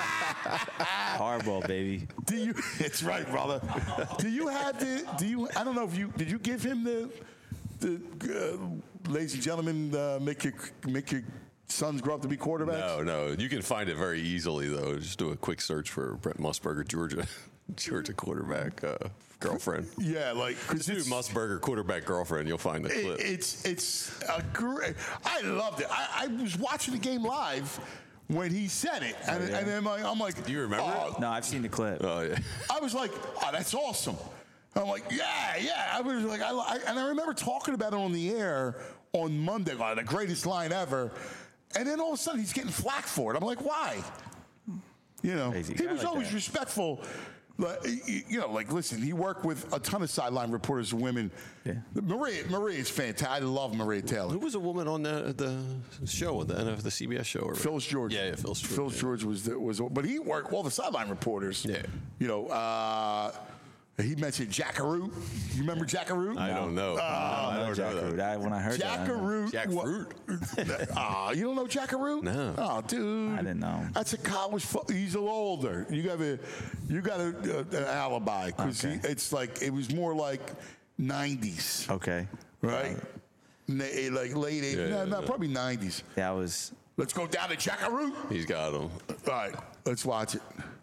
Hardball, baby. Do you? It's right, brother. Do you have the? Do you? I don't know if you did. You give him the, the, uh, ladies and gentlemen, uh, make your make your sons grow up to be quarterbacks. No, no. You can find it very easily, though. Just do a quick search for Brent Musburger, Georgia, Georgia quarterback uh, girlfriend. Yeah, like because Dude, Musburger quarterback girlfriend. You'll find the It, clip. it's it's a great. I loved it. I, I was watching the game live when he said it, and, yeah. and then like, I'm like, Do you remember oh, No, I've seen the clip. Oh, yeah. I was like, oh, that's awesome. I'm like, yeah, yeah. I was like, I, I and I remember talking about it on the air on Monday, like, the greatest line ever. And then all of a sudden he's getting flack for it. I'm like, why? You know, Crazy he guy was like always that. respectful. Like, you know, like listen, he worked with a ton of sideline reporters, women. Yeah. Maria, Maria is fantastic. I love Maria Taylor. Who was a woman on the the show, the N F the C B S show? Or Phyllis George. Yeah, yeah, Phyllis George. Phyllis yeah. George was the, was, but he worked all the sideline reporters. Yeah. You know, uh, he mentioned Jackaroo. You remember Jackaroo? I don't know. Uh, No, I don't know Jackroot. that. I, when I heard that, I Jackaroo. Jackfruit? Ah, you don't know Jackaroo? No. Oh, dude. I didn't know. That's a college. Fo- he's a little older. You got a, you got a, uh, an alibi because Okay. it's like it was more like nineties, okay. right? Na- like late eighties. Yeah, no, yeah, no, yeah. probably nineties. That was. Let's go down to Jackaroo. He's got him. All right, let's watch it.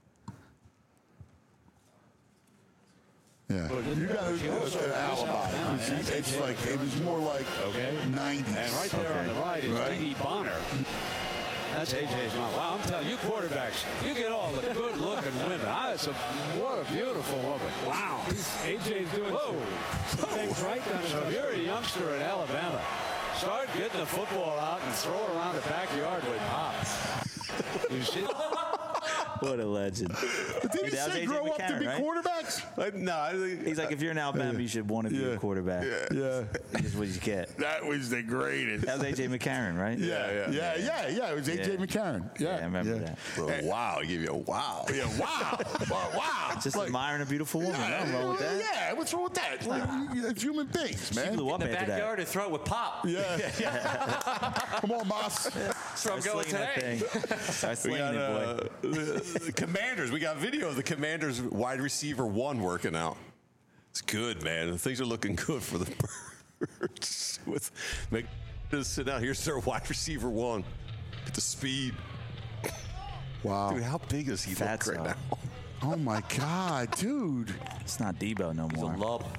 Yeah, you got a, an alibi. 'cause It's, it's like it was more like Okay. nineties. And right there on the right is Right. Dee Bonner. That's A J's mom. Wow, I'm telling you, quarterbacks, you get all the good-looking women. Ah, it's a, what a beautiful woman. Wow. A J's doing Whoa. things right down. So if you're a youngster in Alabama, start getting the football out and throw it around the backyard with Pop. You see? What a legend. But did he That was say A J grow up to McCarron, be right? quarterbacks? I, no, I think He's like, if you're in Alabama, you should want to be a quarterback. Yeah. That's what you get. That was the greatest. That was A J McCarron, right? Yeah, yeah, yeah, yeah, yeah. It was A J Yeah. McCarron. Yeah, Yeah, I remember yeah. that. Oh, wow, I give you a wow. Yeah, wow. wow, wow. Just Like, admiring a beautiful woman. yeah, Nothing wrong with that. Yeah, what's wrong with that? Like, it's human beings, man. She blew up In the after backyard and throw it with pop. Yeah. Come on, Moss. That's where I'm going today. Start We slinging got it, boy. uh, the, the Commanders. We got video of the Commanders wide receiver one working out. It's good, man. Things are looking good for the Birds. With make just sit down. Here's their wide receiver one. Get the speed. Wow. Dude, how big does he Fatso. look right now? Oh my God, dude. It's not Debo no more. He's a love.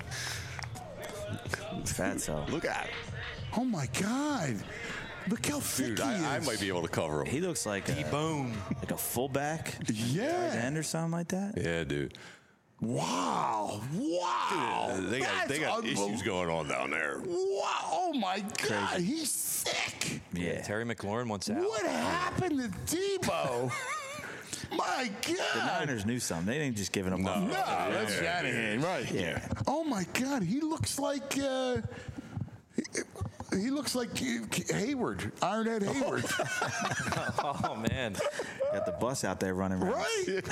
Fatso. Look at him. Oh my God. Look how thick Dude, he is. I, I might be able to cover him. He looks like a, Boom. like a fullback, tight Yeah. end or something like that. Yeah, dude. Wow. Wow. Uh, they got, That's they got unbel- issues going on down there. Wow. Oh my God. He's sick. Yeah. Terry McLaurin wants out. What happened to Debo? My The God. Niners knew something. They didn't just give him up. No, that's Shanahan, right? Yeah. Oh my God, he looks like uh, he, he looks like Hayward, Ironhead Hayward, Oh, man. Got the bus out there running around. right?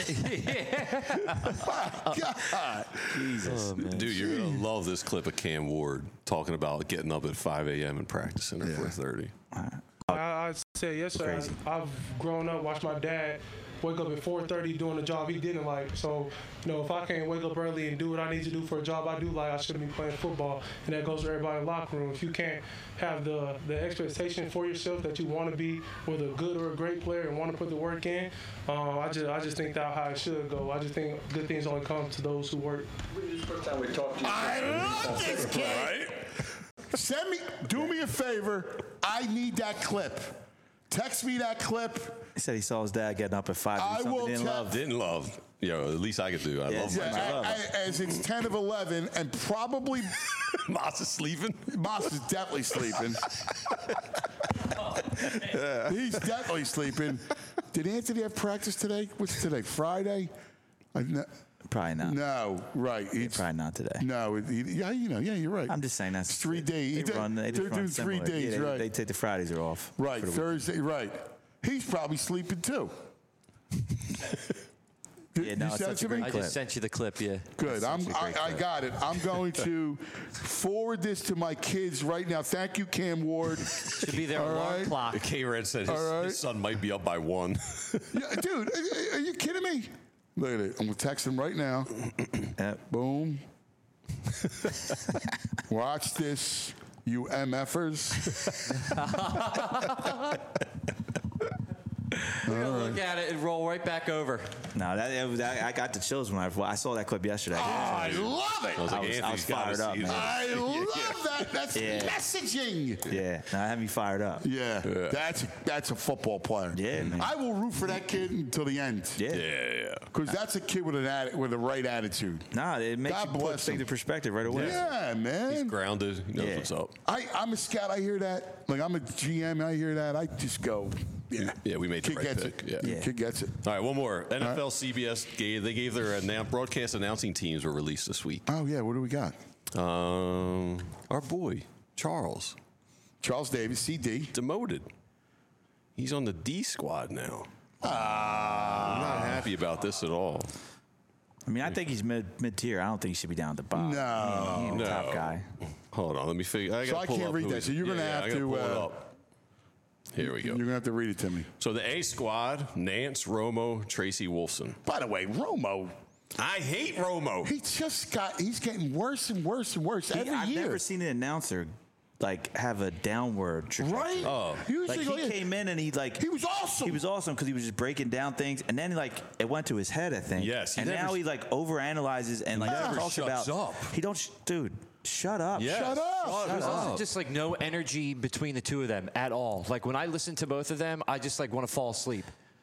My God, Jesus. Dude, you're going to love this clip of Cam Ward talking about getting up at five a.m. and practicing at four thirty. I, I said yes, sir. Crazy. I've grown up, watched my dad wake up at four thirty doing a job he didn't like. So, you know, if I can't wake up early and do what I need to do for a job I do like, I shouldn't be playing football. And that goes to everybody in the locker room. If you can't have the, the expectation for yourself that you want to be whether a good or a great player and want to put the work in, uh, I just I just think that's how it should go. I just think good things only come to those who work. This is the first time we talked to you. I love this kid. Send me, do me a favor. I need that clip. Text me that clip. He said he saw his dad getting up at five. I and something will he didn't tell- love. Didn't love. You know, at least I could do. I Yeah, love yeah. my I- job. I- as it's ten of eleven, and probably Moss is sleeping. Moss is definitely sleeping. He's definitely sleeping. Did Anthony have practice today? What's today? Friday? I, no, Probably not. no, right. It's, Probably not today. no, it, he- yeah, you know, yeah, you're right. I'm just saying that's It's three days. They He did- run, they just they're run doing three similar. days, Yeah, they, right. They take the Fridays are off. Right, for the week. Thursday, right. He's probably sleeping too. Yeah, no, You it's sent such a it to me? great I clip. just sent you the clip, yeah. Good. I'm, such a I, great I clip. got it. I'm going to forward this to my kids right now. Thank you, Cam Ward. Should be their All alarm right. clock. K-Red said his, All right. his son might be up by one. Yeah, dude, are, are you kidding me? Look at it. I'm going to text him right now. Yep. Boom. Watch this, you MFers. We're gonna look at it and roll right back over. No, that, it was, that I got the chills when I, I saw that clip yesterday. Oh, I love it. I was like, I was- I Anthony's was gotta fired up, see man. this. I love that. That's Yeah. messaging. Yeah, now had me fired up. Yeah, that's that's a football player. Yeah, man. I will root for that kid until the end. Yeah. Yeah, yeah. Because that's a kid with an atti- with the right attitude. Nah, it makes God you put bless things him. into perspective right away. Yeah, man. He's grounded. He knows Yeah. what's up. I, I'm a scout. I hear that. Like, I'm a G M. I hear that. I just go, yeah. Yeah, we made the Kid right gets pick. it. Yeah. Yeah. Kid gets it. All right, one more. N F L, C B S gave they gave their annou- broadcast announcing teams were released this week. Oh, yeah. What do we got? Um, our boy Charles Charles Davis, C D. demoted. He's on the D squad now. Ah. I'm not happy about this at all. I mean, I think he's mid mid tier. I don't think he should be down at the bottom. No. he, he ain't No. the top guy. Hold on, let me figure. I So gotta I pull can't up read who that, he's- so you're gonna yeah, have I gotta to, pull it uh, up. Here we go. You're going to have to read it to me. So the A squad: Nance, Romo, Tracy Wolfson. By the way, Romo, I hate Romo. he just got, he's getting worse and worse and worse He- every I've year. never seen an announcer like have a downward trajectory. Right? Oh. Usually Like go- he came in and he like He was awesome. He was awesome because he was just breaking down things, and then like it went to his head, I think. Yes, he and never- now he like overanalyzes and like never talks shuts about. up. He don't, sh- dude. Shut up. Yes. Shut up. There's also just like no energy between the two of them at all. Like when I listen to both of them, I just like want to fall asleep.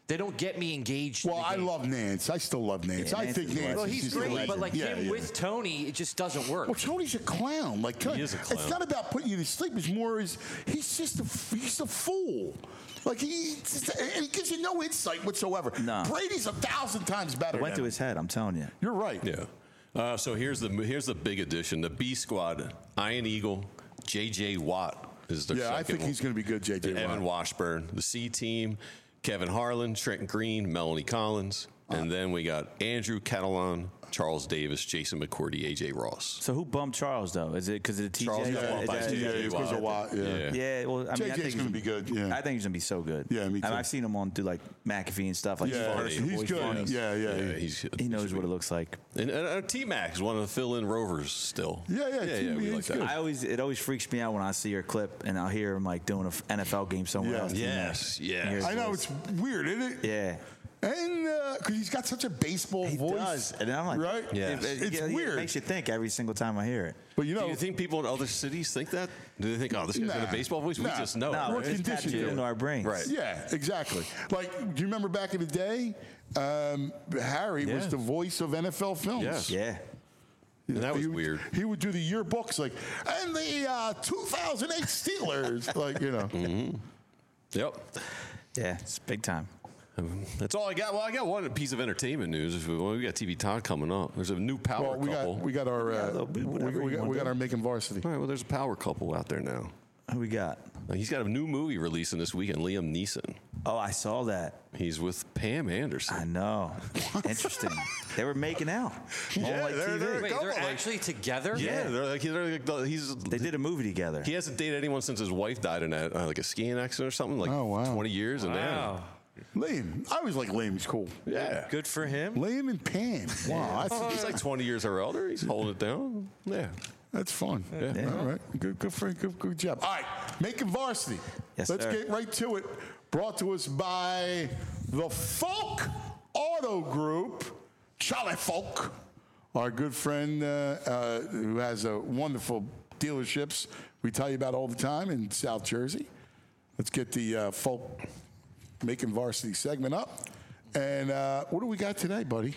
They don't get me engaged. Well, in the I game. love Nance. I still love Nance. Yeah, I Nance think is Nance. Well, is he's just a great, legend. but like yeah, him yeah. with Tony, it just doesn't work. Well, Tony's a clown. Like He is a clown. It's not about putting you to sleep. It's more is he's just a he's a fool. Like he and he gives you no insight whatsoever. No. Brady's a thousand times better. It went than to him. his head. I'm telling you. You're right. Yeah. Uh, so here's the here's the big addition. The B squad: Ian Eagle, J J Watt is their Yeah, I second think one. he's going to be good, J J Watt. Evan Washburn. The C team: Kevin Harlan, Trenton Green, Melanie Collins, and then we got Andrew Catalan, Charles Davis, Jason McCourty, A J Ross. So who bumped Charles though? Is it because of the T J? Charles got Is bumped by that- T J is that- Watt. is Because of Watt, yeah. Yeah. Yeah, well, I mean, I J J's think gonna be good, yeah. I think he's gonna be so good. Yeah, me I mean, too. I've seen him on do like McAfee and stuff. Like Yeah, he's, he's voice good. funny. Yeah, yeah, Yeah, yeah. he's He knows what it looks like. And, and uh, T Mac is one of the fill-in rovers still. Yeah, yeah, yeah, T- yeah we he's like that. good. I always it always freaks me out when I see your clip and I'll hear him like doing an N F L game somewhere Yeah. else. Yes, You yes. hear his I know voice. it's weird, isn't it? Yeah. And because he's got such a baseball He voice, does, and I'm like, right? Yeah. it- it- It's yeah, weird. It makes you think every single time I hear it. But you Do know, you think people in other cities think that? Do they think, oh, this guy's got Nah. a baseball voice? We Nah. just know. No, We're it's conditioned tattooed to into it. our brains. Right. yeah, exactly. Like, do you remember back in the day, um, Harry was Yeah. the voice of N F L films. Yes. Yeah. And that was he would, weird. He would do the yearbooks like, and the uh, two thousand eight Steelers, like you know. Mm-hmm. Yep. Yeah, it's big time. That's all I got. Well, I got one piece of entertainment news. Well, we got T V Todd coming up. There's a new power Well, we couple. got we got our uh, little bit, we, whatever we you got, wanna we got do. our making varsity. All right, well, there's a power couple out there now. Who we got? Uh, He's got a new movie releasing this weekend. Liam Neeson. Oh, I saw that. He's with Pam Anderson. I know. Interesting. They were making out. on Yeah, like they're- T V. they're- Wait, couple, they're like- actually together? Yeah, they're like, they're like the- he's They did a movie together. he hasn't dated anyone since his wife died in a, uh, like a skiing accident or something, like Oh, wow. twenty years. And Wow. Liam, I always like Liam. He's cool. yeah, Good for him. Liam and Pam. Wow, that's, he's like twenty years or older. He's holding it down. Yeah. that's fun. Yeah. All right, good, good for good, good job. All right, making varsity. Yes, Let's sir. get right to it. Brought to us by the Folk Auto Group, Charlie Folk, our good friend uh, uh, who has a wonderful dealerships we tell you about all the time in South Jersey. Let's get the uh, Folk Making Varsity segment up. And uh, what do we got today, buddy?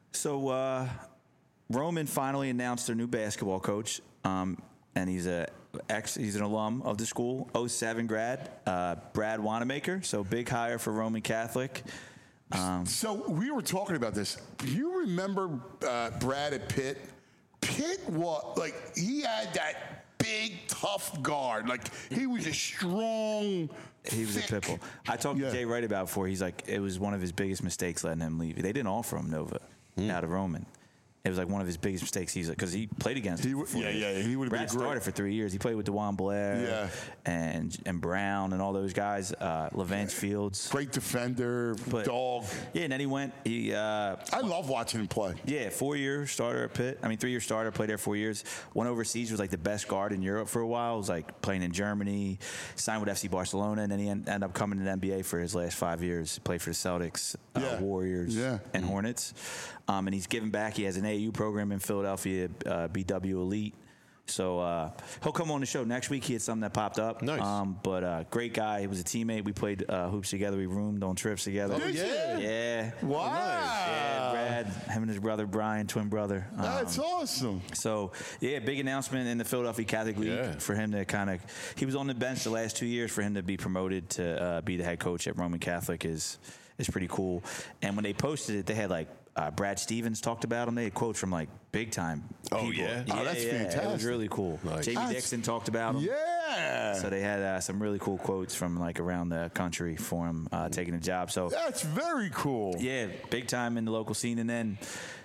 So uh, Roman finally announced their new basketball coach, um, and he's a ex. He's an alum of the school, oh seven grad, uh, Brad Wanamaker. So big hire for Roman Catholic. Um, So we were talking about this. Do you remember uh, Brad at Pitt? Pitt was like he had that big tough guard. Like he was a strong. He was a thick- pitbull. I talked Yeah. to Jay Wright about it before. He's like, it was one of his biggest mistakes letting him leave. They didn't offer him Nova out of Roman. It was like one of his biggest mistakes. He's like, because he played against. He him w- for four yeah, years. yeah, he would've been Brad great. started for three years. He played with DeJuan Blair, Yeah. and and Brown and all those guys. Uh, Levance Fields, Great defender, But- dog. yeah. And then he went. He uh, I love watching him play. yeah, four-year starter at Pitt. I mean, three-year starter, played there four years. Went overseas, was like the best guard in Europe for a while. Was like playing in Germany, signed with F C Barcelona, and then he en- ended up coming to the N B A for his last five years. Played for the Celtics, uh, Yeah. Warriors, Yeah. and Hornets. Um, and he's giving back. He has an A A U program in Philadelphia, uh, B W Elite. So uh, he'll come on the show next week. He had something that popped up. Nice. Um, but uh, great guy. He was a teammate. We played uh, hoops together. We roomed on trips together. Did you? Yeah. Wow. Yeah, Brad, him and his brother Brian, twin brother. Um, That's awesome. so yeah, big announcement in the Philadelphia Catholic League Yeah. for him to kind of. He was on the bench the last two years. For him to be promoted to uh, be the head coach at Roman Catholic is is pretty cool. And when they posted it, they had like uh, Brad Stevens talked about him. They had quotes from like big time. Oh, people. yeah? Oh, that's It was fantastic. really cool. Nice. Jamie That's- Dixon talked about him. Yeah. So they had uh, some really cool quotes from like around the country for him uh, taking the job. So That's very cool. yeah, big time in the local scene. And then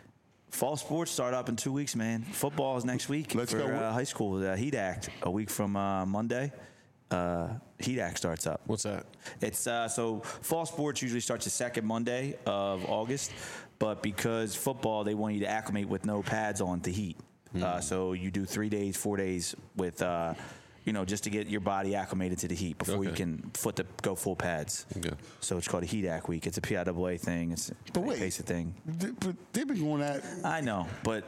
fall sports start up in two weeks, man. Football is next week Let's for go. Uh, high school. The Heat Act a week from uh, Monday. Uh, Heat Act starts up. What's that? It's uh, so fall sports usually starts the second Monday of August, but because football, they want you to acclimate with no pads on to heat. Uh, so you do three days, four days with, uh, you know, just to get your body acclimated to the heat before you Okay. can foot the go full pads. Okay. So it's called a Heat Act week. It's a P I A A thing. It's a But wait. basic thing. Th- But they've been going at. I know, but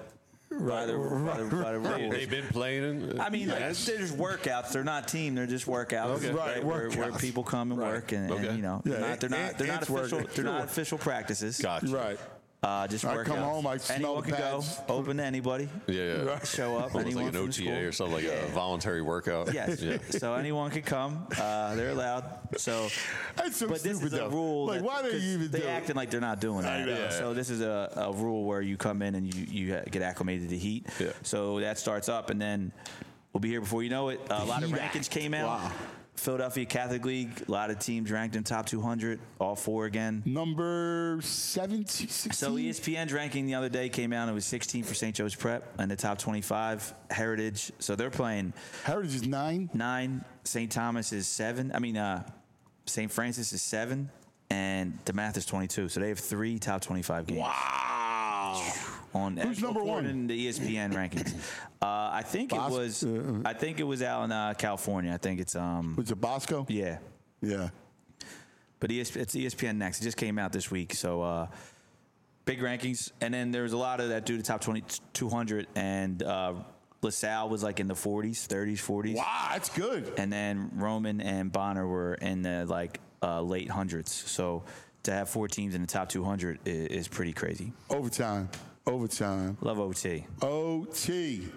by the, by the, by the They, rules. they've been playing. I mean, like, yes. they're just workouts. They're not team. They're just workouts. Okay. Right, Where, where workouts. people come and Right. work, and, Okay. and you know, Yeah, they're not. They're not. it- They're not it's official. working. They're not Sure. official practices. Gotcha. Right. Uh, just I workouts. come home, I smell Anyone the can go. pads. Open to anybody. Yeah, yeah. Right. Show up. Almost anyone like an from O the T A school. or something, like a voluntary workout. Yes. Yeah. So anyone can come. Uh, they're allowed. So, That's so but this stupid, is a though. rule. Like, that- why do 'cause you even they do it? acting like they're not doing that. know. So this is a, a rule where you come in and you, you get acclimated to heat. Yeah. So that starts up, and then we'll be here before you know it. A lot of Heat rankings Act. came out. Wow. Philadelphia Catholic League, a lot of teams ranked in top two hundred, all four again. Number seventeen, sixteen? So E S P N's ranking the other day came out. It was sixteen for Saint Joe's Prep and the top twenty-five. Heritage. So they're playing Heritage is nine. nine. Saint Thomas is seven. I mean, uh, Saint Francis is seven, and DeMath is twenty-two. So they have three top twenty-five games. Wow. On Who's number one? In the E S P N rankings. Uh, I think it Bos- was. uh, I think it was out in uh, California. I think it's um. Was it Bosco? Yeah. Yeah. But E S P, it's E S P N Next. It just came out this week, so uh, big rankings. And then there's a lot of that do the top twenty, two hundred, and uh, LaSalle was like in the forties, thirties, forties. Wow, that's good. And then Roman and Bonner were in the like uh, late hundreds. So to have four teams in the top two hundred is, is pretty crazy. Overtime. Overtime. Love O T. O T.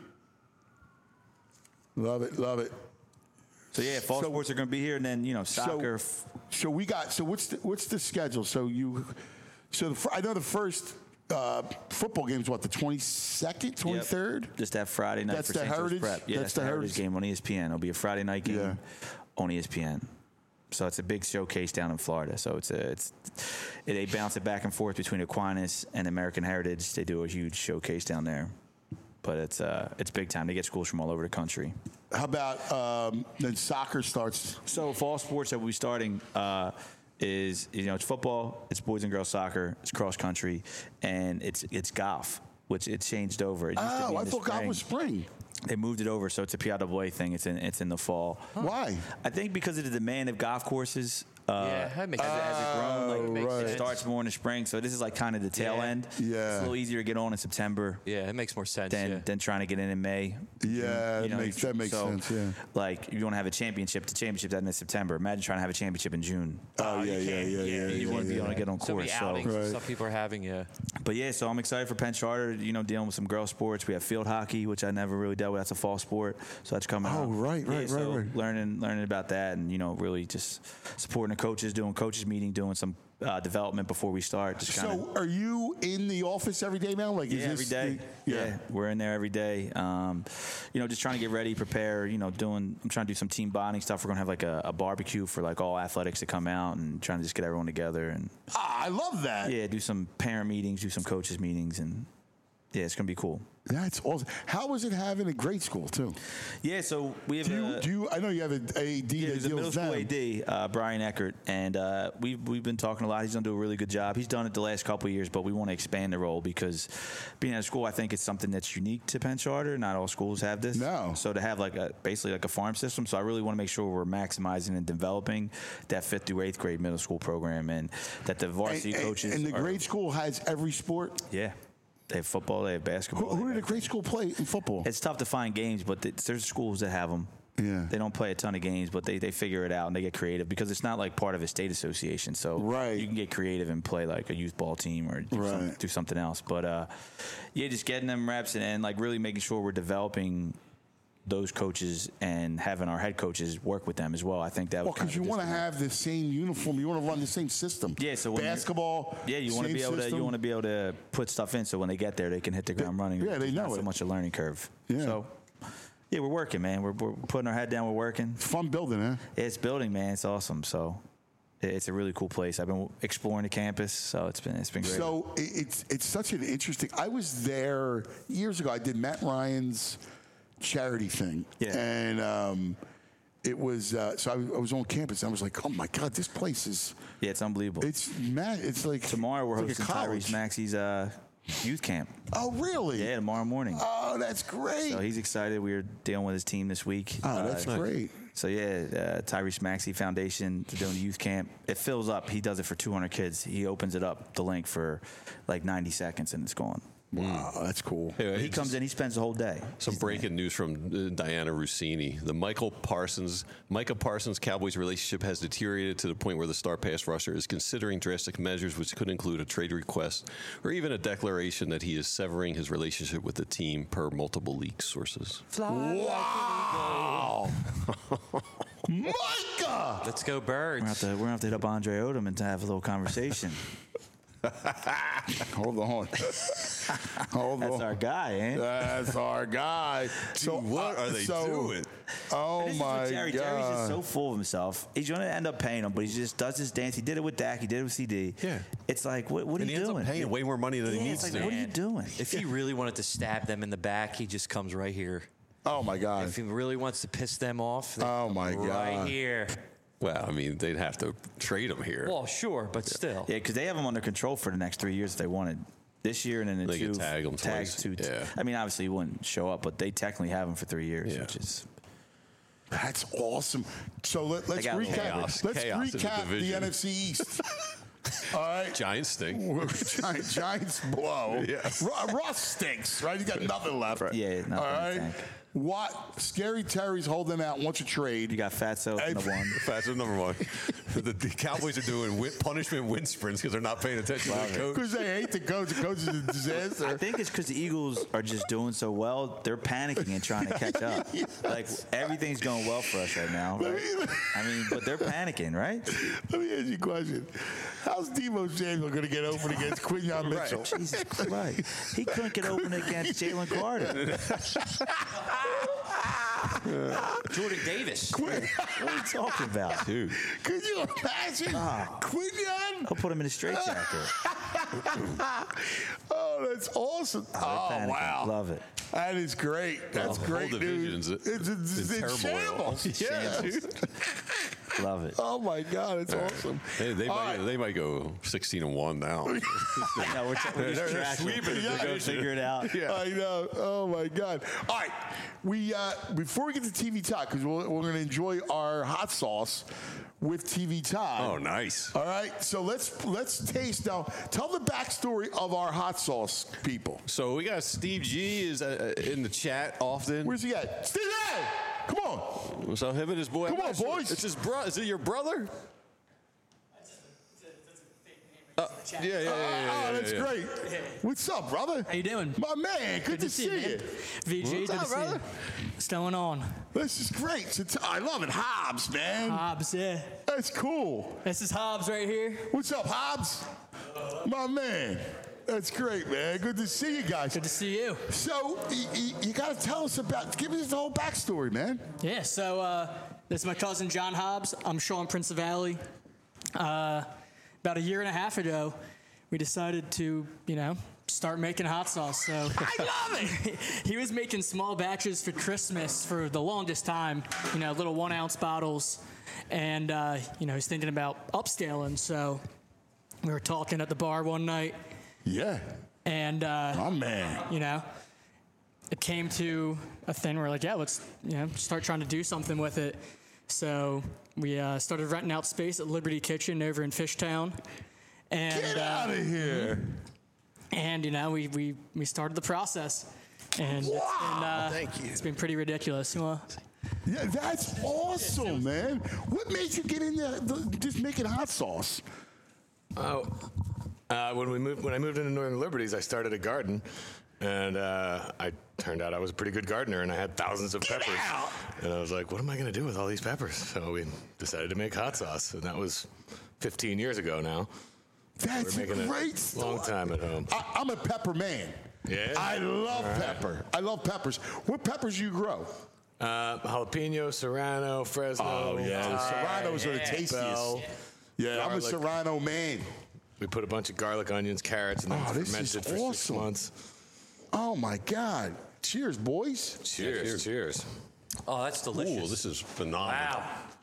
Love it. Love it. So yeah, fall So- sports are going to be here, and then you know soccer. So, so we got. So what's the, what's the schedule? So you. So the, fir- I know the first uh, football game is what, the twenty-second, twenty-third. Yep. Just that Friday night That's for the Saint Joe's Heritage? Prep. Yeah, That's that's, the the Heritage Heritage? game on E S P N. It'll be a Friday night game Yeah. on E S P N. So it's a big showcase down in Florida. So it's a it's they bounce it back and forth between Aquinas and American Heritage. They do a huge showcase down there. But it's uh it's big time. They get schools from all over the country. How about um, then soccer starts? So fall sports that we'll be starting uh, is you know it's football, it's boys and girls soccer, it's cross country, and it's it's golf, which it changed over. It used to Oh, be in I the thought golf spring. was spring. They moved it over, so it's a P I A A thing. It's in it's in the fall. Why? I think because of the demand of golf courses. Uh, Yeah, that makes as, it- as it grown, like Oh, makes right. it sense. starts more in the spring. So this is like kind of the tail Yeah. end. Yeah. It's a little easier to get on in September Yeah, it makes more sense. than yeah. than trying to get in in May. Yeah, You know, it makes, you- that makes so, sense. Yeah. Like you want to have a championship. The championship's at in September. Imagine trying to have a championship in June. Oh, yeah, you yeah, can't- yeah, yeah, You yeah, want to be yeah. able to get on so many course. So, outings Right. some people are having. Yeah. but yeah, so I'm excited for Penn Charter. You know, dealing with some girl sports. We have field hockey, which I never really dealt with. That's a fall sport, so that's coming. Oh, up. right, Yeah, right, so right, right. Learning, learning about that, and you know, really just supporting the coaches, doing coaches meeting, doing some uh, development before we start. Just kind of. So are you in the office every day now? Like, is Yeah, every this day. the- yeah. we're in there every day. Um, you know, just trying to get ready, prepare. You know, doing. I'm trying to do some team bonding stuff. We're gonna have like a, a barbecue for like all athletics to come out and trying to just get everyone together and Ah, I love that. yeah, do some parent meetings, do some coaches meetings, and yeah, it's gonna be cool. That's awesome. How is it having a grade school too? Yeah, so we have Do you, a, do you? I know you have an A D yeah, that there's a deals middle school them. A D, uh, Brian Eckert, and uh, we've we've been talking a lot. He's done do a really good job. He's done it the last couple of years, but we want to expand the role because being at a school, I think it's something that's unique to Penn Charter. Not all schools have this. No. So to have like a basically like a farm system, so I really want to make sure we're maximizing and developing that fifth through eighth grade middle school program, and that the varsity and, coaches and the are- grade school has every sport. yeah. They have football. They have basketball. Who, who they did have the grade school play in football? It's tough to find games, but it's, there's schools that have them. Yeah. They don't play a ton of games, but they, they figure it out and they get creative because it's not like part of a state association. So Right. you can get creative and play like a youth ball team or do, some, Right. do something else. But uh, yeah, just getting them reps and, and like really making sure we're developing those coaches and having our head coaches work with them as well. I think that Well, was kind because of you a want to disconnect. have the same uniform. You want to run the same system. Yeah, so when you're- basketball. Yeah, you want to same be able to system. you want to be able to put stuff in so when they get there they can hit the ground running. yeah, they There's know not so it. much a learning curve. Yeah. So yeah, we're working, man. We're, we're putting our head down. We're working. Fun building, huh? It's building, man. It's awesome. So it- it's a really cool place. I've been exploring the campus, so it's been it's been great. So it- it's it's such an interesting. I was there years ago. I did Matt Ryan's charity thing, Yeah. and um, it was uh, so I, I was on campus. And I was like, oh my god, this place is yeah, it's unbelievable. it's mad. It's like Tomorrow we're it's like a hosting college. Tyrese Maxey's uh, youth camp. Oh really? Yeah, tomorrow morning. Oh, that's great. So he's excited. We were dealing with his team this week. Oh, that's Uh, great. So yeah, uh, Tyrese Maxey Foundation, they're doing the youth camp. It fills up. He does it for two hundred kids. He opens it up, the link for like ninety seconds, and it's gone. Wow, that's cool. Hey, He hey, comes just in, he spends the whole day. Some breaking news from uh, Diana Rossini. The Michael Parsons, Micah Parsons Cowboys relationship has deteriorated to the point where the star pass rusher is considering drastic measures, which could include a trade request or even a declaration that he is severing his relationship with the team, per multiple leak sources. Wow. Micah! Let's go Birds. We're going to we're gonna have to hit up Andre Odom and to have a little conversation. Hold on. Hold That's on. our guy, eh? That's our guy. So what are they so, doing? Oh This is my what Jerry. God. Jerry's just so full of himself. He's going to end up paying him, but he just does his dance. He did it with Dak. He did it with C D. Yeah. It's like, what, what And are he you ends doing? up paying way more money than Yeah, he it's needs like, to. what are you doing? If he really wanted to stab them in the back, he just comes right here. Oh my God. If he really wants to piss them off, then Oh my right God. here. Well, I mean, they'd have to trade him here. Well, sure, but still. Yeah, because they have him under control for the next three years if they wanted. This year and then in They two could tag him tags twice. two. Yeah. I mean, obviously he wouldn't show up, but they technically have him for three years, Yeah. which is That's awesome. So let, let's got a little recap. chaos. Let's Chaos in the recap the, division. N F C East. All right. Giants stink. Giant, Giants blow. Yeah. Ru- Russ stinks, right? He's got nothing left. Yeah, nothing All in the right. tank. What? Scary Terry's holding out, wants a trade. you got Fatso Hey, in the one. That's number one. the, the Cowboys are doing win, punishment wind sprints because they're not paying attention to the coach. Because they hate the coach. The coach is a I disaster. think it's because the Eagles are just doing so well. They're panicking and trying to catch up. Like everything's going well for us right now. Right? I mean, but they're panicking, right? Let me ask you a question. How's Devo Samuel going to get open against Quinyon Mitchell? Jesus Christ. He couldn't get open against Jalen Carter. Jordan Davis. What are you talking about? Dude. Could you imagine Ah. Quinyon? I'll put him in a straitjacket. Oh, that's awesome. They're Oh, panicking. wow. Love it. That is great. That's The whole great division's news. in- It's, it's, in it's turmoil. shambles. Yeah, dude. Love it. Oh, my God. It's awesome. They, they, All might, right. they might go sixteen and one now. No, we're, we're just They're- they're trashing them. sweeping the They're gonna division. figure it out. I know. Oh my God! All right, we uh, before we get to T V talk, because we're, we're going to enjoy our hot sauce with T V Todd. Oh, nice. All right, so let's let's taste now. Tell the backstory of our hot sauce people. So we got Steve G is uh, in the chat often. Where's he at? Steve, hey! Come on. So him and his boy. Come on, boys. It's his brother. Is it your brother? Uh, yeah, yeah, yeah, yeah, Oh, yeah, that's yeah. great. What's up, brother? How you doing? My man, good, to, see you. man. V G, What's good up, to see brother? you. What's going on? This is great. So t- I love it, Hobbs, man. Hobbs, yeah. That's cool. This is Hobbs right here. What's up, Hobbs? My man. That's great, man. Good to see you guys. Good to see you. So, y- y- you got to tell us about, give us the whole backstory, man. Yeah, so uh, this is my cousin John Hobbs. I'm Sean Prince Valley. Uh, about a year and a half ago, we decided to, you know, start making hot sauce. So I love it. He was making small batches for Christmas for the longest time, you know, little one ounce bottles. And, uh, you know, he's thinking about upscaling. So we were talking at the bar one night. Yeah. And, uh, My man. you know, it came to a thing where, like, yeah, let's, you know, start trying to do something with it. So we uh, started renting out space at Liberty Kitchen over in Fishtown. And, Get uh, out of here. And, you know, we, we, we started the process. And it's been, uh, Thank you. It's been pretty ridiculous. You know? Yeah, that's awesome, man. What made you get into the, just making hot sauce? Oh, uh, when we moved, when I moved into Northern Liberties, I started a garden, and uh, I turned out I was a pretty good gardener, and I had thousands of peppers. And I was like, what am I going to do with all these peppers? So we decided to make hot sauce, and that was fifteen years ago now. That's We're making a great it story. long time at home. I, I'm a pepper man. Yeah? I love All right. pepper. I love peppers. What peppers you grow? Uh, jalapeno, serrano, Fresno. Oh, yeah. The Thai, serranos are the tastiest. bell, Yeah, I'm a garlic. serrano man. We put a bunch of garlic, onions, carrots, and then Oh, this fermented is for six awesome. months. Oh, my God. Cheers, boys. Cheers, cheers. Oh, that's delicious. Ooh, this is phenomenal. Wow.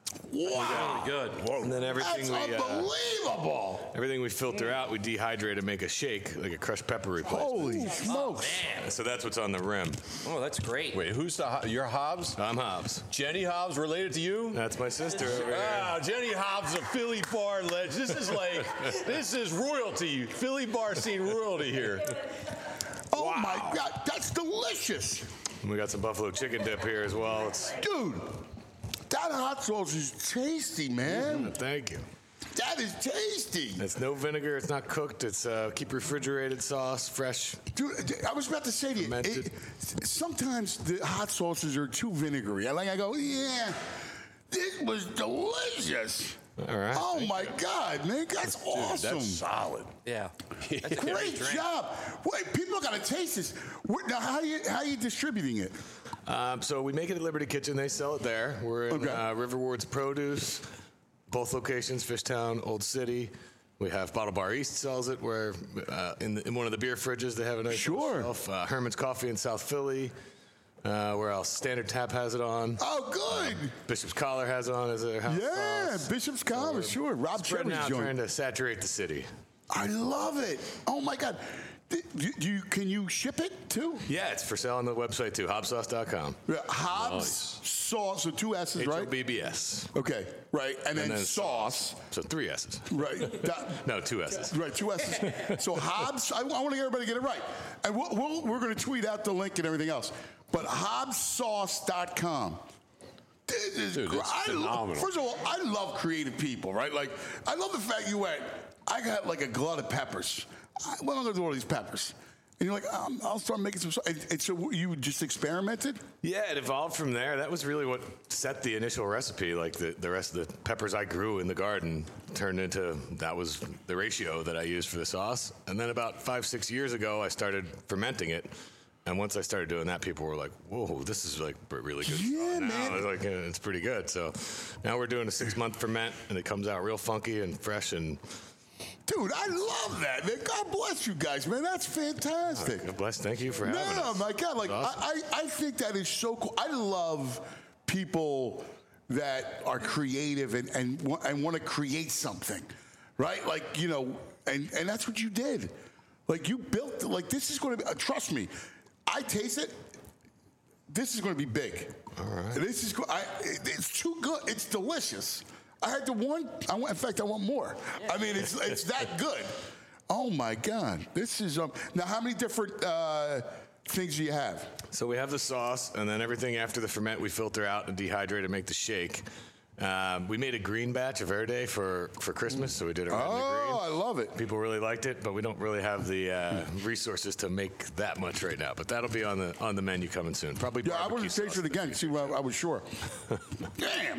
Wow. Really good. And then everything That's we uh, unbelievable. everything we filter out, we dehydrate and make a shake, like a crushed pepper replacement. Holy smokes. So that's what's on the rim. Oh, that's great. Wait, who's the Ho- your Hobbs? I'm Hobbs. Jenny Hobbs related to you? That's my sister over here. Wow, Jenny Hobbs, a Philly bar legend. This is like, this is royalty. Philly bar scene royalty here. Oh, my God, that's delicious. And we got some buffalo chicken dip here as well. It's Dude, that hot sauce is tasty, man. Thank you. That is tasty. It's no vinegar. It's not cooked. It's uh, keep refrigerated sauce, fresh. Dude, I was about to say to you, it, sometimes the hot sauces are too vinegary. I like, I go, yeah, this was delicious. All right. Oh my God, man, that's Dude, awesome. that's solid. Yeah. That's a Great job. Wait, people got to taste this. Where- Now, how are you how are you distributing it? Um, so we make it at Liberty Kitchen. They sell it there. We're in Okay. uh, River Ward's Produce, both locations, Fishtown, Old City. We have Bottle Bar East sells it. Where uh, in, the, in one of the beer fridges they have a nice Sure. shelf. Uh, Herman's Coffee in South Philly. Uh, where else? Standard Tap has it on. Oh, good. Bishop's Collar has it on as a house Yeah, sauce. Bishop's Collar, sure. Rob Spreading Cherry's out, joint. trying to saturate the city. I love it. Oh my God. Do do you, can you ship it too? Yeah, it's for sale on the website too, hobbs sauce dot com. Yeah, Hobbs sauce, so two S's, H right? O B B S. Okay, right, and, then, sauce. So three S's. Right. That- No, two S's. Right, two S's. So Hobbs, I, I want to get everybody to get it right. And we'll, we'll, we're going to tweet out the link and everything else. But hobbs sauce dot com. This is Dude, gr- it's I lo- phenomenal. First of all, I love creative people, right? Like, I love the fact you went, I got like a glut of peppers. I, what am I going to do with all these peppers? And you're like, um, I'll start making some. And, and so you just experimented? Yeah, it evolved from there. That was really what set the initial recipe. Like the, the rest of the peppers I grew in the garden turned into, that was the ratio that I used for the sauce. And then about five, six years ago, I started fermenting it. And once I started doing that, people were like, whoa, this is like really good. Yeah, now man. it's like, uh, it's pretty good. So now we're doing a six month ferment and it comes out real funky and fresh and. Dude, I love that, man. God bless you guys, man. That's fantastic. God bless. Thank you for having us. No, my God, like Awesome. I, I, I think that is so cool. I love people that are creative and and, wa- and want to create something, right? Like you know, and and that's what you did. Like you built. Like this is going to be. Uh, trust me, I taste it. This is going to be big. All right. This is. go- I, it- it's too good. It's delicious. I had the one. I want. In fact, I want more. I mean, it's it's that good. Oh my God, this is um. Now, how many different uh, things do you have? So we have the sauce, and then everything after the ferment we filter out and dehydrate and make the shake. Um, we made a green batch of Verde for, for Christmas, so we did it red and the green. Oh, I love it. People really liked it, but we don't really have the uh, resources to make that much right now. But that'll be on the on the menu coming soon. Probably. Yeah, I barbecue want to taste sauce. it again. See what I, I was sure. Damn,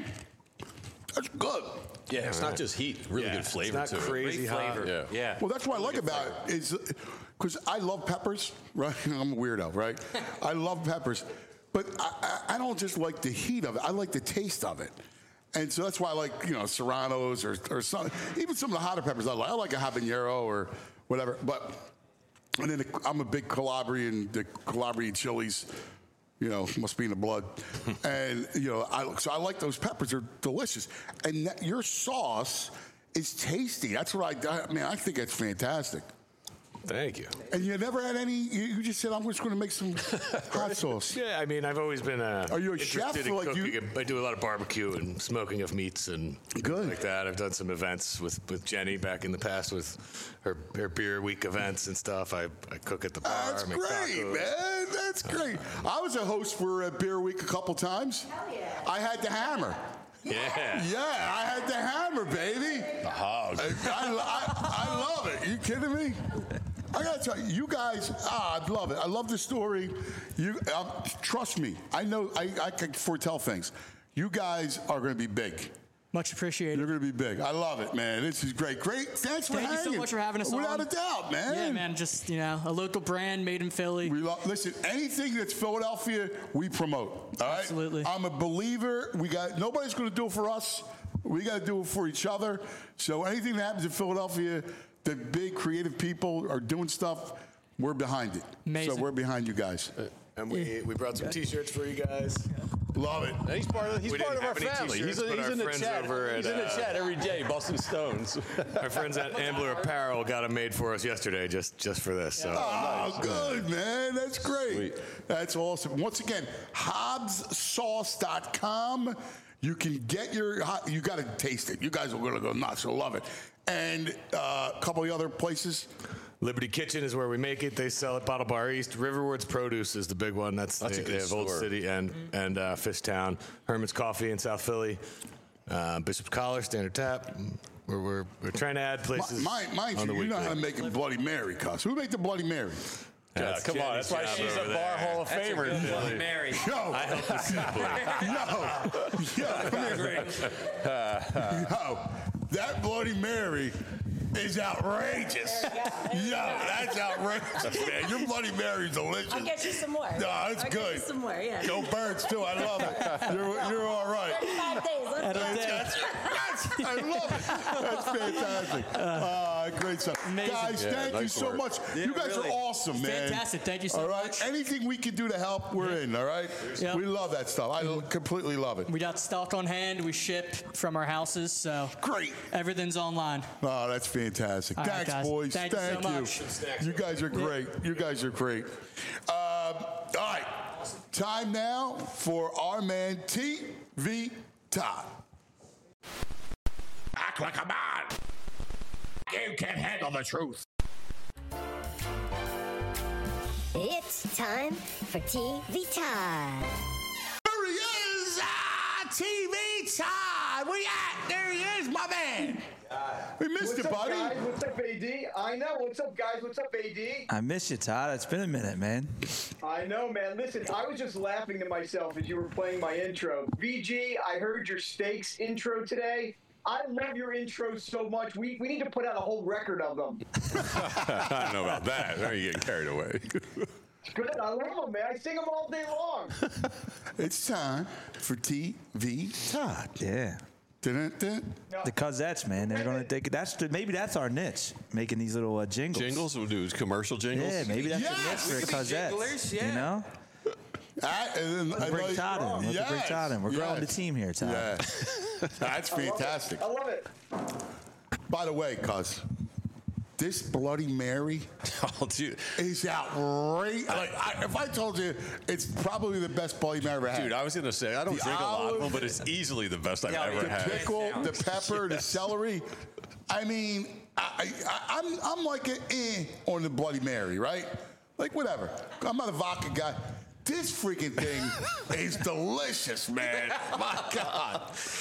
that's good. Yeah, it's not just heat. Really Yeah, good it's flavor not to crazy it. hot. Yeah. Yeah. Well, that's what I like about it is because I love peppers, right? I'm a weirdo, right? I love peppers, but I, I, I don't just like the heat of it. I like the taste of it. And so that's why I like, you know, serranos or, or some, even some of the hotter peppers I like. I like a habanero or whatever. But, and then the, I'm a big Calabrian, the Calabrian chilies, you know, must be in the blood. And, you know, I, so I like those peppers. They're delicious. And that, your sauce is tasty. That's what I, I mean, I think it's fantastic. Thank you. And you never had any, you, you just said, I'm just going to make some hot sauce. Yeah, I mean, I've always been uh, Are you a interested chef in or like cooking. you- I do a lot of barbecue and smoking of meats and Good. like that. I've done some events with, with Jenny back in the past with her, her beer week events and stuff. I, I cook at the bar. That's make great, tacos. man. That's great. I was a host for a Beer Week a couple times. Hell yeah. I had the hammer. Yeah. Yeah, I had the hammer, baby. The hog. I, I, I, I love it. You kidding me? I gotta tell you, you guys, ah, I love it. I love the story. You um, trust me. I know. I, I can foretell things. You guys are going to be big. Much appreciated. You're going to be big. I love it, man. This is great. Great. Thanks for Thank you hanging. so much for having us Without on. a doubt, man. Yeah, man. Just, you know, a local brand made in Philly. We love, listen, anything that's Philadelphia, we promote. All right? Absolutely. I'm a believer. We got nobody's going to do it for us. We got to do it for each other. So anything that happens in Philadelphia, the big creative people are doing stuff. We're behind it. Amazing. So we're behind you guys. And we, we brought some T-shirts for you guys. Love it. And he's part of he's We part of didn't our have any family. He's, t-shirts, a, but he's our in the friends chat. over at, he's in the uh, chat every day, busting stones. Our friends at Ambler Apparel got them made for us yesterday, just just for this. So. Oh, good, man. That's great. That's awesome. Once again, hobbs sauce dot com. You can get your, hot- you got to taste it. You guys are going to go nuts. You'll love it. And uh, a couple of other places. Liberty Kitchen is where we make it. They sell it. Bottle Bar East. Riverwoods Produce is the big one. That's, That's they, a good they have Old store. City and and uh, Fishtown. Herman's Coffee in South Philly. Uh, Bishop's Collar, Standard Tap. We're, we're, we're trying to add places. Mind, mind on you, the you know weekly. how to make a Bloody Mary, cuz. Who made the Bloody Mary? Yeah, That's come on. That's why Jenny's she's job a over bar there. Hall of That's a Famer. good one, Mary. Yo, I helped the yo, yo, come here. Yo, that Bloody Mary is outrageous. Yo, that's outrageous, man. Your Bloody Mary's delicious. I'll get you some more. No, that's I'll good. Get you some more, yeah. Go Birds, too. I love it. You're, you're all right. thirty-five days. Let's That's, go. that's, that's, I love it. That's fantastic. Uh, great stuff. Amazing. Guys, Yeah, thank you nice so work. much. Yeah, you guys really. are awesome, man. Fantastic. Thank you so all right? much. Anything we can do to help, we're in, all right? Yep. We love that stuff. I l- completely love it. We got stock on hand. We ship from our houses, so Great. everything's online. Oh, that's fantastic. All right, Thanks, guys. boys. Thank you so you. much. You guys are great. You guys are great. Um, all right. Time now for our man, T V Todd. Act like a man. You can handle the truth. It's time for T V time. There he is! Ah, T V Todd! Where you at? There he is, my man. We missed What's you, up, buddy. guys? What's up, A D? I know. What's up, guys? What's up, A D? I miss you, Todd. It's been a minute, man. I know, man. Listen, I was just laughing to myself as you were playing my intro. V G, I heard your Steaks intro today. I love your intros so much. We, we need to put out a whole record of them. I don't know about that. Now you're getting carried away. Good. I love them, man. I sing them all day long. It's time for T V Todd. Yeah. Dun-dun-dun. The Cosettes, man. They're gonna take that's the, maybe that's our niche, making these little uh, jingles. Jingles? We'll do commercial jingles? Yeah, maybe that's Yes! the niche for Cosettes. You know. I, and then, Let's I bring like- Todd in. Let's Yes, bring Todd in. We're growing the yes. team here, Todd. Yeah. That's fantastic. I love it. By the way, cuz, this Bloody Mary Oh, dude. is outrageous. Like, I, if I told you, it's probably the best Bloody Mary I've ever had. Dude, I was going to say, I don't The drink a lot of olive, them, but it's easily the best I've Yeah, ever the had. pickle, the pepper, the celery. I mean, I, I, I'm I'm like an eh on the Bloody Mary, right? Like whatever. I'm not a vodka guy. This freaking thing is delicious, man. My God.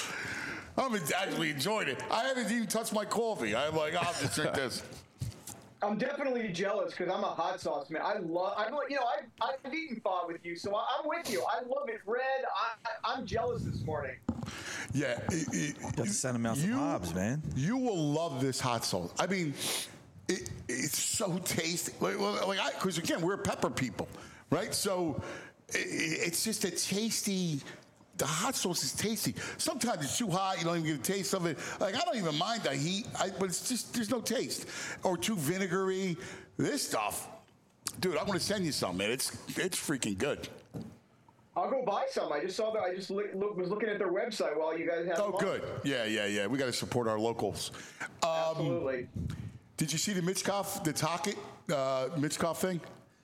I'm actually enjoying it. I haven't even touched my coffee. I'm like, I'll just drink this. I'm definitely jealous because I'm a hot sauce man. I love, I'm, you know, I've, I've eaten pho with you, so I- I'm with you. I love it red. I, I'm jealous this morning. Yeah. It, it, You have to send them out some Hobbs, man. You will love this hot sauce. I mean, it, it's so tasty. Like, like I, because again, we're pepper people, right? So it, it's just a tasty. The hot sauce is tasty. Sometimes it's too hot. You don't even get a taste of it. Like I don't even mind the heat, I, but it's just there's no taste. Or too vinegary. This stuff, dude. I'm gonna send you some, man. It's it's freaking good. I'll go buy some. I just saw that. I just look, look, was looking at their website while you guys had. Oh, them on. good. Yeah, yeah, yeah. We got to support our locals. Um, Absolutely. Did you see the Mitchkoff, the Tocket, uh, Mitchkoff thing?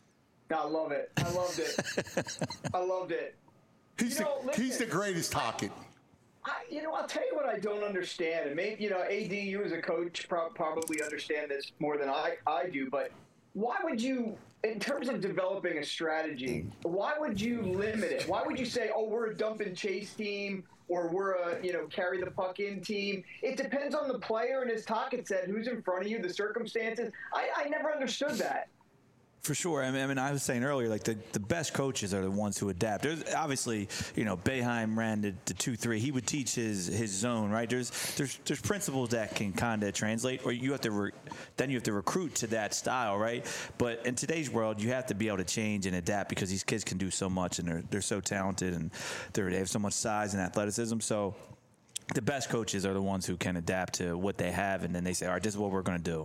I love it. I loved it. I loved it. He's, You know, the, he's the listen. greatest Tocket. I, you know, I'll tell you what I don't understand, and maybe you know, A D, you as a coach pro- probably understand this more than I, I do. But why would you, in terms of developing a strategy, why would you limit it? Why would you say, oh, we're a dump and chase team, or we're a you know carry the puck in team? It depends on the player, and as Tocket said, who's in front of you, the circumstances. I, I never understood that. For sure. I mean, I mean, I was saying earlier, like the, the best coaches are the ones who adapt. There's obviously, you know, Boeheim ran the, the two three. He would teach his his zone, right? There's there's there's principles that can kind of translate, or you have to re- then you have to recruit to that style, right? But in today's world, you have to be able to change and adapt because these kids can do so much and they're they're so talented and they're, they have so much size and athleticism. So the best coaches are the ones who can adapt to what they have, and then they say, all right, this is what we're going to do.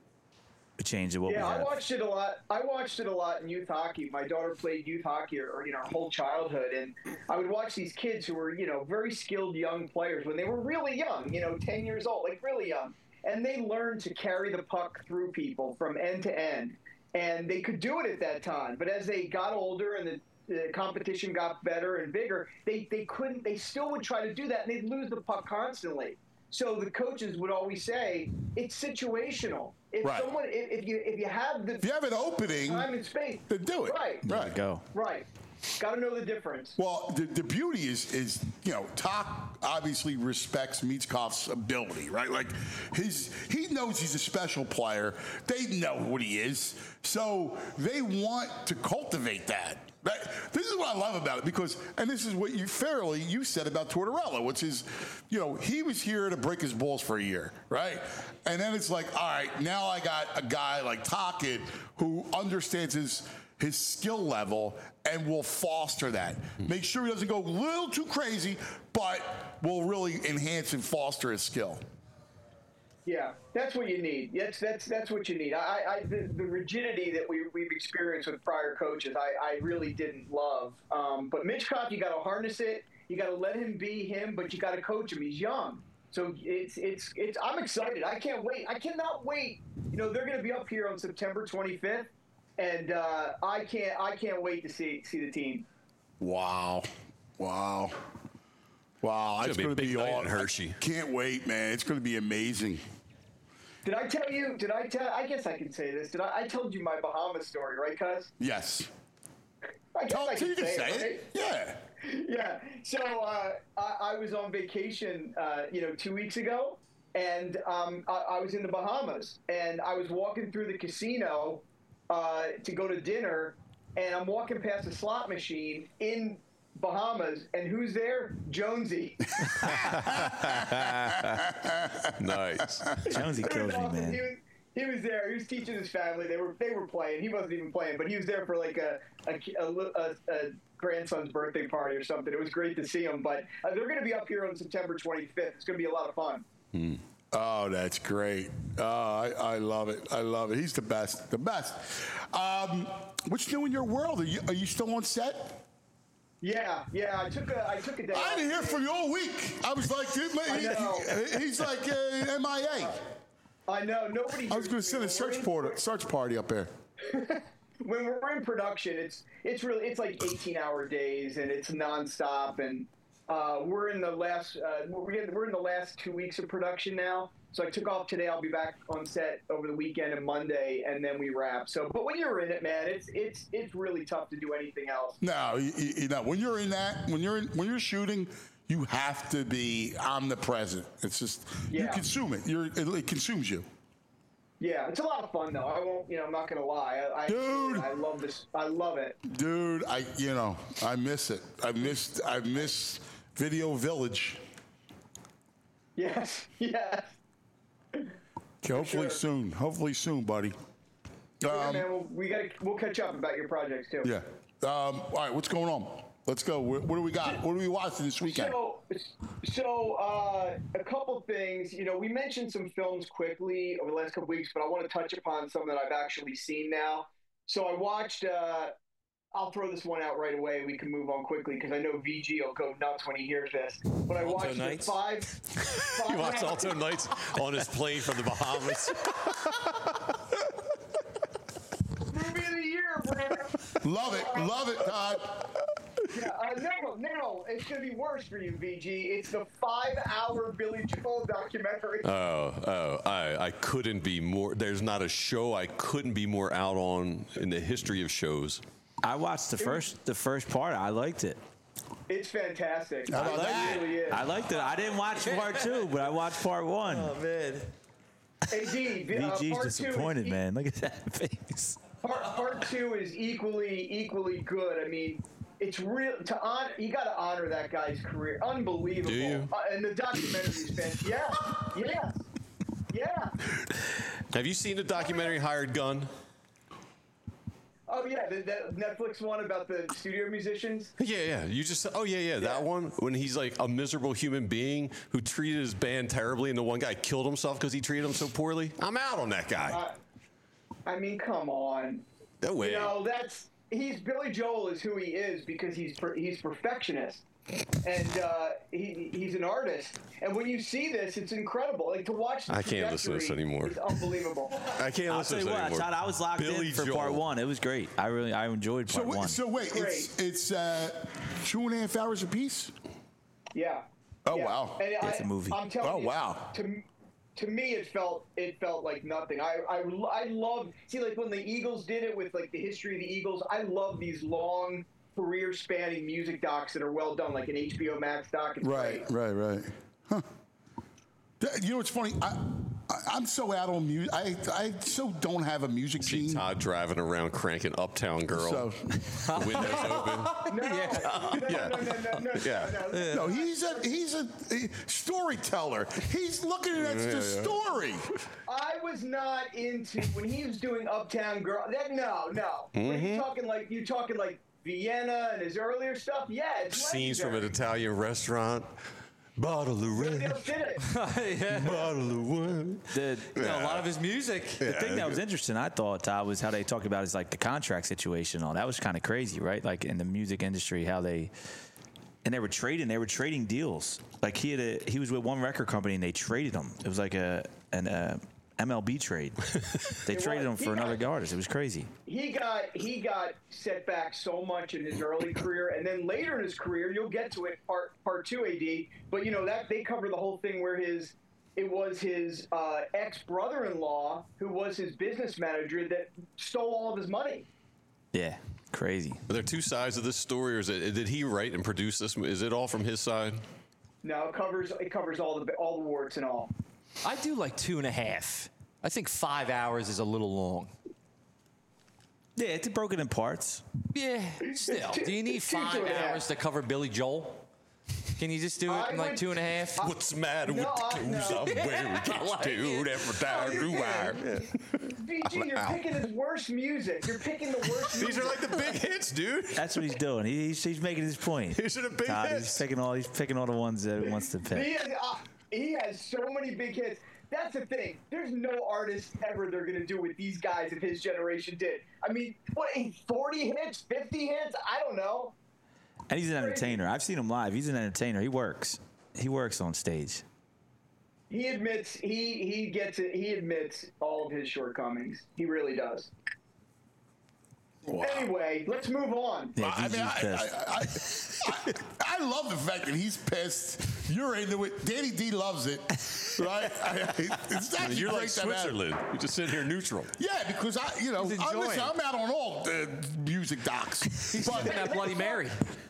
Change what Yeah, we I have. watched it a lot. I watched it a lot in youth hockey. My daughter played youth hockey, or, or you know, her whole childhood, and I would watch these kids who were, you know, very skilled young players when they were really young, you know, ten years old, like really young, and they learned to carry the puck through people from end to end, and they could do it at that time. But as they got older and the the competition got better and bigger, they, they couldn't, they still would try to do that, and they'd lose the puck constantly. So the coaches would always say it's situational. If Right. someone, if, if you if you have the If you have an opening, time and space, then do it. Right. Right. Go. Right. Got to know the difference. Well, the, the beauty is, is you know, Talk obviously respects Michkov's ability, right? Like, his he knows he's a special player. They know what he is, so they want to cultivate that. That- this is what I love about it because, and this is what you fairly you said about Tortorella, which is, you know, he was here to break his balls for a year, right? And then it's like, all right, now I got a guy like Tocchet who understands his his skill level and will foster that. Make sure he doesn't go a little too crazy, but will really enhance and foster his skill. Yeah, that's what you need. That's that's that's what you need. I, I the, the rigidity that we we've experienced with prior coaches, I, I really didn't love. Um, but Michkov, you got to harness it. You got to let him be him, but you got to coach him. He's young, so it's it's it's. I'm excited. I can't wait. I cannot wait. You know, they're going to be up here on September twenty-fifth, and uh, I can't I can't wait to see see the team. Wow, wow, wow! It's It's gonna going be to a be big night all. in Hershey. Can't wait, man! It's going to be amazing. Did I tell you? Did I tell? I guess I can say this. Did I? I told you my Bahamas story, right, Cuz? Yes. I guess Tell- I so can you can say, say it. it. Yeah. Yeah. So uh, I, I was on vacation, uh, you know, two weeks ago, and um, I, I was in the Bahamas, and I was walking through the casino uh, to go to dinner, and I'm walking past a slot machine in Bahamas, and who's there? Jonesy. Nice. Jonesy It was kills me, awesome. man. He was, he was there. He was teaching his family. They were they were playing. He wasn't even playing, but he was there for like a a, a, a, a grandson's birthday party or something. It was great to see him. But uh, they're going to be up here on September twenty-fifth. It's going to be a lot of fun. Hmm. Oh, that's great. Oh, I, I love it. I love it. He's the best. The best. Um, what's new in your world? Are you, are you still on set? Yeah, yeah. I took a I took a day. I didn't hear from you all week. I was like, dude, man, I he- know. he- he's like uh, M I A. I know nobody. I was going to send a search party, search party up there. When we're in production, it's it's really it's like eighteen hour days and it's nonstop, and uh, we're in the last uh, we're in, we're in the last two weeks of production now. So I took off today. I'll be back on set over the weekend and Monday, and then we wrap. So, but when you're in it, man, it's it's it's really tough to do anything else. No, you, you know, when you're in that, when you're in, when you're shooting, you have to be omnipresent. It's just you Yeah. consume it. You're it, it consumes you. Yeah, it's a lot of fun though. I won't, you know, I'm not gonna lie. I, I Dude. I love this. I love it. Dude, I you know I miss it. I missed I miss Video Village. Yes, yes. Okay, hopefully sure. soon. Hopefully soon, buddy. yeah, Um, man, we'll, we got we'll catch up about your projects too. yeah. Um, all right, what's going on? Let's go. What, what do we got? What are we watching this weekend? So, so uh, a couple things. You know, we mentioned some films quickly over the last couple weeks, but I want to touch upon some that I've actually seen now. So I watched. Uh, I'll throw this one out right away. We can move on quickly because I know V G will go nuts when he hears this. But I Alto watched the Nights? five. five He watched Alto Nights on his plane from the Bahamas. Movie of the year, bro. Love it. Love it, Todd. Yeah, uh, no, no, it's gonna be worse for you, V G. It's the five-hour Billy Joel documentary. Oh, oh, I, I couldn't be more. There's not a show I couldn't be more out on in the history of shows. I watched the first the first part. I liked it. It's fantastic. I liked it. Really is. I liked it. I didn't watch part two, but I watched part one. Oh man. Hey, D, V uh, G's part two is disappointed, e- man. Look at that face. Part, part two is equally equally good. I mean, it's real to honor. You got to honor that guy's career. Unbelievable. Do you? Uh, and the documentary is fantastic. Yeah, yeah, yeah. Have you seen the documentary Hired Gun? Oh yeah, the, the Netflix one about the studio musicians. Yeah, yeah. You just oh yeah, yeah, that one when he's like a miserable human being who treated his band terribly, and the one guy killed himself because he treated him so poorly. I'm out on that guy. Uh, I mean, come on. No way. You know, that's he's Billy Joel is who he is because he's per, he's perfectionist, and uh, he he's an artist. And when you see this, it's incredible. Like to watch. The I can't listen to this trajectory anymore. It's unbelievable. I can't I'll listen tell to you this what, anymore. Todd, I was locked Billy in for Joel. part one. It was great. I really I enjoyed part So wait, one. so wait, it's it's uh, two and a half hours apiece. Yeah. Oh Yeah. wow, And I, it's a movie. I'm telling Oh, you, wow. To, to me, it felt it felt like nothing. I I I love see like when the Eagles did it with like the history of the Eagles. I love these long career spanning music docs that are well done, like an H B O Max doc. It's Right, great. right, right. Huh. Th- You know what's funny? I, I, I'm so out on music. I, I so don't have a music See gene. Todd driving around cranking Uptown Girl. So- The windows open. No, Yeah. no, Yeah. no, no, no, no, Yeah. no, no. No, he's a he's a, a storyteller. He's looking at Yeah, the yeah. story. I was not into when he was doing Uptown Girl. That no, no. When Mm-hmm. you talking like you talking like Vienna and his earlier stuff, yeah, it's Scenes from an legendary. Italian restaurant. Bottle of red. They'll did it. yeah. Bottle of wine. The, You know, a lot of his music. the thing that was interesting, I thought, Todd, was how they talked about is like the contract situation and all. That was kind of crazy, right? Like in the music industry, how they and they were trading, they were trading deals. Like he had a, he was with one record company and they traded him. It was like a an uh, M L B trade. They It traded was. him for He another got- artist. It was crazy. He got he got set back so much in his early career, and then later in his career, you'll get to it part part two A D. But you know that they cover the whole thing where his it was his uh, ex brother-in-law who was his business manager that stole all of his money. Yeah, crazy. Are there two sides of this story, or is it, did he write and produce this? Is it all from his side? No, it covers it covers all the all the warts and all. I do like two and a half. I think five hours is a little long. Yeah, it's broken in parts. Yeah, still. Do you need five two and a half. hours to cover Billy Joel? Can you just do it I in like would- two and a half? What's the matter No, with the I- clothes no. I'm wearing? I Can't like do it. every time you wire. V G, you're out. picking his worst music. You're picking the worst. These music. are like the big hits, dude. That's what he's doing. He, he's, he's making his point. These are the big Todd, hits. he's picking all he's picking all the ones that he wants to He pick. has, uh, he has so many big hits. That's the thing. There's no artist ever they're gonna do what these guys of his generation did. I mean, what? forty hits, fifty hits? I don't know. And he's an entertainer. I've seen him live. He's an entertainer. He works. He works on stage. He admits he he gets it. He admits all of his shortcomings. He really does. Anyway, let's move on. Yeah, I mean, Gigi's I, pissed. I, I, I love the fact that he's pissed. You're into it. Danny D loves it, right? I, I, it's actually You're great like to have- Switzerland. You just sit here neutral. Yeah, because I, you know, He's I, enjoying listen, it. I'm out on all uh, music docs. He's But- sipping that Bloody Mary.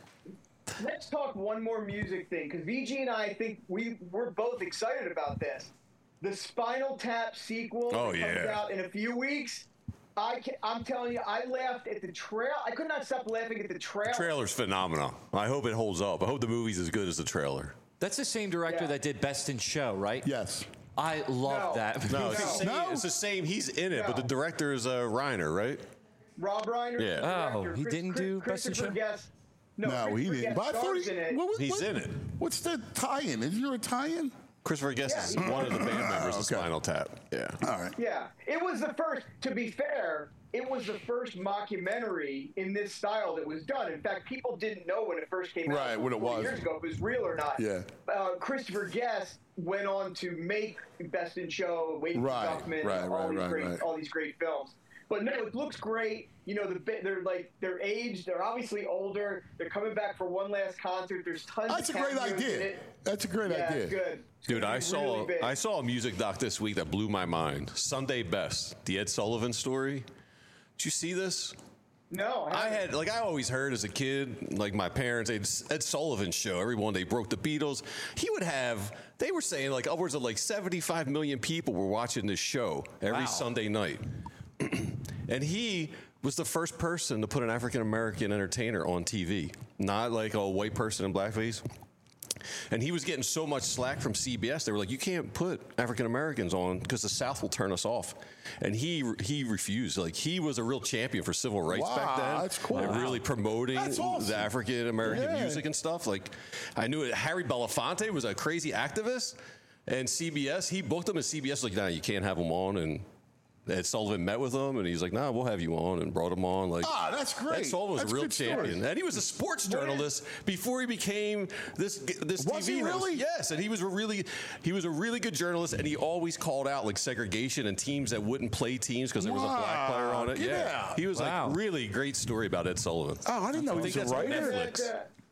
Let's talk one more music thing, because V G and I think we we're both excited about this. The Spinal Tap sequel Oh, that comes yeah. out in a few weeks. I can, I'm telling you, I laughed at the trail. I could not stop laughing at the trail. The trailer's phenomenal. I hope it holds up. I hope the movie's as good as the trailer. That's the same director Yeah. that did Best in Show, right? yes. I love No. that. No, it's, the No. same, it's the same. He's in it, but the No. director is uh, Reiner, right? Rob Reiner. Yeah. the Oh, director. he Chris- didn't Chris- do Best in Christopher Show? Guest. No, No, he Christopher didn't. Guest But I thought stars he, in it. what, what, He's what- in it. What's the tie-in? Isn't there a tie-in? Christopher Guest Yeah, is he's- one of the band members of Okay. Spinal Tap. Yeah. All right. Yeah, it was the first. To be fair, it was the first mockumentary in this style that was done. In fact, people didn't know when it first came out. Right, what it four was. Years ago, if it was real or not. Yeah. Uh, Christopher Guest went on to make Best in Show, Waiting Right, for Guffman, right, all right, these right, great, right. all these great films. But no, it looks great. You know, the bi- they're like they're aged. They're obviously older. They're coming back for one last concert. There's tons. That's a of great cameos in idea. it. That's a great Yeah, idea. it's good. It's Dude, gonna I be saw really big. I saw a music doc this week that blew my mind. Sunday Best, the Ed Sullivan story. Did you see this? No, I had like I always heard as a kid, like my parents, Ed, Ed Sullivan show. Everyone they broke the Beatles. He would have. They were saying like upwards of like seventy-five million people were watching this show every Wow. Sunday night, and he was the first person to put an African American entertainer on T V, not like a white person in blackface. And he was getting so much slack from C B S. They were like, "You can't put African Americans on because the South will turn us off." And he he refused. Like he was a real champion for civil rights Wow, back then. that's cool. And Wow. really promoting That's awesome. the African American Yeah. music and stuff. Like I knew it. Harry Belafonte was a crazy activist, and C B S he booked him, and C B S was like, "Nah, you can't have him on." And Ed Sullivan met with him, and he's like, "Nah, we'll have you on," and brought him on. Like, Ah, that's great. Ed Sullivan was That's a real good story. champion, and he was a sports journalist before he became this this Was T V he host. really? Yes, and he was a really he was a really good journalist, and he always called out like segregation and teams that wouldn't play teams because there was a black player on it. Wow, get Yeah, out. he was Wow. like really great story about Ed Sullivan. Oh, I didn't know I he think was a that's on writer. Netflix. That, uh,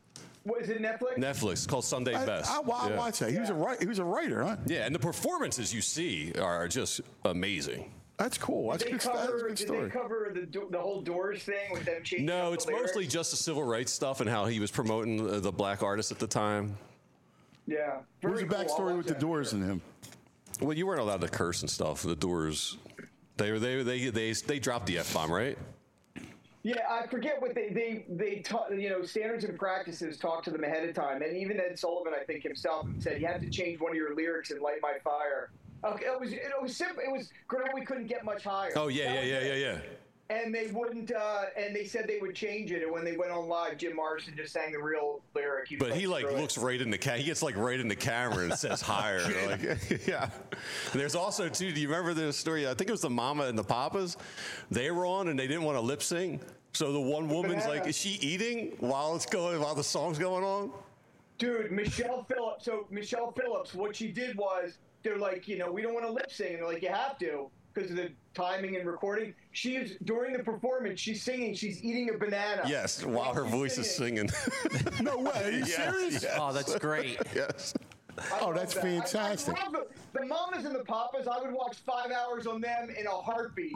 What is it, Netflix? Netflix. It's called Sunday I, Best. I, I, I Yeah. watched that. He was a writer. He was a writer, huh? Yeah, and the performances you see are just amazing. That's cool. That's Did they good. That's a cover, good did story. they cover the, do- the whole Doors thing with them changing No, up it's the lyrics? mostly just the civil rights stuff and how he was promoting the, the black artists at the time. Yeah. What's the Very cool. I'll backstory watch with the that. Doors and him? Well, you weren't allowed to curse and stuff. The Doors, they were they they they they dropped the F bomb, right? Yeah, I forget what they they they taught. You know, standards and practices talk to them ahead of time, and even Ed Sullivan, I think himself, said you had to change one of your lyrics in "Light My Fire." Okay, it was it was simple. It was girl, we couldn't get much higher. Oh yeah, That yeah, was yeah, it. yeah, yeah. And they wouldn't. Uh, and they said they would change it. And when they went on live, Jim Morrison just sang the real lyric. was But he like "Screw it." looks right in the ca- he gets like right in the camera and says higher. Like, yeah. And there's also too. Do you remember the story? I think it was the Mama and the Papas. They were on and they didn't want to lip sync. So the one woman's Banana. like, is she eating while it's going while the song's going on? Dude, Michelle Phillips. So Michelle Phillips, what she did was they're like, you know, we don't want to lip sync, and they're like, you have to because of the timing and recording. She's during the performance, she's singing, she's eating a banana. Yes, while her she's voice is singing. No way. Are you Yes, serious? yes. Oh, that's great. Yes. I Oh, love that's that. I- I fantastic. love the, the mamas and the papas. I would watch five hours on them in a heartbeat.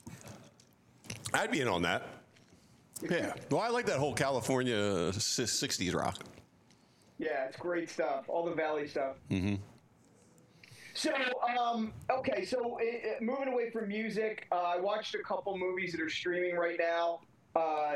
I'd be in on that. Yeah. Well, I like that whole California sixties rock. Yeah, it's great stuff. All the Valley stuff. Mm-hmm. So, um, okay, so uh, uh, moving away from music, uh, I watched a couple movies that are streaming right now. Uh,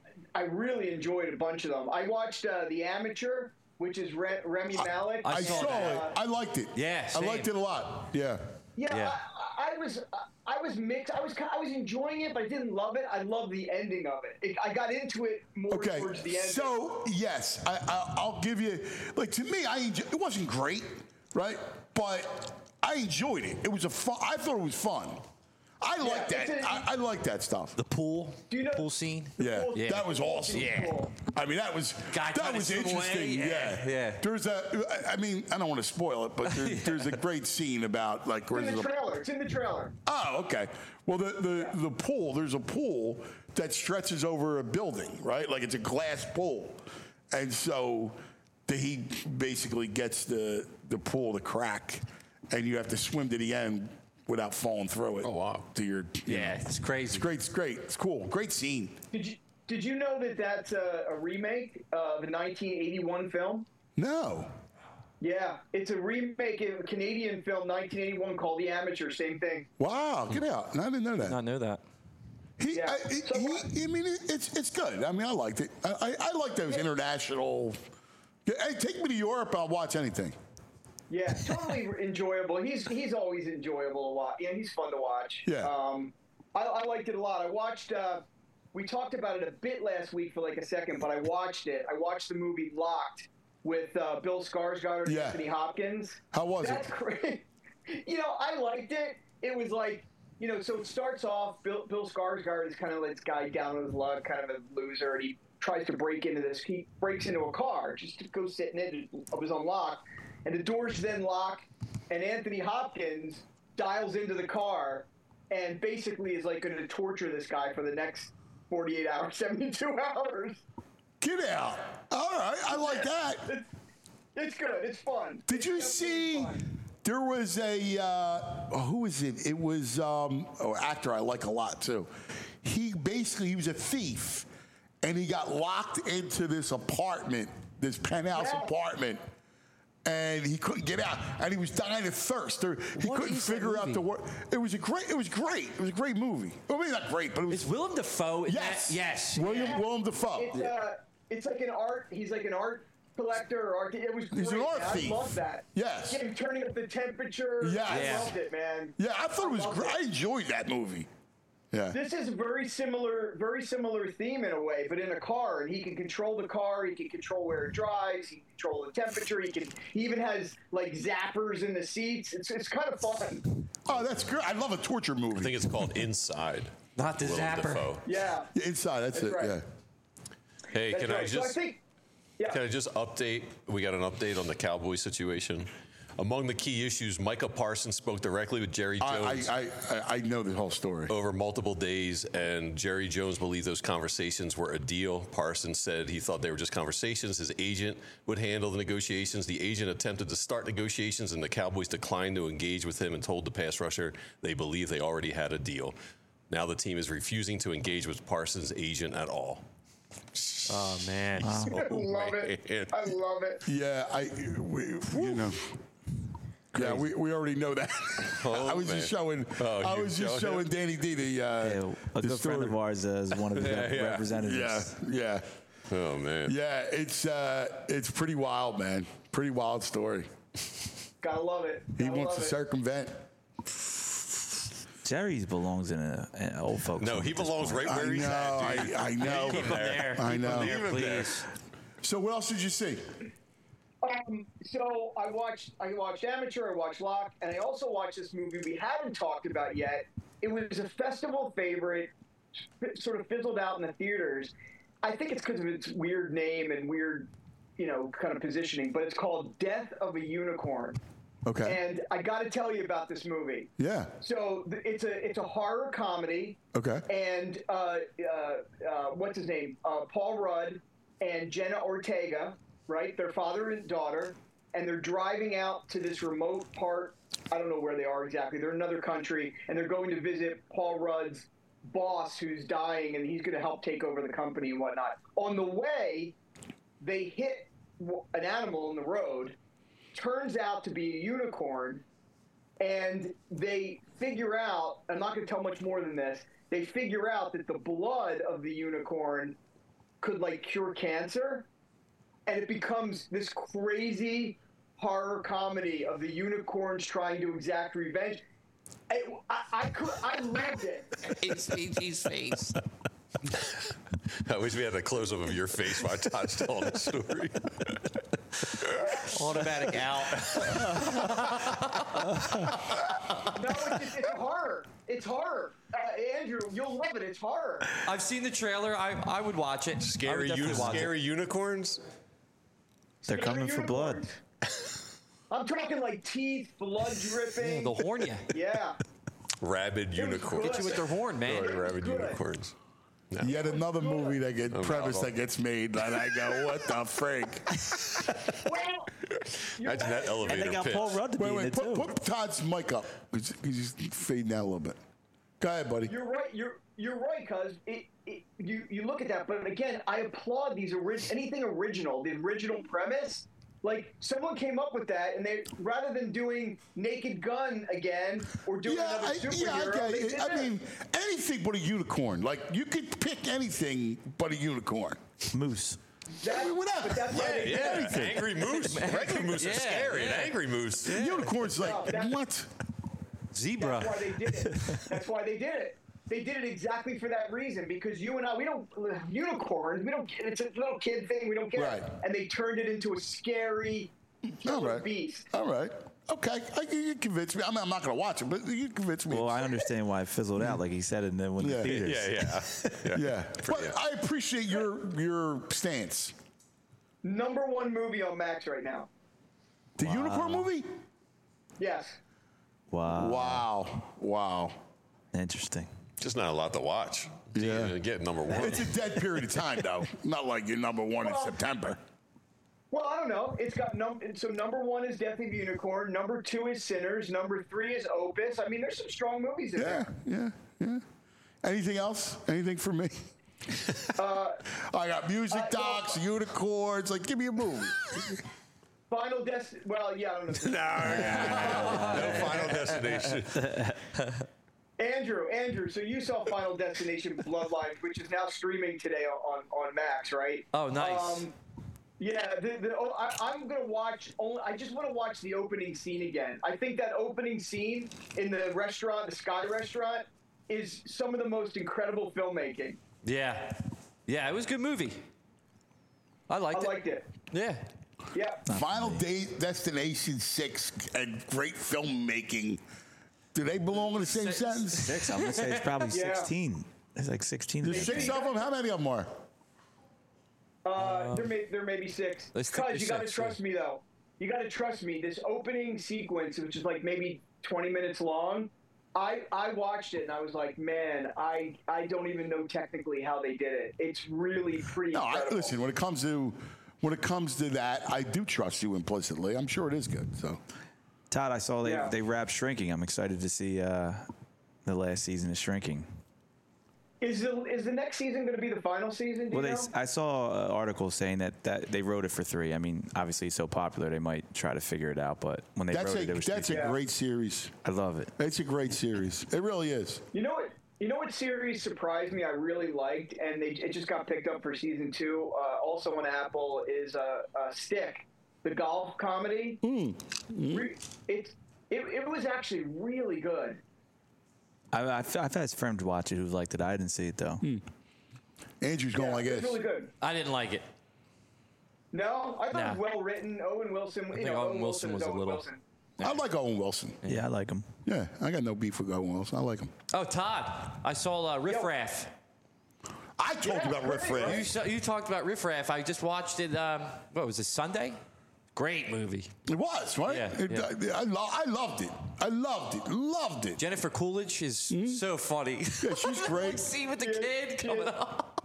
I really enjoyed a bunch of them. I watched uh, The Amateur, which is Re- Remy Malek. I saw Uh, it. I liked it. Yeah, I same. liked it a lot. Yeah. Yeah, Yeah. I, I was I was mixed. I was ki- I was enjoying it, but I didn't love it. I loved the ending of it. it I got into it more Okay. towards the end. So yes, I, I, I'll give you. Like to me, I enjoy, it wasn't great, right? But I enjoyed it. It was a fun. I thought it was fun. I Yeah, like that. it's a- I, I like that stuff. The pool, Do you know- pool scene. Yeah, Yeah. that was awesome. Yeah. I mean, that was Guy that trying to was swim away, interesting. yeah, Yeah, yeah. There's a. I mean, I don't want to spoil it, but there, there's a great scene about like It's in where's the the trailer. It's in the trailer. Oh, okay. Well, the, the, the pool, there's a pool that stretches over a building, right? Like it's a glass pool. And so the, he basically gets the, the pool to crack, and you have to swim to the end without falling through it. Oh, wow. To your, you Yeah, know. it's crazy. It's great. It's great. It's cool. Great scene. Did you Did you know that that's a, a remake of a nineteen eighty-one film? No. Yeah, it's a remake of a Canadian film, nineteen eighty-one, called The Amateur. Same thing. Wow. Get out. I didn't know that. Not know that. He, Yeah. I, it- he, I mean, it, it's it's good. I mean, I liked it. I, I, I like those international. Hey, take me to Europe. I'll watch anything. Yeah, totally enjoyable. He's he's always enjoyable to watch. Yeah, he's fun to watch. Yeah. Um, I, I liked it a lot. I watched. Uh, we talked about it a bit last week for like a second, but I watched it. I watched the movie Locked with uh, Bill Skarsgård and Yeah. Anthony Hopkins. How was it? That's great. You know, I liked it. It was like, you know, so it starts off. Bill, Bill Skarsgård is kind of like this guy down on his luck, kind of a loser, and he tries to break into this. He breaks into a car just to go sit in it. It was unlocked, and the doors then lock. And Anthony Hopkins dials into the car, and basically is like going to torture this guy for the next forty-eight hours, seventy-two hours. Get out. All right. I like that. It's, it's good. It's fun. Did you see? There was a uh, oh, who was it? It was um, an actor I like a lot too. He basically he was a thief, and he got locked into this apartment, this penthouse Yeah. apartment, and he couldn't get out, and he was dying of thirst. There, he What couldn't is that figure out movie? the word. It was a great. It was great. It was a great movie. Well, maybe not great, but it was. Is Willem Dafoe in yes, that? Yes. William Willem Dafoe. It's uh, it's like an art. He's like an art collector or art. It was great. He's an art man. thief. I love that. Yes. Yeah, turning up the temperature. Yes. I Yeah. loved it, man. Yeah, I thought it was loved great. I enjoyed that movie. Yeah. This is a very similar, very similar theme in a way, but in a car, and he can control the car. He can control where it drives. He can control the temperature. He can. He even has like zappers in the seats. It's it's kind of fun. Oh, that's good. I love a torture movie. I think it's called Inside. Not the Willem zapper. Dafoe. Yeah. Yeah, inside. That's, That's it. right. Yeah. Hey, That's can I right. So I just think. Yeah. can I just update? We got an update on the Cowboy situation. Among the key issues, Micah Parsons spoke directly with Jerry Jones. I, I, I, I know the whole story. Over multiple days, and Jerry Jones believed those conversations were a deal. Parsons said he thought they were just conversations. His agent would handle the negotiations. The agent attempted to start negotiations, and the Cowboys declined to engage with him and told the pass rusher they believe they already had a deal. Now the team is refusing to engage with Parsons' agent at all. Oh, man. Wow. I love it. I love it. Yeah, I, we, you know. Yeah, we, we already know that. Oh, I was man. just showing. Oh, I you was just showed showing him? Danny D the. Uh, Yeah, a the good story. friend of ours uh, is one of the Yeah, yeah. representatives. Yeah, yeah, Oh, man. yeah. It's uh, it's pretty wild, man. Pretty wild story. Gotta love it. He Gotta wants love to it. circumvent. Jerry's belongs in a, an old folks. No, home he at this belongs point. right where I he's know. at, dude. I, I know. Keep him there. I Keep know. him there, Leave him there. please. So what else did you see? Um, so I watched I watched Amateur, I watched Locke, and I also watched this movie we haven't talked about yet. It was a festival favorite, f- sort of fizzled out in the theaters. I think it's because of its weird name and weird, you know, kind of positioning, but it's called Death of a Unicorn. Okay. And I got to tell you about this movie. Yeah. So th- it's a it's a horror comedy. Okay. And uh, uh, uh, what's his name? Uh, Paul Rudd and Jenna Ortega, right? Their father and daughter, and they're driving out to this remote part. I don't know where they are exactly. They're in another country, and they're going to visit Paul Rudd's boss, who's dying, and he's going to help take over the company and whatnot. On the way, they hit w- an animal in the road. Turns out to be a unicorn, and they figure out, I'm not going to tell much more than this, they figure out that the blood of the unicorn could like cure cancer, and it becomes this crazy horror comedy of the unicorns trying to exact revenge. I, I, I could, I loved it. It's A G's face. I wish we had a close up of your face while Todd's telling the story. Automatic out. No, it's, it's horror. It's horror. Uh, Andrew, you'll love it. It's horror. I've seen the trailer. I I would watch it. I would Scary, definitely uni- watch it. scary unicorns. They're coming for blood. I'm talking like teeth, blood dripping. Yeah, they'll horn you. Yeah. Rabid It was unicorns. good. Get you with their horn, man. Oh, rabid Good. unicorns. No. Yet another movie that gets Oh, premise no. that gets made, and I go, what the frig? Well, Imagine that And elevator they got pitch. Paul Rudd to be Wait, in wait, it put, too. put Todd's mic up. He's, he's just fading out a little bit. Go ahead, buddy. You're right. You're you're right, cuz it, it, you you look at that, but again, I applaud these orig- anything original, the original premise. Like someone came up with that, and they rather than doing Naked Gun again or doing Yeah, another I, superhero, yeah, I they get did it. I this. mean, anything but a unicorn. Like, you could pick anything but a unicorn. Moose. That- I mean, whatever. But that's why Yeah, they did yeah. it. Angry moose. Regular moose Yeah, is scary. An yeah. angry moose. Unicorn's like, No, that- what? Zebra. That's why they did it. That's why they did it. They did it exactly for that reason, because you and I, we don't unicorns. We don't. get It's a little kid thing. We don't get Right. it. And they turned it into a scary All killer right. beast. All right. Okay. I, you convinced me. I mean, I'm not going to watch it, but you convinced me. Well, I understand why it fizzled out, like he said in the, when Yeah. the theaters. Yeah, yeah. yeah. But I appreciate your your stance. Number one movie on Max right now. The unicorn movie? Yes. Wow. Wow. Wow. Interesting. Just not a lot to watch. Yeah. You get number one. It's a dead period of time, though. Not like you're number one in Well, September. Well, I don't know. It's got num. So number one is Death of a Unicorn. Number two is Sinners. Number three is Opus. I mean, there's some strong movies in Yeah, there. yeah, yeah. Anything else? Anything for me? Uh, I got music Uh, well- docs, unicorns. Like, give me a movie. Final Destiny. Well, yeah, I don't know. no, no Final Destination. Andrew, Andrew, so you saw Final Destination Bloodlines, which is now streaming today on, on Max, right? Oh, nice. Um, yeah, the, the, oh, I, I'm going to watch, only, I just want to watch the opening scene again. I think that opening scene in the restaurant, the Sky Restaurant, is some of the most incredible filmmaking. Yeah. Yeah, it was a good movie. I liked I it. liked it. Yeah. Yeah. Final Day Destination six and great filmmaking. Do they belong in the same Six. sentence? Six. I'm gonna say it's probably Yeah. sixteen. It's like sixteen. There's six of them? How many of them are? Uh, there may there may be six. Let's think Cuz there's you got to six, trust yeah. me though. you got to trust me. This opening sequence, which is like maybe twenty minutes long, I I watched it and I was like, man, I I don't even know technically how they did it. It's really pretty. No, I, incredible. listen. When it comes to when it comes to that, I do trust you implicitly. I'm sure it is good. So, Todd, I saw they Yeah. they wrapped Shrinking. I'm excited to see uh, the last season of Shrinking. Is the is the next season going to be the final season? Do Well, you they, know? I saw an article saying that, that they wrote it for three. I mean, obviously it's so popular, they might try to figure it out. But when they that's wrote a it, it was that's three a great series. I love it. It's a great series. It really is. You know what? You know what series surprised me? I really liked, and they it just got picked up for season two. Uh, also on Apple is uh, uh, Stick, the golf comedy. Mm. Re- it, it it was actually really good. I, I've, I've had friends watch it who liked it. I didn't see it though. Andrew's going like It's this. really good. I didn't like it. No, I thought Nah. it was well written. Owen Wilson. I you think know, Owen Wilson is was a Owen little- Wilson. I like Owen Wilson. Yeah, I like him. Yeah, I got no beef with Owen Wilson. I like him. Oh, Todd, I saw uh, Riff Raff. I told you about Riff Raff. You, saw, you talked about Riff Raff. I just watched it. Um, what was it? Sunday. Great movie. It was right. Yeah, It- yeah. I, I, lo- I loved it. I loved it. Loved it. Jennifer Coolidge is so funny. Yeah, she's great. See with the kid coming up.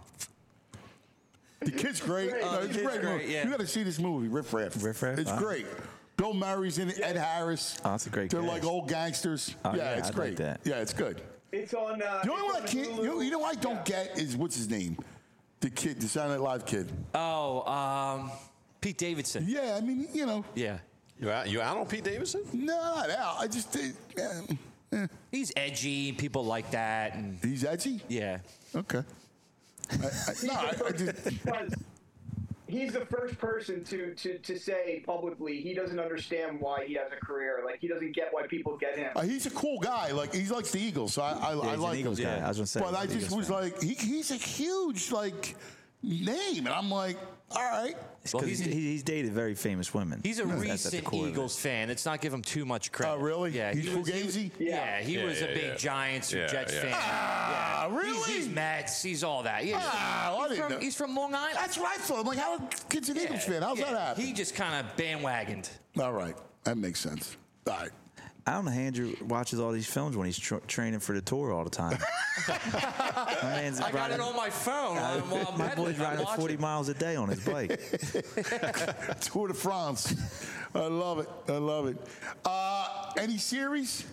The kid's great. Great. No, Oh, it's the a kid's great great, movie. yeah. You got to see this movie, Riff Raff. Riff Raff? It's Wow. great. Bill Murray's in it. Ed Harris. Oh, that's a great They're cast. like old gangsters. Oh, yeah, yeah, it's I'd great. like that. Yeah, it's good. It's on. Uh, The only it's one I on can't. Hulu. You know, you know what I don't get is what's his name? The kid, the Saturday Night Live kid. Oh, um, Pete Davidson. Yeah, I mean, you know. Yeah. You out, you out on Pete Davidson? No, not out. I just. Uh, eh. He's edgy. People like that. And He's edgy. yeah. Okay. I, I, no, I, I just. Because he's the first person to, to, to say publicly he doesn't understand why he has a career. Like, he doesn't get why people get him. Uh, he's a cool guy. Like he likes the Eagles, so I, I, Yeah, I he's like an Eagles him. guy. I was gonna say. But he's I an just Eagles was fan. like, he, he's a huge like name, and I'm like, all right. Well, he's, he's- he's dated very famous women. He's a That's at the recent core of it. Eagles fan. Let's not give him too much credit. Oh, really? Yeah. He's he was, he was- Fugazi? Yeah, he Yeah, was a yeah, big yeah. Giants or Yeah, Jets yeah. fan. Ah, yeah. really? He's, he's Mets. He's all that. Yeah. Ah, well, I he's, didn't from, know. he's from Long Island. That's what I thought. I'm like, how kid's an Eagles fan? How's Yeah. that happen? He just kind of bandwagoned. All right, that makes sense. All right. I don't know. Andrew watches all these films when he's tra- training for the tour all the time. My man's I got riding- it on my phone Uh, while I'm my pedaling. boy's I'm riding watching. forty miles a day on his bike. Tour de France. I love it. I love it. Uh, any series?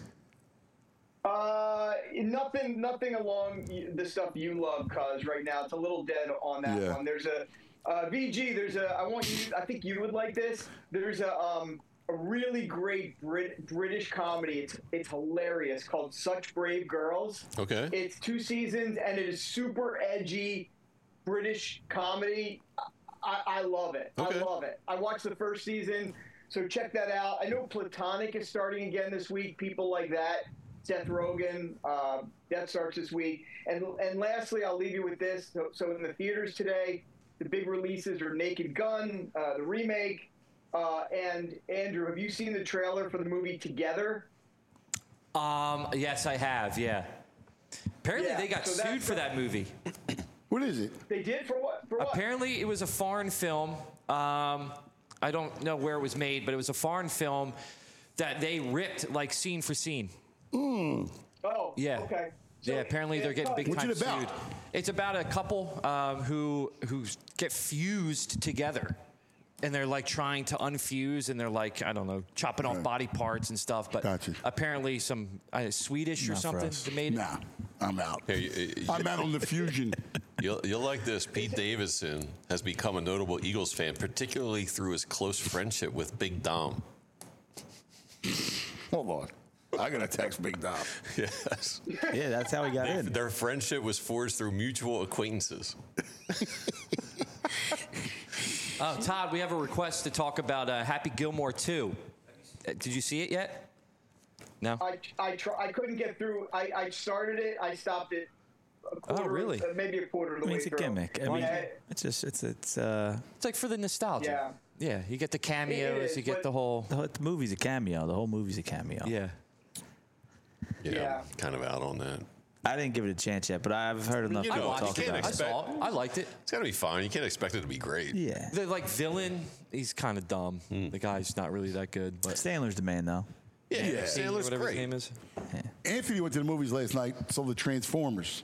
Uh, nothing, nothing along y- the stuff you love, cause right now it's a little dead on that Yeah. one. There's a uh, V G. There's a. I want you. I think you would like this. There's a um a really great Brit, British comedy. It's it's hilarious called Such Brave Girls. Okay. It's two seasons and it is super edgy British comedy. I, I love it. Okay. I love it. I watched the first season, so check that out. I know Platonic is starting again this week. People like that. Seth Rogen, uh, that starts this week. And and lastly, I'll leave you with this. So, so in the theaters today, the big releases are Naked Gun, uh, the remake, uh, and Andrew, have you seen the trailer for the movie Together? Um, yes, I have. Yeah. Apparently, Yeah, they got so that's sued for the- that movie. What is it? They did for what? For what? Apparently, it was a foreign film. Um, I don't know where it was made, but it was a foreign film that they ripped like scene for scene. Mm. Oh, Yeah. okay. yeah, apparently they're getting big What's time it about? sued. It's about a couple um, who who get fused together, and they're like trying to unfuse, and they're like I don't know, chopping off Right. body parts and stuff. But Gotcha. apparently, some uh, Swedish or Not for something us. that made it. Nah, I'm out. Here, you- you- I'm out on the fusion. You'll, you'll like this. Pete Davidson has become a notable Eagles fan, particularly through his close friendship with Big Dom. Hold on. I gotta text Big Dom. Yes. Yeah, that's how he got They- in. Their friendship was forged through mutual acquaintances. Oh, Todd, we have a request to talk about uh, Happy Gilmore two. Uh, Did you see it yet? No. I I try, I couldn't get through. I, I started it. I stopped it. A quarter, really? uh, maybe a quarter of I the mean, way it's a through. gimmick. I mean, Yeah, it's just it's it's uh It's like for the nostalgia. Yeah. Yeah, you get the cameos, is, you get but- the whole. the, whole- the movie's a cameo. The whole movie's a cameo. Yeah. Yeah, Yeah. I'm kind of out on that. I didn't give it a chance yet, but I've heard enough You people know, you talk can't about it. expect, I saw it. I liked it. It's got to be fine. You can't expect it to be great. Yeah. The like villain, he's kind of dumb. The guy's not really that good. But Sandler's the man, though. Yeah, Yeah. Sandler's whatever great. his name is. Anthony went to the movies last night, saw the Transformers.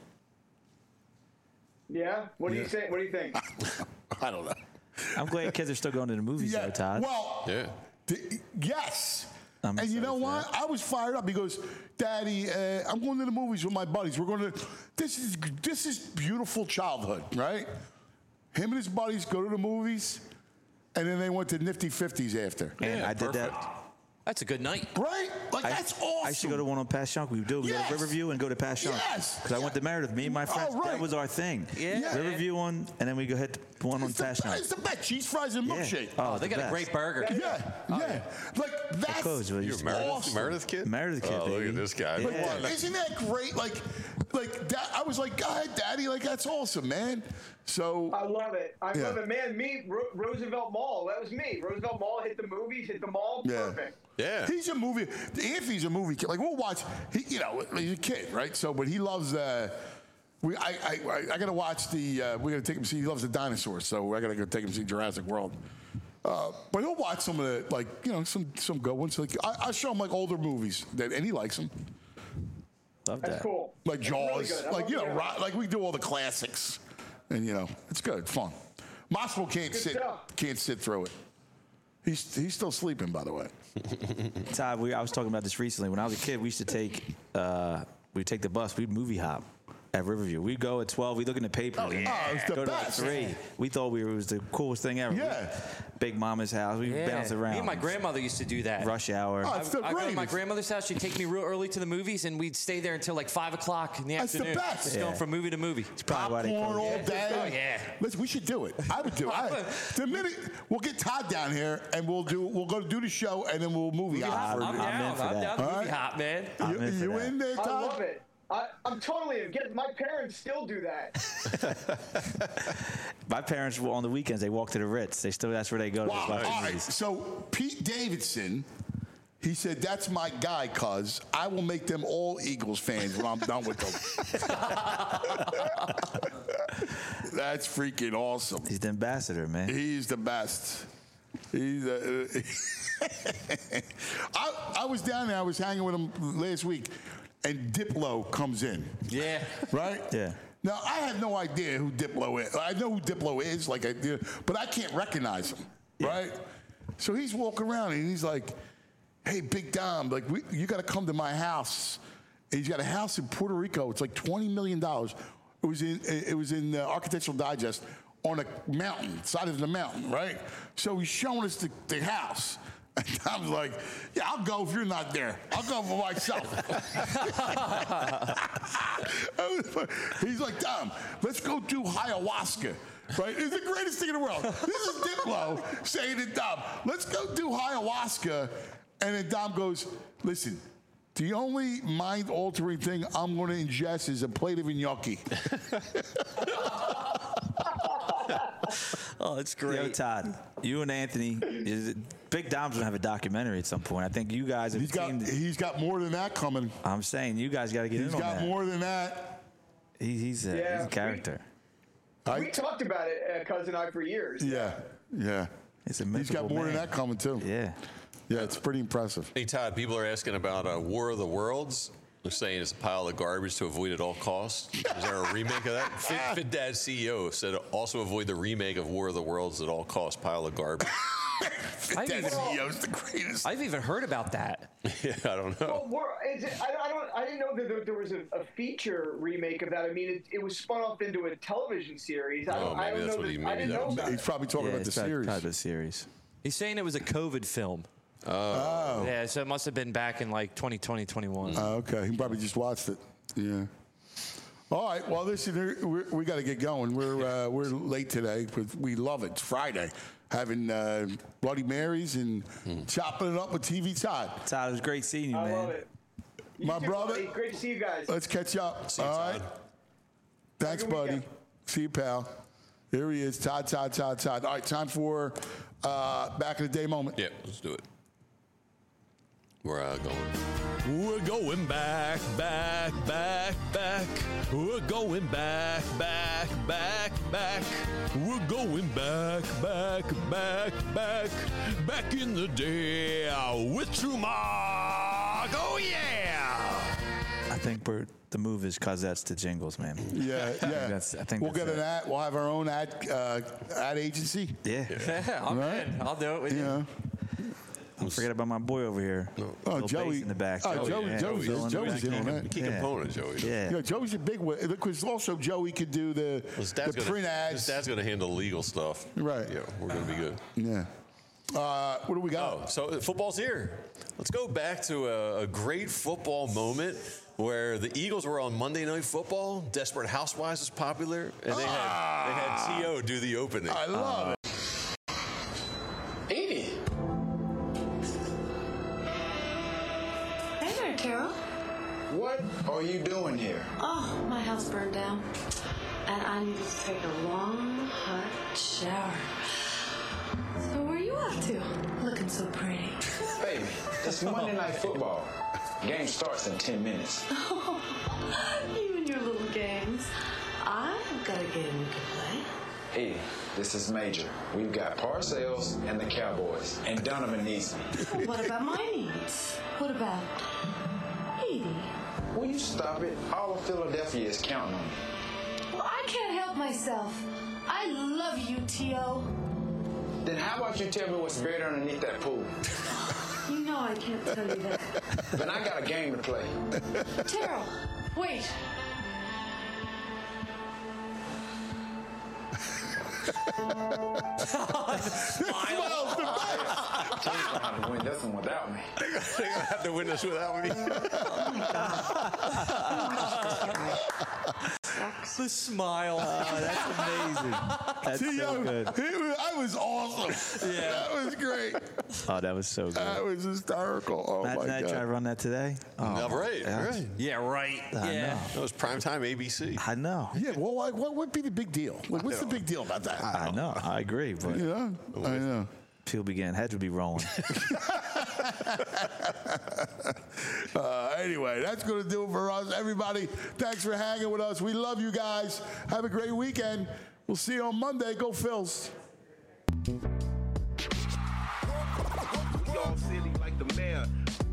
Yeah. What do you say? What do you think? I don't know. I'm glad kids are still going to the movies, Yeah, though, Todd. Well, Yeah. th- yes. I'm and you excited know for what? I was fired up. He goes, Daddy, uh, I'm going to the movies with my buddies. We're going to. This is this is beautiful childhood, right? Him and his buddies go to the movies, and then they went to Nifty Fifties after. And I did that. That's a good night. Right? Like, I, that's awesome. I should go to one on Passyunk. We do. We Yes. go to Riverview and go to Passyunk. Yes. Because I went to Meredith. Me and my friends. Oh, right. That was our thing. Yeah. Yeah. Riverview one, and then we go hit one on It's the, Passyunk. it's the best. Cheese fries and Yeah. milkshake. Oh, Oh, they the got a best. great burger. Yeah, yeah. Like, that's closed, but You it's a Meredith, awesome. Meredith kid? Meredith kid, Oh, look baby. at this guy. Like, Yeah. isn't that great? Like, like that. I was like, God, Daddy, like that's awesome, man. So I love it. I Yeah. love it, man. Me, Ro- Roosevelt Mall. That was me. Roosevelt Mall hit the movies, hit the mall. Yeah. Perfect. Yeah. he's a movie. Anthony's a movie kid. Like we'll watch. He, you know, he's a kid, right? So, but he loves. Uh, we, I, I, I, I gotta watch the. Uh, we gotta take him see. He loves the dinosaurs, so I gotta go take him see Jurassic World. Uh, but he'll watch some of the like, you know, some some good ones. Like I, I show him like older movies that, and he likes them. Love That's that. cool. Like That's really Jaws, good. I like love you know, Jaws. ro- like we do all the classics, and you know, it's good, fun. Mossville can't Good sit, stuff. can't sit through it. He's he's still sleeping, by the way. Todd, we, I was talking about this recently. When I was a kid, we used to take uh, we'd take the bus. We'd movie hop at Riverview. We'd go at twelve. We'd look in the paper. Oh, and yeah. Oh, it's the go to like best. three. We thought we were, it was the coolest thing ever. Yeah. Big Mama's house. We Yeah. bounce around. Me and my grandmother used to do that. Rush hour. Oh, it's the I go to my greatest. grandmother's house. She'd take me real early to the movies, and we'd stay there until like five o'clock in the That's the afternoon. best. Just Yeah. going from movie to movie. Probably why they Popcorn closed. all day. Oh, yeah. Listen, we should do it. I would do it. I, the minute we'll get Todd down here and we'll do we'll go do the show and then we'll movie hop. I'm for I'm a down. in for I'm that. down. All Movie right. hop, man. I'm You, in for you that. in there, I Todd? love it. I, I'm totally get my parents still do that. My parents were on the weekends. They walk to the Ritz. They still that's where they go to Wow. watch All right. movies. So Pete Davidson, he said, "That's my guy, cuz I will make them all Eagles fans when I'm done with them." That's freaking awesome. He's the ambassador, man. He's the best. He's uh, I, I was down there. I was hanging with him last week, and Diplo comes in. Yeah. Right? Yeah. Now I have no idea who Diplo is. I know who Diplo is, like I do, but I can't recognize him. Right? So he's walking around and he's like, "Hey, Big Dom, like we, you got to come to my house." And he's got a house in Puerto Rico. It's like twenty million dollars. It was in it was in uh, Architectural Digest on a mountain, side of the mountain, right? So he's showing us the, the house. And Tom's like, "Yeah, I'll go if you're not there. I'll go for myself." He's like, "Tom, let's go do ayahuasca." Right? It's the greatest thing in the world. This is Diplo saying to Dom, "Let's go do ayahuasca." And then Dom goes, "Listen, the only mind-altering thing I'm going to ingest is a plate of gnocchi." Oh, it's great. Yo, Todd, you and Anthony, is it, Big Dom's gonna have a documentary at some point. I think you guys have He's got, teamed. he's got more than that coming. I'm saying you guys got to get He's in on got that. more than that. He, he's, a, Yeah, he's a we- character. We talked about it, uh, cousin and I, for years. Yeah, yeah. It's a He's got mythical more than man. that coming too. Yeah. Yeah, it's pretty impressive. Hey, Todd, people are asking about uh, War of the Worlds. They're saying it's a pile of garbage to avoid at all costs. Is there a remake of that? Fit, Fit Dad C E O said also avoid the remake of War of the Worlds at all costs. Pile of garbage. I've That even, C E O's the greatest. I've even heard about that. Yeah, I don't know. Well, we're, is it, I, I don't. I didn't know that there, there was a, a feature remake of that. I mean, it, it was spun off into a television series. I Oh, don't, I maybe don't that's know. what he- that- I maybe didn't that know was- about He's it. probably talking Yeah, about the it's probably- series. probably the series. He's saying it was a COVID film. Oh. Yeah, so it must have been back in like twenty twenty, twenty-one. Oh, okay. He probably just watched it. Yeah. All right. Well, listen, we we got to get going. We're uh, we're late today, but we love it. It's Friday, having uh, Bloody Marys and chopping it up with T V Todd. Todd, it was great seeing you, I man. love it. You My too, brother. buddy. Great to see you guys. Let's catch up. See you, All right. Todd. Thanks, Have a good buddy. weekend. See you, pal. Here he is, Todd, Todd, Todd, Todd. All right, time for uh, back in the day moment. Yeah, let's do it. We're uh, going. We're going back, back, back, back. We're going back, back, back, back. We're going back, back, back, back. Back in the day with True Mark. Oh, yeah. I think we're, the move is Cosettes to Jingles, man. Yeah, yeah. That's, I think we'll that's get an it. ad. We'll have our own ad uh, ad agency. Yeah. Yeah, I'm Right? in. I'll do it with You you. know. Don't forget about my boy over here. Oh, Little Joey bass in the back. Oh, Joey, yeah. Joey's, Filling the Joey's back. in on that. Key component, Joey. Yeah. Yeah, Joey's a big one because also Joey could do the, His the dad's gonna, print His ads. dad's going to handle legal stuff. Right. Yeah, we're going to be good. Yeah. Uh, what do we got? Oh, so uh, football's here. Let's go back to a, a great football moment where the Eagles were on Monday Night Football. Desperate Housewives was popular, and they had they had T O do the opening. I love it. Evie. Hey there, Carol. What are you doing here? Oh, my house burned down. And I need to take a long, hot shower. So where are you off to? Looking so pretty. Baby, it's Monday Night Football. Game starts in ten minutes. Oh, you and your little games. I've got a game we can play. Hey, this is Major. We've got Parcells and the Cowboys. And Donovan needs me. Well, what about my needs? What about Edie? Will you stop it? All of Philadelphia is counting on me. Well, I can't help myself. I love you, T O Then how about you tell me what's buried underneath that pool? You know I can't tell you that. Then I got a game to play. Terrell, wait. Smiles the best. Team's gonna have to win this one without me. They're going to have to win this without me. The smile. Oh, that's amazing. That's See, so I, good. It was, I was awesome. Yeah. That was great. Oh, that was so good. That was hysterical. Oh, Imagine my I God. try to run that today. Oh, No, right, yeah. right. Yeah, right. I yeah. know. That was primetime A B C. I know. Yeah, well, like, what would be the big deal? Like, what's the big deal about that? I know. I agree. But Yeah, I know. people begin, heads would be rolling. Uh, anyway, that's going to do it for us. Everybody, thanks for hanging with us. We love you guys. Have a great weekend. We'll see you on Monday. Go Phils. We all silly like the mayor.